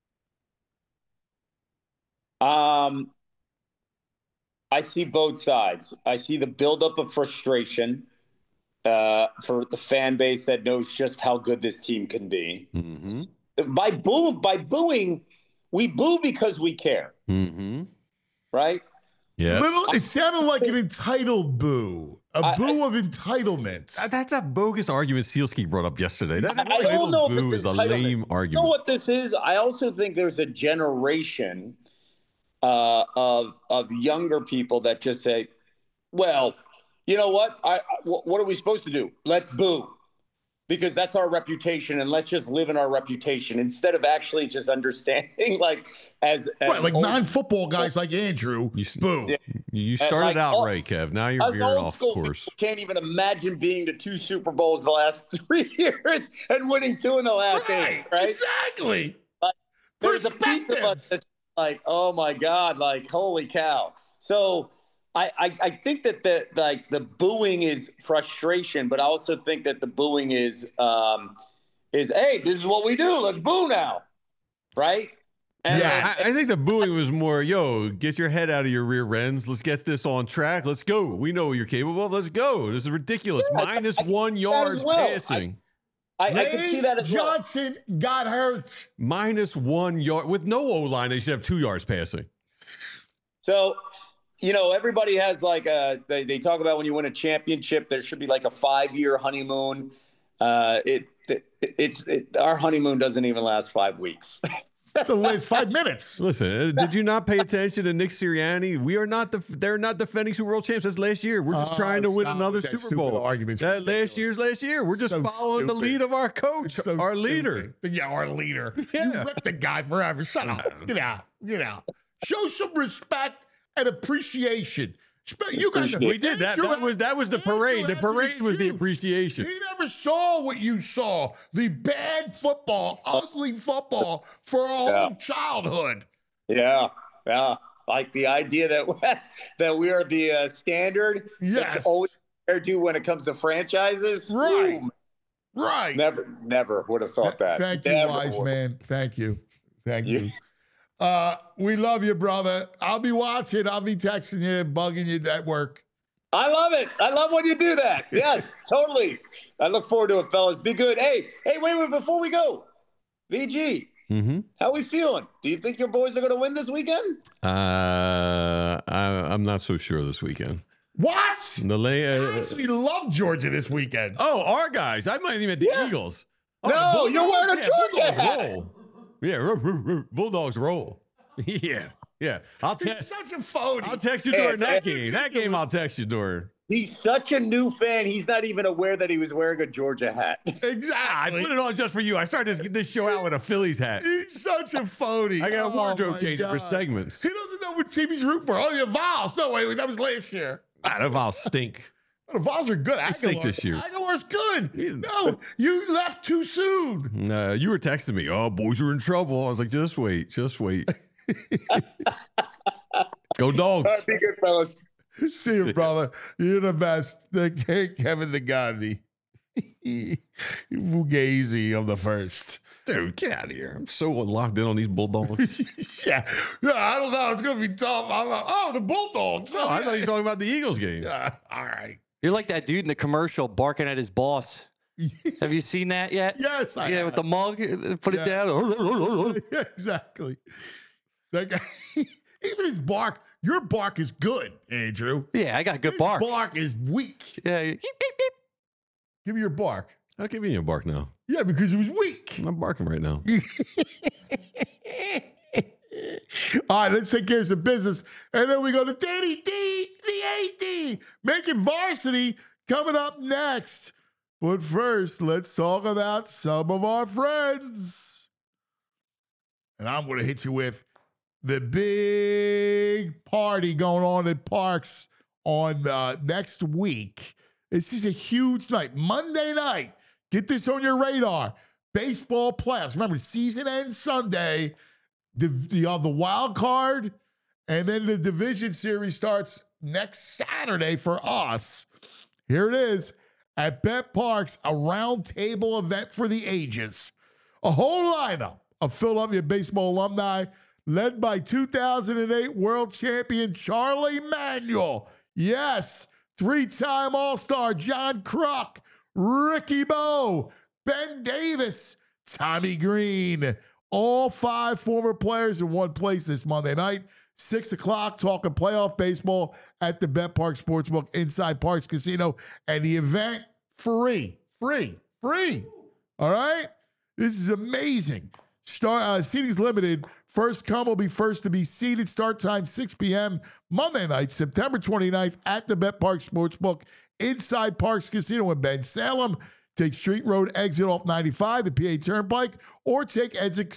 I see both sides. I see the buildup of frustration for the fan base that knows just how good this team can be. Mm-hmm. By booing, we boo because we care. Mm-hmm. Right? Yeah. It sounded like an entitled boo. A boo of entitlement. That's a bogus argument Sealski brought up yesterday. That I don't know boo if it's is a entitlement. lame argument. You know what this is? I also think there's a generation of younger people that just say, well, you know what? What are we supposed to do? Let's boo. Because that's our reputation, and let's just live in our reputation instead of actually just understanding, as non-football guys like Andrew, boo. Yeah. You started out right, Kev. Now you're veering off course. Can't even imagine being to 2 Super Bowls the last 3 years and winning 2 in the last 8. Right? Exactly. There's a piece of us that's oh my God, holy cow. So I think that the booing is frustration, but I also think that the booing is hey, this is what we do. Let's boo now, right? And I think the booing was more, yo, get your head out of your rear ends. Let's get this on track. Let's go. We know you're capable of. Let's go. This is ridiculous. Minus 1 yard passing. I can see that as well. Johnson got hurt. Minus 1 yard. With no O-line, they should have 2 yards passing. So, everybody has like they talk about when you win a championship, there should be like a 5-year honeymoon. Our honeymoon doesn't even last 5 weeks. It's 5 minutes. Listen, did you not pay attention to Nick Sirianni? They're not defending Super Bowl champs. That's last year. We're just trying to win another Super Bowl. Arguments. That last year. We're just following the lead of our coach, our leader. Yeah, our leader. Yeah. You ripped the guy forever. Shut up. Get out. Show some respect and appreciation. You guys, we did that. That was the parade. The parade was the appreciation. He never saw what you saw. The bad football, ugly football for our whole childhood. Yeah. Like the idea that we are the standard. Yes. That's always compared to when it comes to franchises. Right. Boom. Right. Never would have thought that. Thank you, wise man. Thank you. We love you, brother. I'll be watching. I'll be texting you, bugging you at work. I love it. I love when you do that. Yes, totally. I look forward to it, fellas. Be good. Hey, wait, before we go, VG, how we feeling? Do you think your boys are going to win this weekend? I'm not so sure this weekend. What? I actually love Georgia this weekend. Oh, our guys. I might even at the Eagles. No, you're wearing a Georgia hat. Yeah, Bulldogs roll. Yeah. He's such a phony. I'll text you during that game. That game I'll text you during. He's such a new fan. He's not even aware that he was wearing a Georgia hat. Exactly. I put it on just for you. I started this show out with a Phillies hat. He's such a phony. I got a wardrobe change for segments. He doesn't know what team he's rooting for. Oh, the Vols. No, wait, that was last year. The Vols stink. The Vols are good. They stink this year. Aguilar's good. No, you left too soon. You were texting me. Oh, boys are in trouble. I was like, just wait. Go Dogs. All right, be good, fellas. See you, brother. You're the best. Kevin the Gandhi. Fugazi of the first. Dude, get out of here. I'm so locked in on these Bulldogs. yeah, I don't know. It's going to be tough. The Bulldogs. I thought he was talking about the Eagles game. All right. You're like that dude in the commercial barking at his boss. Have you seen that yet? Yes, I have. With the mug, put it down. Yeah, exactly. That guy, even his bark, your bark is good, Andrew. Yeah, I got good bark. His bark is weak. Yeah. Beep, beep, beep. Give me your bark. I'll give you a bark now. Yeah, because it was weak. I'm barking right now. All right, let's take care of some business. And then we go to Danny D, the AD, making varsity coming up next. But first, let's talk about some of our friends. And I'm going to hit you with the big party going on at Parks on next week. It's just a huge night. Monday night. Get this on your radar. Baseball playoffs. Remember, season ends Sunday. The wild card, and then the division series starts next Saturday for us. Here it is at Bet Parks, a round table event for the ages. A whole lineup of Philadelphia baseball alumni led by 2008 world champion Charlie Manuel. Yes, 3-time All-Star John Kruk, Ricky Bo, Ben Davis, Tommy Green. All 5 former players in one place this Monday night, 6 o'clock, talking playoff baseball at the Bet Park Sportsbook inside Parks Casino. And the event, free. All right? This is amazing. Seating's limited. First come will be first to be seated. Start time 6 p.m. Monday night, September 29th at the Bet Park Sportsbook inside Parks Casino in Ben Salem. Take Street Road exit off 95, the PA Turnpike, or take exit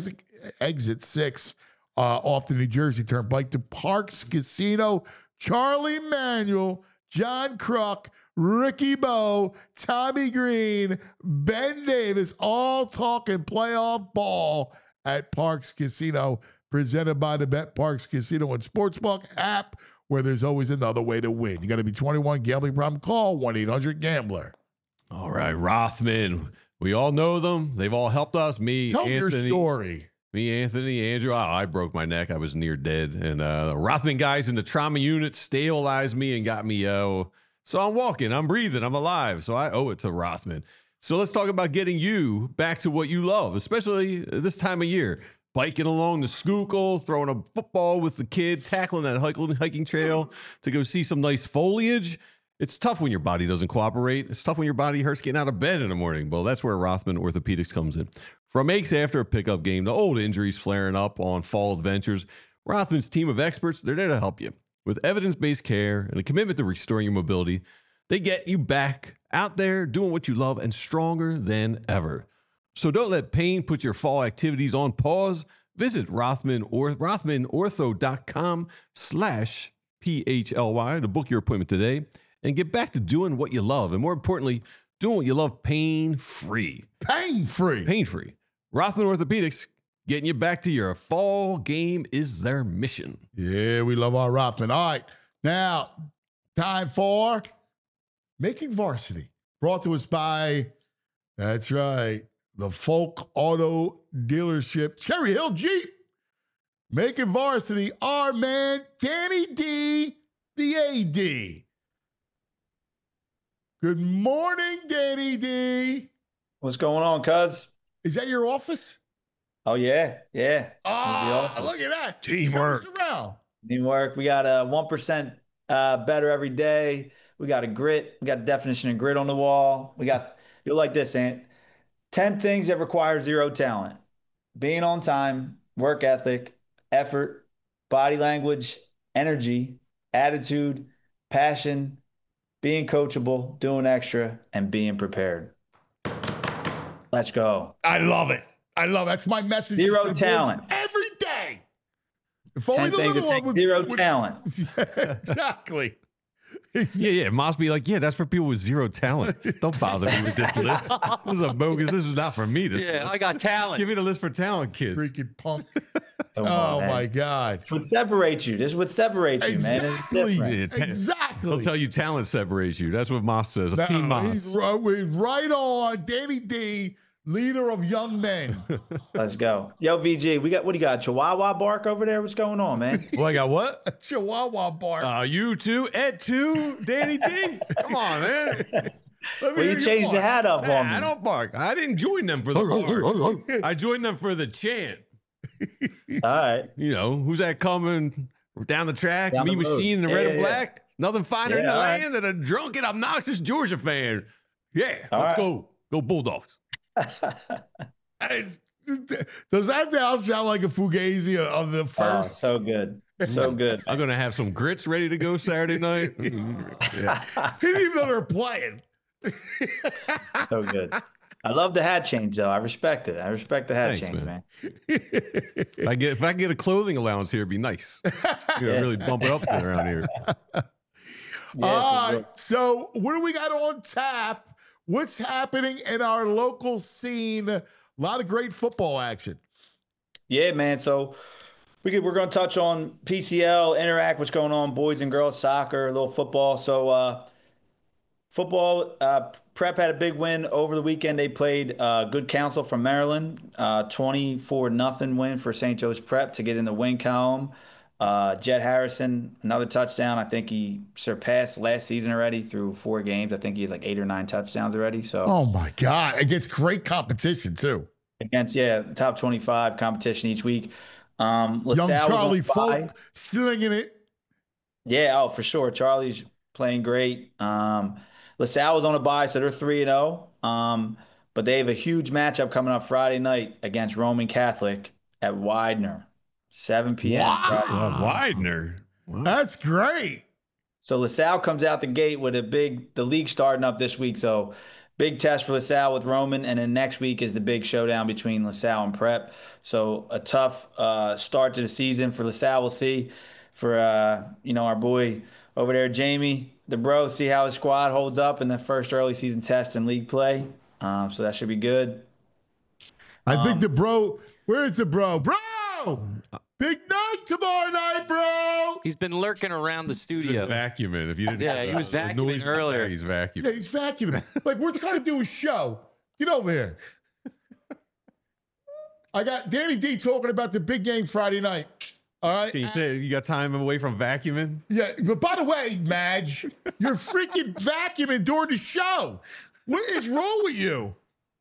6 off the New Jersey Turnpike to Parks Casino. Charlie Manuel, John Kruk, Ricky Bo, Tommy Green, Ben Davis, all talking playoff ball at Parks Casino, presented by the Bet Parks Casino and Sportsbook app. where there's always another way to win. You got to be 21. Gambling problem? Call 1-800-GAMBLER. All right, Rothman. We all know them. They've all helped us. Me, Tell Anthony. your story. Me, Anthony, Andrew. I broke my neck. I was near dead. And the Rothman guys in the trauma unit stabilized me and got me. So I'm walking. I'm breathing. I'm alive. So I owe it to Rothman. So let's talk about getting you back to what you love, especially this time of year. Biking along the Schuylkill, throwing a football with the kid, tackling that hiking trail to go see some nice foliage. It's tough when your body doesn't cooperate. It's tough when your body hurts getting out of bed in the morning. Well, that's where Rothman Orthopedics comes in. From aches after a pickup game to old injuries flaring up on fall adventures, Rothman's team of experts, they're there to help you. With evidence-based care and a commitment to restoring your mobility, they get you back out there doing what you love and stronger than ever. So don't let pain put your fall activities on pause. Visit rothmanortho.com/PHLY to book your appointment today and get back to doing what you love. And more importantly, doing what you love pain-free. Pain-free. Pain-free. Rothman Orthopedics, getting you back to your fall game is their mission. Yeah, we love our Rothman. All right, now time for Making Varsity. Brought to us by, that's right, the Folk Auto Dealership, Cherry Hill Jeep. Making Varsity, our man, Danny D, the AD. Good morning, Danny D. What's going on, cuz? Is that your office? Oh, yeah. Oh, look at that. Teamwork. Teamwork. We got a 1% better every day. We got a grit. We got a definition of grit on the wall. You'll like this, Ant. 10 things that require zero talent. Being on time, work ethic, effort, body language, energy, attitude, passion, being coachable, doing extra, and being prepared. Let's go. I love it. That's my message. Zero talent. Every day. If 10 only the things little that one take zero talent. Exactly. Yeah. It must be like, yeah, that's for people with zero talent. Don't bother me with this list. This is a bogus. This is not for me. I got talent. Give me the list for talent, kids. Freaking punk. Oh, my God. This would separate you. This would separate you, man. Exactly. They'll tell you talent separates you. That's what Moss says. Team Moss. He's right on. Danny D, leader of young men. Let's go. Yo, VG, what do you got? Chihuahua bark over there? What's going on, man? Well, I got what? A Chihuahua bark. You too, Ed too, Danny D. Come on, man. Well, you changed the hat up on me. I don't bark. I didn't join them for the bark. I joined them for the chant. All right. You know, who's that coming down the track? Down Me the road. Machine in the red and black. Nothing finer in the right. land than a drunken, obnoxious Georgia fan. Yeah, All let's right. go. Go Bulldogs. Does that now sound like a Fugazi of the Oh, first? so good. So good. I'm going to have some grits ready to go Saturday night. Yeah. He didn't even know they're playing. So good. I love the hat change, though. I respect it. I respect the hat Thanks, change, man. man. If I get a clothing allowance here, it'd be nice. Really bump it up around here. All right. So, what do we got on tap? What's happening in our local scene? A lot of great football action. Yeah, man. So we're going to touch on PCL, Interact, what's going on, boys and girls soccer, a little football. So football, Prep had a big win over the weekend. They played Good Counsel from Maryland, 24-0 win for St. Joe's Prep to get in the win column. Jet Harrison, another touchdown. I think he surpassed last season already through 4 games. I think he has like 8 or 9 touchdowns already. So Oh my God. Against great competition too. against top 25 competition each week. Young LaSalle Charlie was on bye. Folk slinging it. Yeah, for sure. Charlie's playing great. LaSalle was on a bye, so they're 3-0. But they have a huge matchup coming up Friday night against Roman Catholic at Widener, 7 p.m. Friday. Widener. Wow. That's great. So LaSalle comes out the gate with the league starting up this week. So big test for LaSalle with Roman. And then next week is the big showdown between LaSalle and Prep. So a tough start to the season for LaSalle. We'll see for, our boy over there, Jamie, the bro, see how his squad holds up in the first early season test and league play. So that should be good. I think the bro, where is the bro? Bro! Big night tomorrow night, bro. He's been lurking around the studio. Vacuuming. If you didn't, Yeah, he was the vacuuming noise earlier. He's vacuuming. Yeah, he's vacuuming. Like, we're trying to do a show. Get over here. I got Danny D talking about the big game Friday night. All right. You got time away from vacuuming? Yeah, but by the way, Madge, you're freaking vacuuming during the show. What is wrong with you?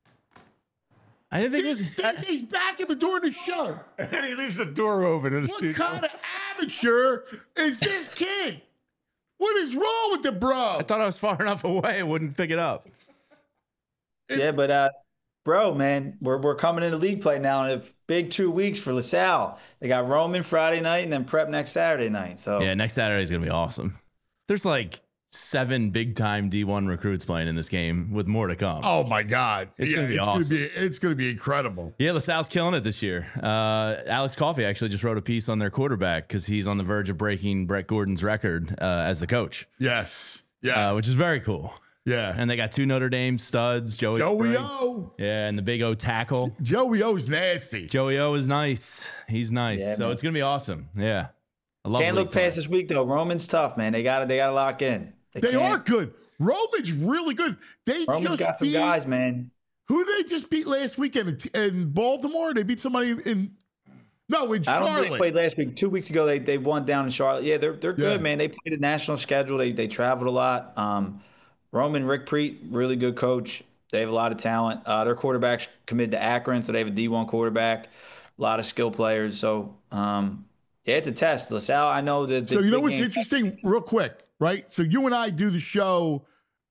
I didn't think He's vacuuming during the show. And he leaves the door open in the What studio. kind of amateur is this kid? What is wrong with the bro? I thought I was far enough away, I wouldn't pick it up. Yeah, but bro, man, we're coming into league play now, and if big 2 weeks for LaSalle. They got Roman Friday night and then prep next Saturday night. So Yeah, next Saturday is gonna be awesome. There's like 7 big-time D1 recruits playing in this game, with more to come. Oh my God, It's gonna be awesome. It's gonna be incredible. Yeah, LaSalle's killing it this year. Alex Coffey actually just wrote a piece on their quarterback because he's on the verge of breaking Brett Gordon's record as the coach. Yes, yeah, which is very cool. Yeah, and they got 2 Notre Dame studs, Joey Spring. O. Yeah, and the big O tackle. Joey O's nasty. Joey O is nice. He's nice. Yeah, so man. it's gonna be awesome. Yeah, I love can't league look play. past this week though. Roman's tough, man. They got to lock in. They are good. Roman's really good. Roman's just got some beat, guys, man. Who did they just beat last weekend in Baltimore? They beat somebody in I Charlotte. don't think they played last week. 2 weeks ago, they won down in Charlotte. Yeah, they're good, man. They played a national schedule. They traveled a lot. Roman, Rick Preet, really good coach. They have a lot of talent. Their quarterback's committed to Akron, so they have a D1 quarterback. A lot of skill players. So, yeah, it's a test. LaSalle, I know that. So you know what's interesting, real quick, right? So you and I do the show,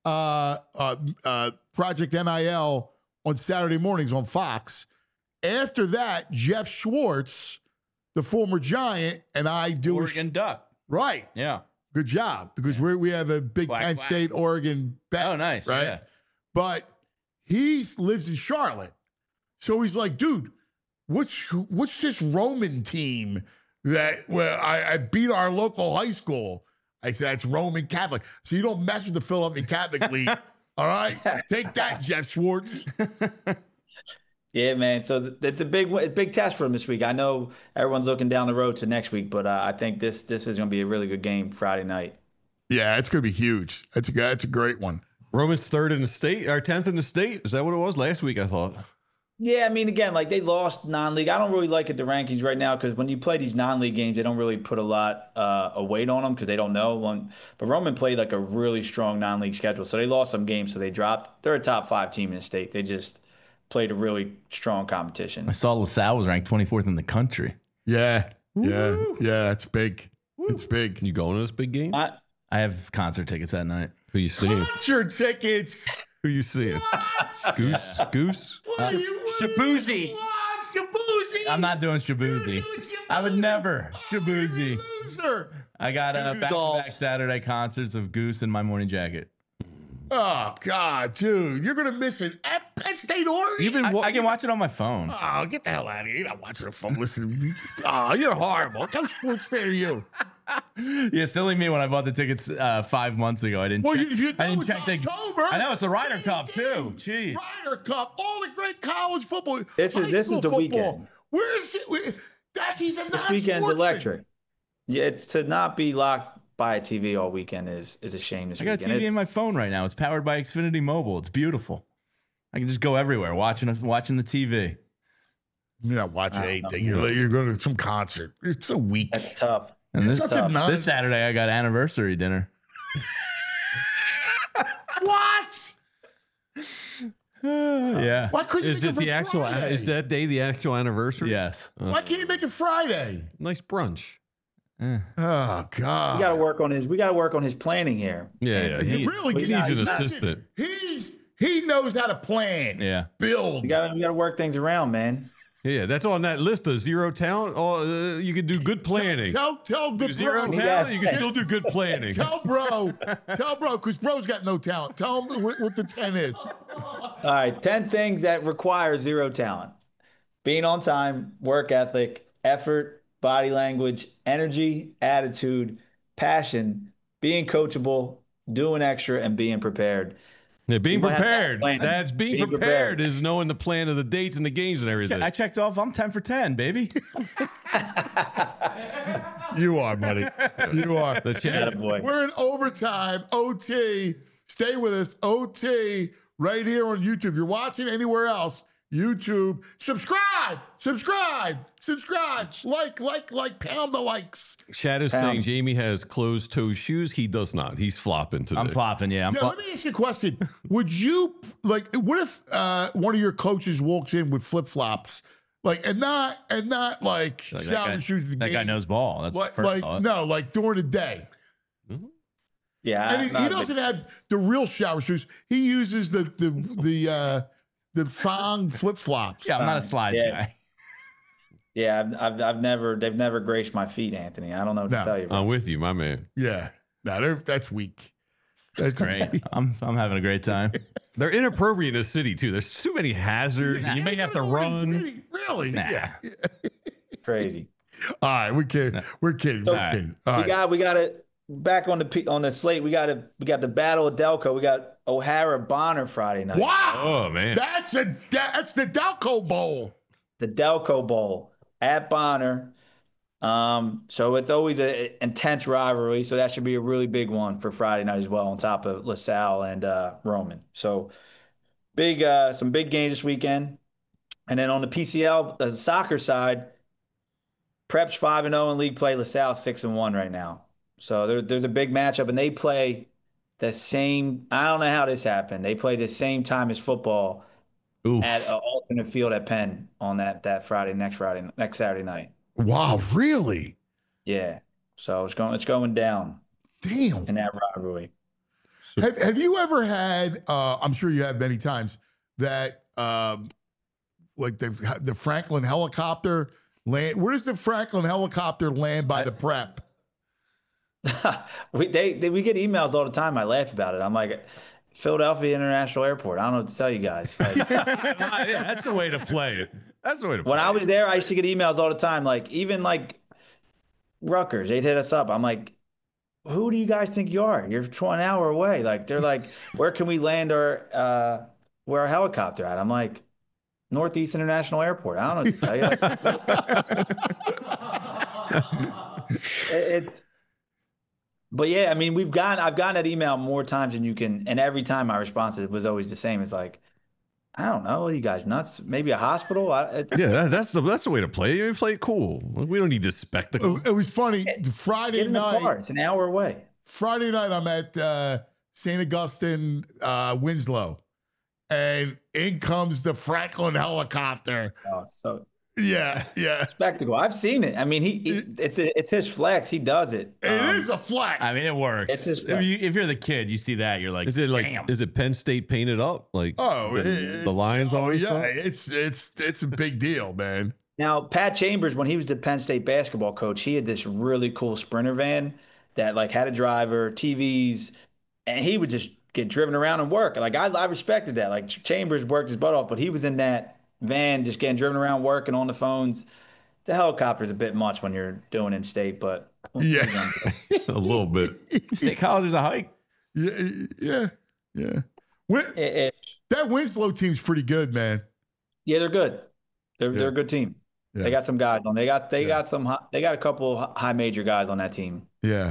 Project NIL, on Saturday mornings on Fox. After that, Jeff Schwartz, the former Giant, and I do Oregon Duck. Right. Yeah. Good job, because we have a big Penn State, Oregon bet. Oh, nice. Right? Yeah. But he lives in Charlotte. So he's like, dude, what's this Roman team that I beat our local high school? I said, that's Roman Catholic. So you don't mess with the Philadelphia Catholic League. All right? Take that, Jeff Schwartz. Yeah, man. So it's a big test for them this week. I know everyone's looking down the road to next week, but I think this is going to be a really good game Friday night. Yeah, it's going to be huge. That's a great one. Roman's 3rd in the state, or 10th in the state. Is that what it was last week? I thought. Yeah, I mean, again, like they lost non-league. I don't really like the rankings right now because when you play these non-league games, they don't really put a lot of weight on them because they don't know. But Roman played like a really strong non-league schedule, so they lost some games, so they dropped. They're a top 5 team in the state. They just played a really strong competition. I saw LaSalle was ranked 24th in the country. Yeah. Yeah, it's big. It's big. You going to this big game? I have concert tickets that night. Who you seeing? Concert tickets. Who you seeing? Goose? Goose? Shabuzi. Shabuzi. I'm not doing Shabuzi. I would never Shabuzi. Sir. I got back-to-back Saturday concerts of Goose and My Morning Jacket. Oh, God, dude. You're going to miss it. At Penn State, Oregon? I can watch it on my phone. Oh, get the hell out of here. You're not watching a phone listening. Oh, you're horrible. What kind of sports fan are you? Yeah, silly me when I bought the tickets 5 months ago. I didn't check. I didn't check October. I know it's the Ryder Cup too. Jeez. Ryder Cup, all the great college football. This is the weekend. Where is it? He's a This weekend's electric. Yeah, it's to not be locked by a TV all weekend is a shame this I got a TV in my phone right now. It's powered by Xfinity Mobile. It's beautiful. I can just go everywhere watching the TV. You're not watching anything. You're going to some concert. It's a week. That's tough. And this Saturday, I got anniversary dinner. What? Yeah. Why couldn't you Is make it the actual? Friday? Is that day the actual anniversary? Yes. Why can't you make it Friday? Nice brunch. Oh God. We got to work on his planning here. Yeah. He really needs an listen, assistant. He knows how to plan. Yeah. Build. We got to work things around, man. Yeah, that's on that list of zero talent. You can do good planning. Tell the zero bro. talent. You can still do good planning. Tell bro, because bro's got no talent. Tell him what the 10 is. All right, 10 things that require zero talent: being on time, work ethic, effort, body language, energy, attitude, passion, being coachable, doing extra, and being prepared. Yeah, being We might have to prepared. plan. That's being prepared is knowing the plan of the dates and the games and everything. I checked off. I'm 10 for 10, baby. You are, buddy. You are. The chat. Attaboy. We're in overtime. OT. Stay with us. OT right here on YouTube. If you're watching anywhere else, YouTube. Subscribe. Like. Pound the likes. Chat is saying Jamie has closed-toe shoes. He does not. He's flopping today. I'm flopping, yeah. Let me ask you a question. Would you, what if one of your coaches walks in with flip-flops? And not like shouting shoes. That guy knows ball. That's the first thought. No, like during the day. Yeah, And he doesn't have the real shower shoes. He uses the thong flip flops. Yeah, I'm not a slides guy. Yeah, they've never graced my feet, Anthony. I don't know what to tell you. I'm with you, my man. Yeah, no, that's weak. That's great. I'm having a great time. They're inappropriate in the city too. There's too many hazards. You may have to run. Really? Nah. Yeah. Crazy. All right, we're kidding. We're kidding. So, We're kidding. All right. We got it back on the slate. We got the Battle of Delco. We got O'Hara Bonner Friday night. Wow. Oh man. That's the Delco Bowl. The Delco Bowl at Bonner. So it's always an intense rivalry. So that should be a really big one for Friday night as well, on top of LaSalle and Roman. So some big games this weekend. And then on the PCL, the soccer side, Prep's 5-0 in league play. LaSalle 6-1 right now. So there's a big matchup, and they play the same. I don't know how this happened. They play the same time as football at an alternate field at Penn on that next Saturday night. Wow, really? Yeah. So it's going down. Damn. In that rivalry. Have you ever had? I'm sure you have many times that like the Franklin helicopter land. Where does the Franklin helicopter land by the Prep? we get emails all the time. I laugh about it. I'm like, Philadelphia International Airport. I don't know what to tell you guys. Yeah, that's the way to play it. That's the way to play it. When I was there, I used to get emails all the time. Like, even like Rutgers, they'd hit us up. I'm like, who do you guys think you are? You're an hour away. Like, they're like, where can we land where our helicopter at? I'm like, Northeast International Airport. I don't know what to tell you. But yeah, I mean, I've gotten that email more times than you can, and every time my response was always the same. It's like, I don't know, are you guys nuts? Maybe a hospital? Yeah, that's the way to play. You play it cool. We don't need this spectacle. It was funny. Friday night, it's an hour away. Friday night, I'm at St. Augustine, Winslow, and in comes the Franklin helicopter. Oh, so. Yeah. Spectacle. I've seen it. I mean, it's his flex. He does it. It is a flex. I mean, it works. It's his flex. If you're the kid, you see that, you're like, is it like, damn. is it Penn State painted up? Like, the Lions always. Yeah, it's a big deal, man. Now, Pat Chambers, when he was the Penn State basketball coach, he had this really cool Sprinter van that like had a driver, TVs, and he would just get driven around and work. Like I respected that. Like Chambers worked his butt off, but he was in that van just getting driven around working on the phones. The helicopter's a bit much when you're doing in state, but yeah, a little bit. State college is a hike. Yeah. That Winslow team's pretty good, man. Yeah, they're good. They're a good team. Yeah. They got some guys on. They got a couple high major guys on that team. Yeah.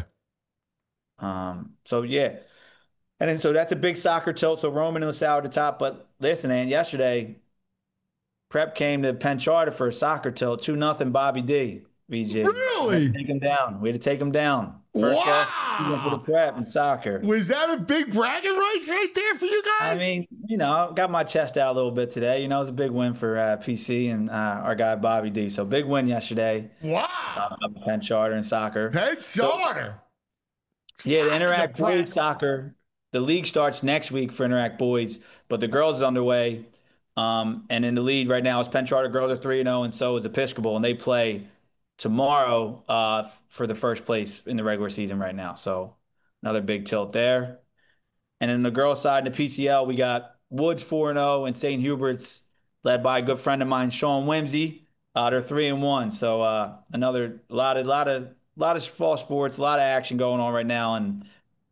So yeah. And then so that's a big soccer tilt. So Roman and LaSalle at the top. But listen, man, yesterday Prep came to Penn Charter for a soccer tilt, 2-0 Bobby D. VJ. Really? We had to take him down. First loss for the Prep in soccer. Was that a big bragging rights right there for you guys? I mean, I got my chest out a little bit today. It was a big win for PC and our guy Bobby D. So big win yesterday. Wow. Penn Charter in soccer. Penn Charter. So, yeah, the Interact Boys soccer. The league starts next week for Interact Boys, but the girls is underway. And in the lead right now is Penn Charter girls are 3-0, and so is Episcopal, and they play tomorrow for the first place in the regular season right now. So another big tilt there. And then the girls side in the PCL, we got Woods 4-0 and St. Hubert's led by a good friend of mine, Sean Whimsy. They're 3-1. So another lot of fall sports, a lot of action going on right now, and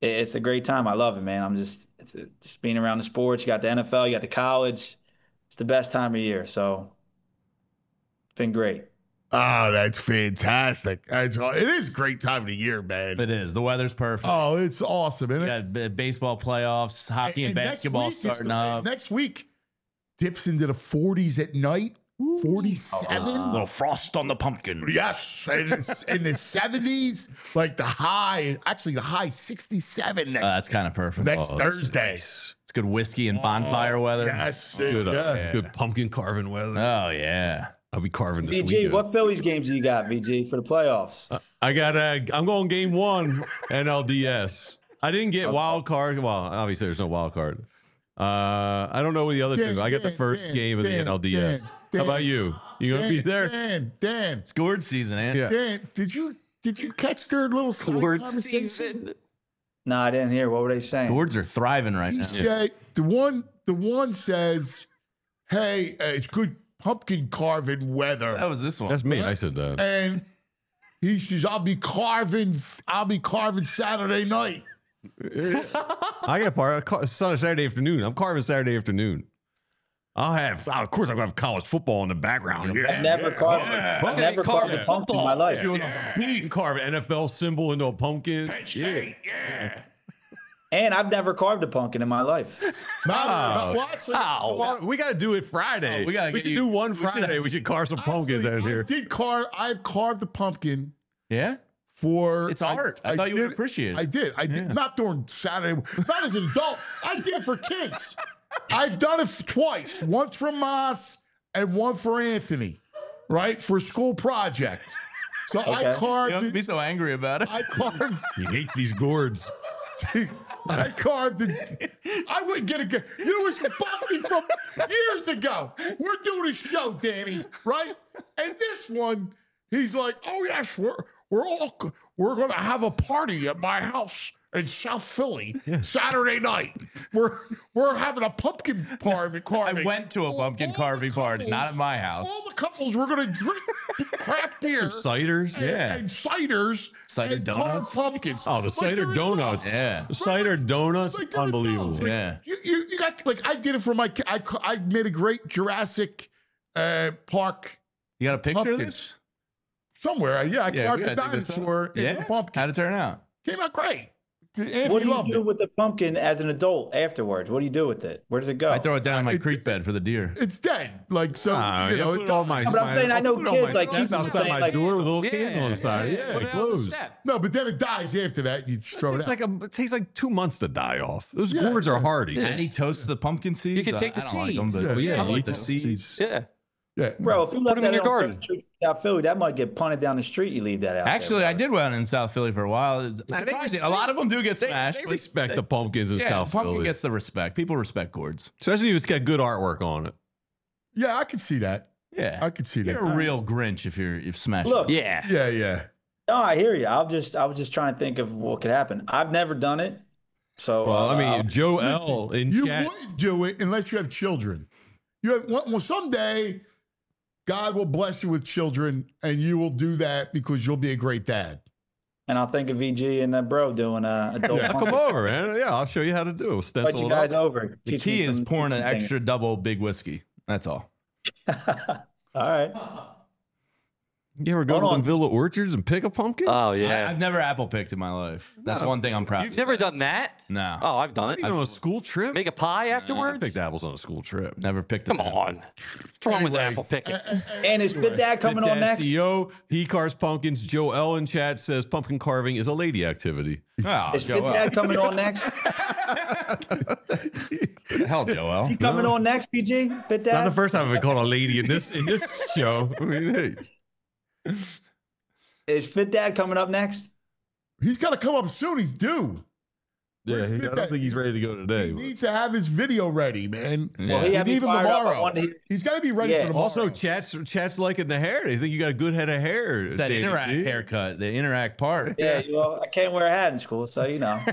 it's a great time. I love it, man. Just being around the sports. You got the NFL, you got the college. It's the best time of year. So it's been great. Oh, that's fantastic. It is a great time of the year, man. It is. The weather's perfect. Oh, it's awesome, isn't it? You got baseball playoffs, hockey and basketball starting up. Next week, dips into the 40s at night. 47. Little frost on the pumpkin. Yes. And it's in the 70s, like the high 67 That's kind of perfect. next Thursday. It's good whiskey and bonfire weather. Yes. Good pumpkin carving weather. Oh, yeah. I'll be carving this VG, weekend. what Phillies games do you got, VG, for the playoffs? I'm going game 1 NLDS. I didn't get wild card. Well, obviously there's no wild card. I don't know what the other things. I got the first game of the NLDS. How about you? You gonna be there? Dan. It's gourd season, man. Yeah. Dan, did you catch their little side Gourd conversation? season. No, I didn't hear. What were they saying? Gourds are thriving right He now. said the one says, "Hey, it's good pumpkin carving weather." That was this one. That's me. I said that. And he says, I'll be carving Saturday night. I got Saturday afternoon. I'm carving Saturday afternoon. Of course, I'm gonna have college football in the background. I've never carved a pumpkin in my life. You can carve an NFL symbol into a pumpkin. And I've never carved a pumpkin in my life. We got to do it Friday. We should do one Friday. We should carve some pumpkins out here. I've carved a pumpkin. Yeah? It's art. I thought you would appreciate it. I did. I did not during Saturday. Not as an adult. I did it for kids. I've done it twice. Once for Moss and one for Anthony, right? For a school project. So Okay. I carved. You don't be so angry about it. I carved. You hate these gourds. I carved it. I wouldn't get a. You know, it's bugged me from years ago. We're doing a show, Danny, right? And this one, he's like, "Oh yes, we're gonna have a party at my house in South Philly Saturday night. We're having a pumpkin carving. I went to a pumpkin carving party, not at my house. All the couples were gonna drink craft beer, Ciders. and ciders, Cider and donuts? carved pumpkins. Oh, the cider donuts. Yeah. The cider donuts. Like, they're Unbelievable. adults. Like, Yeah. You got, like, I did it for my kid. I made a great Jurassic Park You got a picture of pumpkins. this? Somewhere. I we carved the gotta dig this up. dinosaur in the pumpkin. How'd it turn out? Came out great. Anthony What do you loved do it. with the pumpkin as an adult afterwards? What do you do with it? Where does it go? I throw it down in my creek bed for the deer. It's dead. Like, so, you know, put it's it on my. But I'm saying I know put it on kids my like steps keep outside saying, my like- door with a little candle on the side. Yeah, Put it out on the closed. step. No, but then it dies after that. You throw it out. It takes like 2 months to die off. Those gourds are hardy. And he toasts the pumpkin seeds. You can take the I don't like them, seeds. but Yeah, I you like eat the those. seeds. Yeah. Yeah. Bro, if you left them in that your on garden. South Street, South Philly, that might get punted down the street. You leave that out. Actually, there, I did one in South Philly for a while. It's surprising. A lot of them do get smashed. They but respect the pumpkins in yeah, South pumpkin Philly. gets the respect. People respect gourds. Especially if it's got good artwork on it. Yeah, I can see that. Yeah, I can see that. You're a real Grinch if you've smashed. Look, Yeah. Yeah. no, I hear you. I was just trying to think of what could happen. I've never done it, so Well, I mean, Joe L. in You chat. wouldn't do it unless you have children. You have well, someday God will bless you with children, and you will do that because you'll be a great dad. and I'll think of VG and bro doing adult. Yeah, come over, man. Yeah, I'll show you how to do it. Invite Stencil you it guys up. over. The Teach me key is some- pouring an some things. extra double big whiskey. That's all. All right. You ever go Hold to on. Villa Orchards and pick a pumpkin? Oh yeah. I've never apple picked in my life. That's one thing I'm proud You've of. never done that? No. Oh, I've done it. You know, on a school trip? Make a pie I afterwards? picked apples on a school trip. Never picked Come an apple. on. What's wrong with apple picking? And is Fit Dad coming on next? CEO, he carves pumpkins. Joe L. in chat says pumpkin carving is a lady activity. Oh, Is Fit Dad coming on next? Hell, Joel. He coming on next, PG? Fit Not the Dad? first time I've been called a lady in this show. I mean, hey. Is Fit Dad coming up next? He's got to come up soon. He's due. Yeah, I don't think he's ready to go today. He but- needs to have his video ready, man. Well, he We had me need him fired up. I tomorrow. wanted to hear- He's got to be ready Yeah. for tomorrow. Also, chat's liking the hair. They think you got a good head of hair. It's that Danny Interact D. haircut, the Interact part. Yeah, well, I can't wear a hat in school, so you know.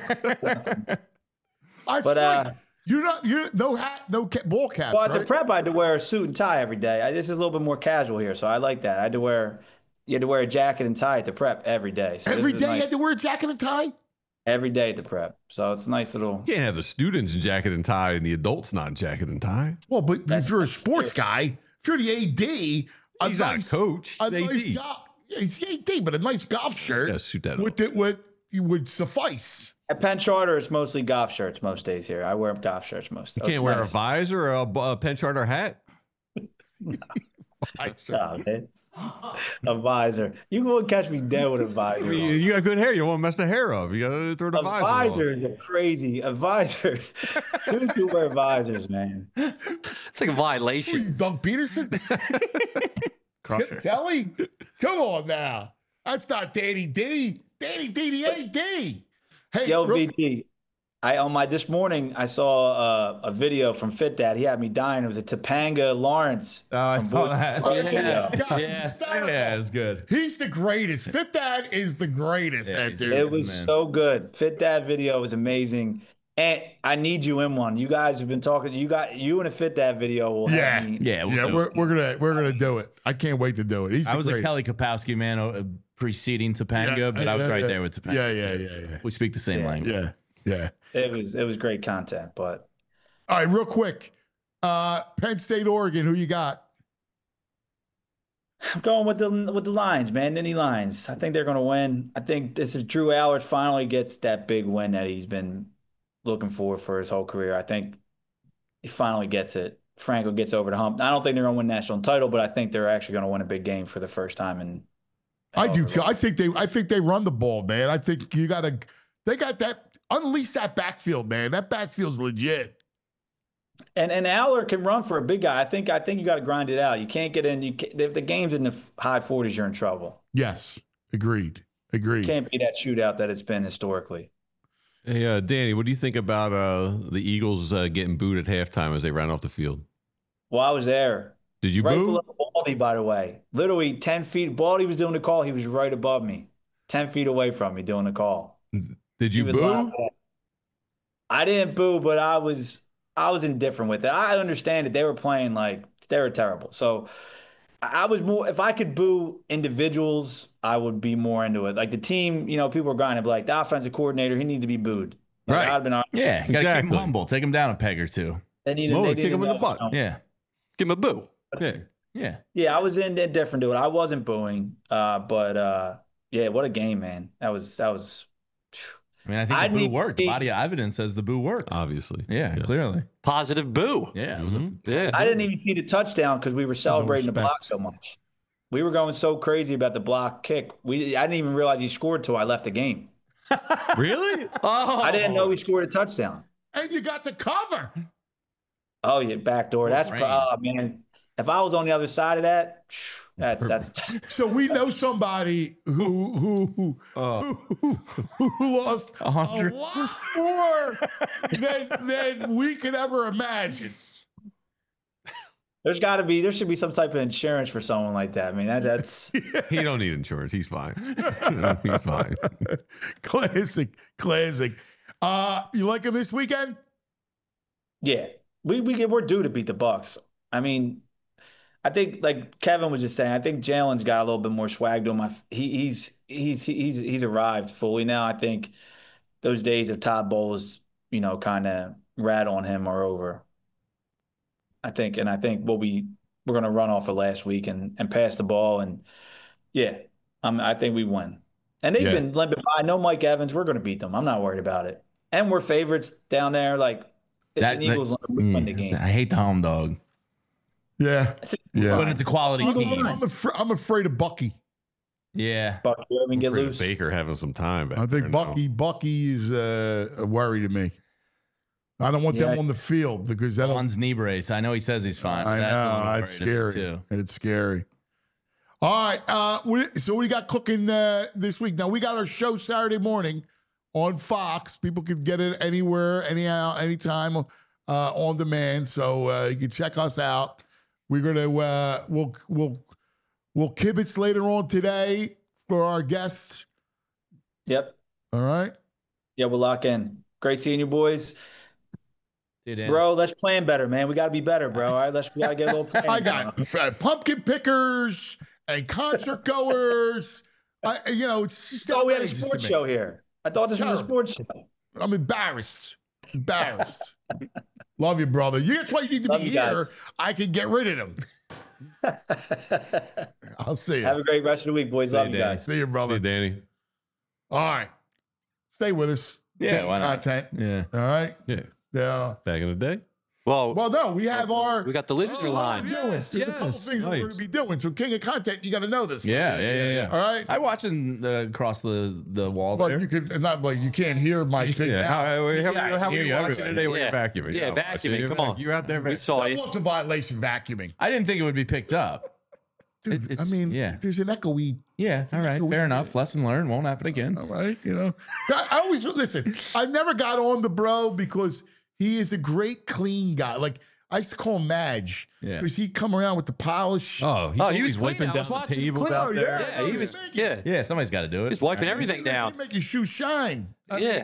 I But, swear, you're no hat, no ball caps, Well, at the right? prep, I had to wear a suit and tie every day. This is a little bit more casual here, so I like that. You had to wear a jacket and tie at the prep every day. So Every this is day you nice. had to wear a jacket and tie? every day at the prep. So it's a nice little. You can't have the students in jacket and tie and the adults not in jacket and tie. Well, but if you're a sports guy, if you're the AD, he's not a coach. A He's nice AD. golf, yeah, he's the AD, but a nice golf shirt Yeah, suit that would suffice. At Penn Charter, it's mostly golf shirts most days here. I wear golf shirts most. You can't wear a visor or a Penn Charter hat. Oh, man. A visor. You won't catch me dead with a visor. I mean, you got good hair. You won't mess the hair up. You got to throw the A visor. visor is crazy. A visor. Dudes who wear visors, man. It's like a violation. Doug Peterson? Kelly? Come on now. That's not Danny D. Danny D, the AD. Hey, Yo, VD. This morning I saw a video from Fit Dad. He had me dying. It was a Topanga Lawrence. Oh, I saw that. Yeah, it was good. He's the greatest. Fit Dad is the greatest. That dude. It was so good. Fit Dad video was amazing. And I need you in one. You guys have been talking. You in a Fit Dad video will have me. We're gonna do it. I can't wait to do it. I was a Kelly Kapowski man preceding Topanga, but I was right there with Topanga. Yeah. We speak the same language. Yeah. It was great content, but all right, real quick. Penn State, Oregon, who you got? I'm going with the Lions, man. Nittany Lions. I think they're going to win. I think this is Drew Allard finally gets that big win that he's been looking for his whole career. I think he finally gets it. Franco gets over the hump. I don't think they're going to win national title, but I think they're actually going to win a big game for the first time in. I do too. I think they run the ball, man. I think they got that. Unleash that backfield, man. That backfield's legit. And Allard can run for a big guy. I think you got to grind it out. You can't get in. If the game's in the high 40s, you're in trouble. Yes, agreed. It can't be that shootout that it's been historically. Hey, Danny, what do you think about the Eagles getting booed at halftime as they ran off the field? Well, I was there. Did you right boo? Below Baldy, by the way. Literally 10 feet. Baldy was doing the call. He was right above me, 10 feet away from me doing the call. Did you boo? I didn't boo, but I was indifferent with it. I understand that they were playing like they were terrible. So I was more, if I could boo individuals, I would be more into it. Like the team, people were grinding, like the offensive coordinator, he needed to be booed. Like, Right. I'd been Yeah, you got to keep him humble. Take him down a peg or two. They needed kick him in the butt. know. Yeah. Give him a boo. Yeah. I was indifferent to it. I wasn't booing, but what a game, man. That was. I mean, I think the boo worked. The body of evidence says the boo worked. Obviously. Yeah, clearly. Positive boo. Yeah. It was I didn't even see the touchdown because we were celebrating the block so much. We were going so crazy about the block kick. I didn't even realize he scored till I left the game. Really? Oh, I didn't know he scored a touchdown. And you got the cover. Oh yeah, backdoor. That's man. If I was on the other side of that, that's. So we know somebody who lost a lot more than we could ever imagine. There should be some type of insurance for someone like that. I mean, that's. He don't need insurance. He's fine. He's fine. Classic. You like him this weekend? Yeah, we're due to beat the Bucs. I mean, I think like Kevin was just saying, I think Jalen's got a little bit more swag to him. He's arrived fully now. I think those days of Todd Bowles, kind of rat on him are over. I think we're going to run off of last week and pass the ball. And I think we win. And they've been limping by. I know Mike Evans. We're going to beat them. I'm not worried about it. And we're favorites down there. Like if the Eagles win the game. I hate the home dog. Yeah. But it's a quality team. I'm afraid of Bucky. Yeah. Bucky get loose. Baker having some time back I think there Bucky is a worry to me. I don't want them on the field because that One's knee brace. I know he says he's fine. I know. It's scary. Too. It's scary. All right. So what do you got cooking this week? Now, we got our show Saturday morning on Fox. People can get it anywhere, anyhow, anytime on demand. So you can check us out. We're going to, we'll kibitz later on today for our guests. Yep. All right. Yeah, we'll lock in. Great seeing you boys. Bro, let's plan better, man. We got to be better, bro. All right, we got to get a little plan. I got pumpkin pickers and concert goers. It's just we had a sports show here. I thought this was a sports show. I'm embarrassed. Love you, brother. That's why you need to be here. I can get rid of them. I'll see you. Have a great rest of the week, boys. Love you guys. See you, brother. Hey, Danny. All right. Stay with us. Yeah, why not? Content. Yeah. All right. Yeah. Back in the day. Well, no, we have we got the listener line. There's a couple things we're going to be doing. So, King of Content, you got to know this. Yeah. All right. I watch across the wall But there. you can not like you can't hear my thing. How are you hear watching today when you're vacuuming? Yeah, vacuuming. Come on. You're out there. We saw That it. was a violation vacuuming. I didn't think it would be picked up. Dude, there's an echoey. Yeah, all right, fair enough. Lesson learned. Won't happen again. All right, I always listen. I never got on the bro because he is a great clean guy. Like I used to call him Madge because he'd come around with the polish. He was wiping down the tables out there. Yeah, he was. Yeah, yeah. Somebody's got to do it. He's wiping everything down. Make your shoes shine. Yeah.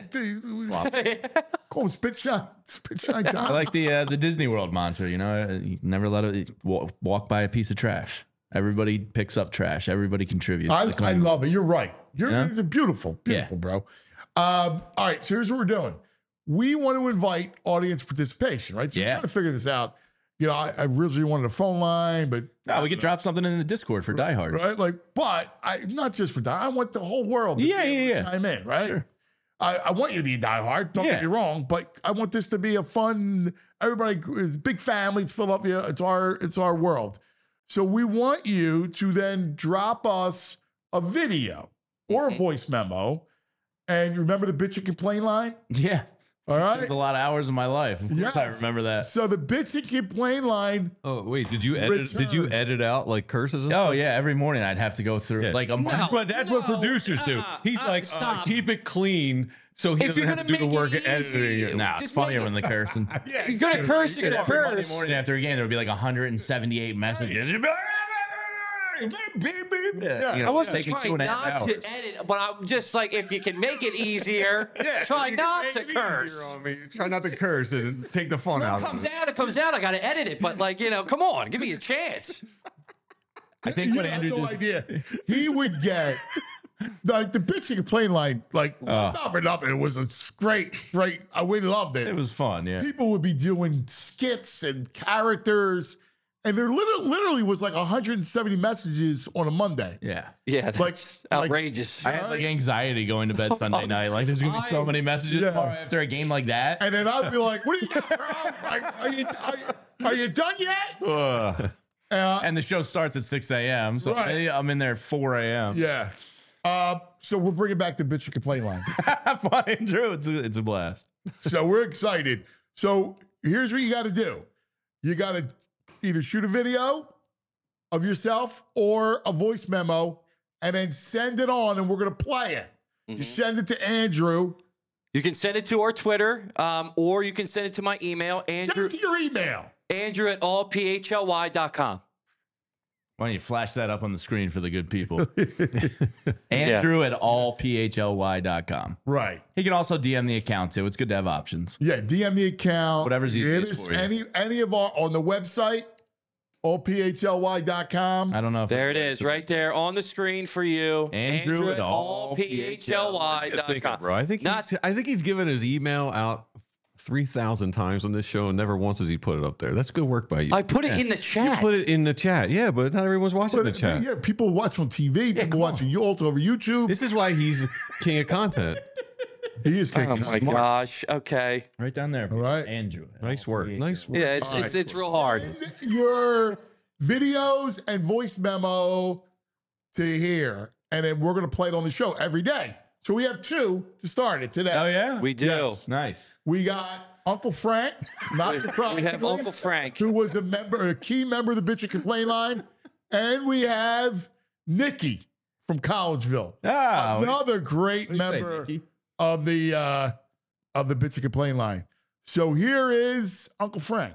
Call him spit shine time. I like the Disney World mantra. You never let it walk by a piece of trash. Everybody picks up trash. Everybody contributes. I love it. You're right. It's a beautiful, Yeah. bro. All right, so here's what we're doing. We want to invite audience participation, right? So we're trying to figure this out. I originally wanted a phone line, but we could drop something in the Discord for diehards, right? But not just for die. I want the whole world to chime in, right? Sure. I want you to be a diehard. Don't get me wrong, but I want this to be a fun. Everybody, it's a big family. It's Philadelphia. It's our world. So we want you to then drop us a video or a voice memo. And you remember the bitch and complain line? Yeah. All right. It's a lot of hours of my life. Of course I remember that. So the bitch and complain line. Oh, wait. Did you edit out like curses? And stuff? Yeah. Every morning I'd have to go through like a month. That's what producers do. He's like, keep it clean. So he doesn't have to do the work of editing it. Nah, it's funnier when the cursing. You're going to curse, you're going to curse. Monday morning after a game, there would be like 178 messages. I wasn't trying not to edit, but I'm just like, if you can make it easier, try not to curse. Try not to curse and take the fun out. It comes out. I got to edit it, but come on, give me a chance. I think what Andrew no idea. He would get like the bitch and complain line, not for nothing. It was a great. We loved it. It was fun. Yeah, people would be doing skits and characters. And there literally was like 170 messages on a Monday. Yeah. Yeah, that's outrageous. I had like anxiety going to bed Sunday night. Like, there's going to be so many messages tomorrow after a game like that. And then I'd be like, what do you got, bro? Are you done yet? And the show starts at 6 a.m. So I'm in there at 4 a.m. Yeah. So we're bringing back the bitch and complain line. Fun, Andrew. It's a blast. So we're excited. So here's what you got to do. You got to either shoot a video of yourself or a voice memo and then send it on and we're going to play it. You send it to Andrew. You can send it to our Twitter or you can send it to my email. Andrew, send it to your email. Andrew at allphly.com. Why don't you flash that up on the screen for the good people? Andrew at allphly.com. Right. He can also DM the account too. It's good to have options. Yeah, DM the account. Whatever's easiest for you. Any of our on the website, allphly.com. I don't know if there it is, right there on the screen for you. Andrew at allphly.com. Bro, I think he's given his email out 3,000 times on this show, and never once has he put it up there. That's good work by you. I put it in the chat. You put it in the chat, yeah, but not everyone's watching the chat. Yeah, people watch on TV. People watching all over YouTube. This is why he's king of content. He is king. Oh my gosh. Okay. Right down there. All right. Andrew. Nice work. Nice work. Yeah, it's real hard. Send your videos and voice memo to here, and then we're going to play it on the show every day. So we have two to start it today. Oh, yeah? We do. Yes. Nice. We got Uncle Frank, not surprisingly. We have Uncle Frank, who was a key member of the Bitch and Complain line. And we have Nikki from Collegeville. Another great member of the Bitch and Complain line. So here is Uncle Frank.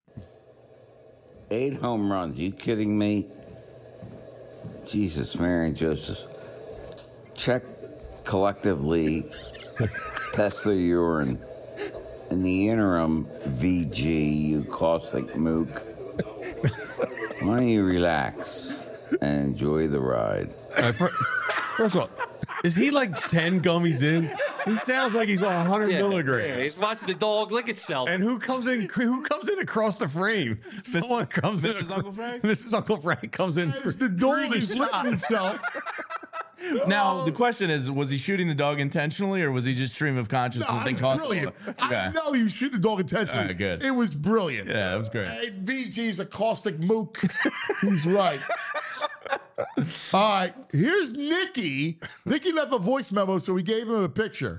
8 home runs. You kidding me? Jesus, Mary and Joseph. Check collectively, test the urine. In the interim, VG, you caustic mook, why don't you relax and enjoy the ride? First of all, is he like 10 gummies in? He sounds like he's on 100 milligrams. Yeah, he's watching the dog lick itself. And who comes in across the frame? Someone comes in. Mrs. Uncle Frank? Mrs. Uncle Frank comes in. It's the dog is licking himself. Now the question is: was he shooting the dog intentionally, or was he just stream of consciousness? No, it's brilliant. I know he was shooting the dog intentionally. All right, good. It was brilliant. Yeah, that was great. VG's a caustic mook. He's right. All right, here's Nikki. Nikki left a voice memo, so we gave him a picture.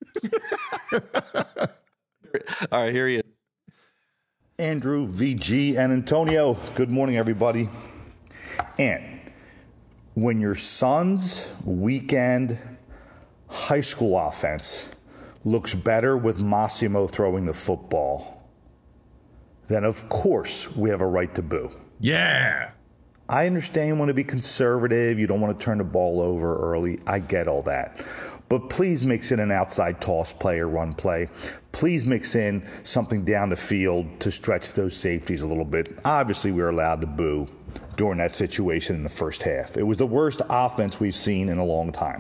All right, here he is. Andrew, VG, and Antonio. Good morning, everybody. And when your son's weekend high school offense looks better with Massimo throwing the football, then of course we have a right to boo. Yeah. I understand you want to be conservative. You don't want to turn the ball over early. I get all that. But please mix in an outside toss play or run play. Please mix in something down the field to stretch those safeties a little bit. Obviously, we were allowed to boo during that situation in the first half. It was the worst offense we've seen in a long time.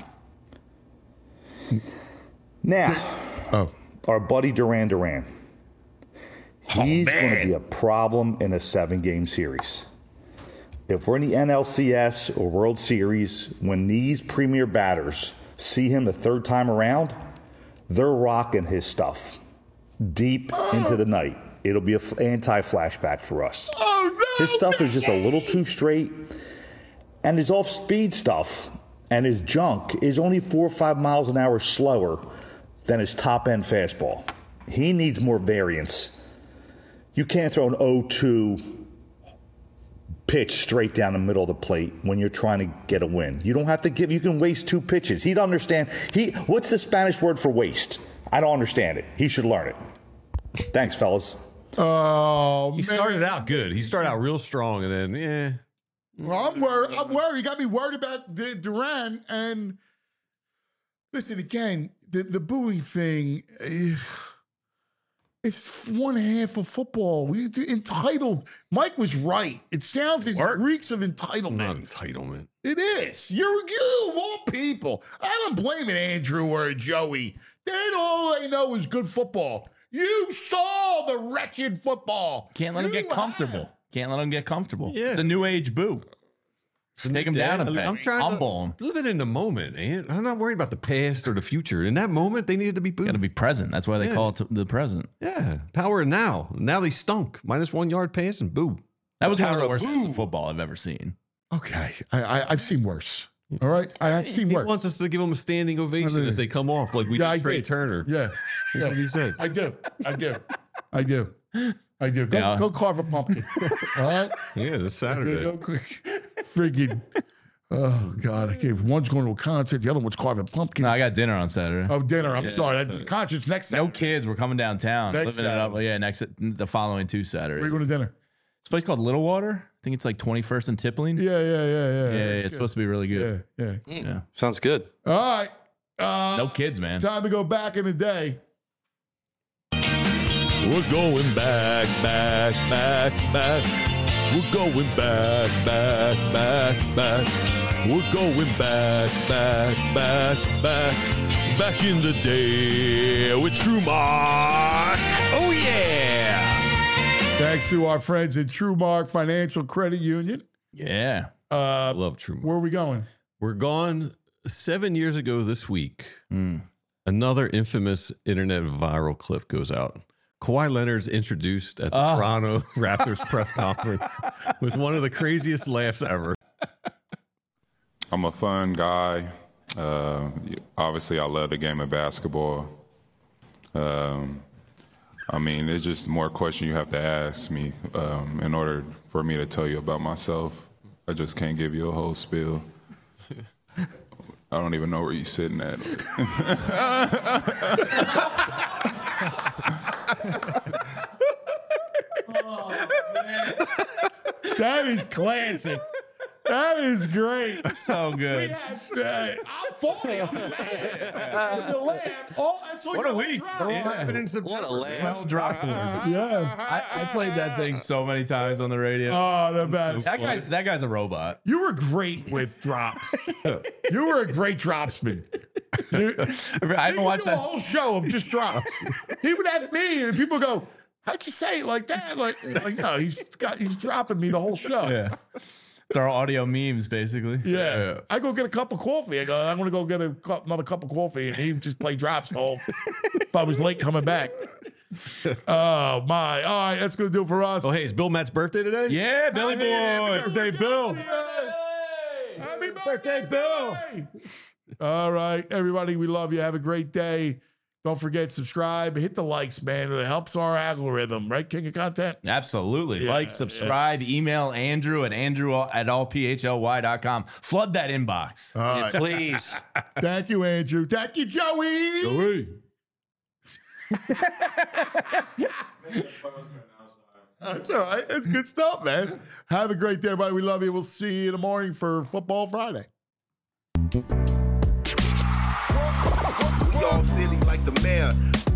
Now, our buddy Duran Duran. He's going to be a problem in a 7-game series. If we're in the NLCS or World Series, when these premier batters see him the third time around, they're rocking his stuff deep into the night. It'll be an anti-flashback for us. Oh, no! His stuff is just a little too straight, and his off-speed stuff and his junk is only 4 or 5 miles an hour slower than his top-end fastball. He needs more variance. You can't throw an 0-2 pitch straight down the middle of the plate when you're trying to get a win. You don't have to you can waste 2 pitches. He'd understand. What's the Spanish word for waste? I don't understand it. He should learn it. Thanks, fellas. Oh, He started out good. He started out real strong, and then, yeah. Well, I'm worried. You got me worried about Duran. And listen, again, the booing thing, it's one half of football. We entitled. Mike was right. It sounds, it reeks of entitlement. Not entitlement. It is. You of all people. I don't blame it, Andrew or Joey. All they know is good football. You saw the wretched football. Can't let him get comfortable. Can't let him get comfortable. Yeah. It's a new age boo. Take him down a peg. I'm trying to live it in the moment, and I'm not worried about the past or the future. In that moment, they needed to be booed. Got to be present. That's why they call it the present. Yeah, power now. Now they stunk. -1 yard pass and boo. That was one of the worst football I've ever seen. Okay, I've seen worse. All right, I've seen worse. He wants us to give them a standing ovation as they come off, like we did Trey Turner. Yeah, That's what he said. I do. Go carve a pumpkin. All right. Yeah, this Saturday. Go friggin'. Oh God! I gave one's going to a concert, the other one's carving pumpkin. No, I got dinner on Saturday. Oh, dinner! I'm sorry. That concert's next Saturday. No kids. We're coming downtown. Next Living it up. Yeah, the following 2 Saturdays. Where are you going to dinner? It's a place called Little Water. I think it's like 21st and Tippling. Yeah. It's supposed to be really good. Yeah. Sounds good. All right. No kids, man. Time to go back in the day. We're going back. We're going back. We're going back. Back in the day with TrueMark. Oh, yeah. Thanks to our friends at TrueMark Financial Credit Union. Yeah. I love TrueMark. Where are we going? We're gone 7 years ago this week. Another infamous internet viral clip goes out. Kawhi Leonard's introduced at the Toronto Raptors press conference with one of the craziest laughs ever. I'm a fun guy. Obviously, I love the game of basketball. I mean, it's just more questions you have to ask me in order for me to tell you about myself. I just can't give you a whole spiel. I don't even know where you're sitting at. Oh, man. That is classic. That is great. So good. I'm falling on the laugh. Oh, that's What a week. What a laugh. I played that thing so many times on the radio. Oh, the best. That guy's a robot. You were great with drops. You were a great dropsman. I haven't watched a that whole show of just drops. He would have me, and people go, "How'd you say it like that?" Like no, he's dropping me the whole show. Yeah. It's our audio memes, basically. Yeah. I go get a cup of coffee. I go, I'm going to go get another cup of coffee. And he just play drops the whole, if I was late coming back. Oh, my. All right, that's going to do it for us. Oh, hey, it's Bill Matt's birthday today? Yeah, Billy Boy. Happy Birthday, Bill. Happy birthday, Bill. All right, everybody, we love you. Have a great day. Don't forget, subscribe, hit the likes, man. It helps our algorithm, right, King of Content? Absolutely. Yeah, like, subscribe, email Andrew at allphly.com. Flood that inbox. All right. Please. Thank you, Andrew. Thank you, Joey. That's all right. That's good stuff, man. Have a great day, everybody. We love you. We'll see you in the morning for Football Friday. We all silly like the mayor.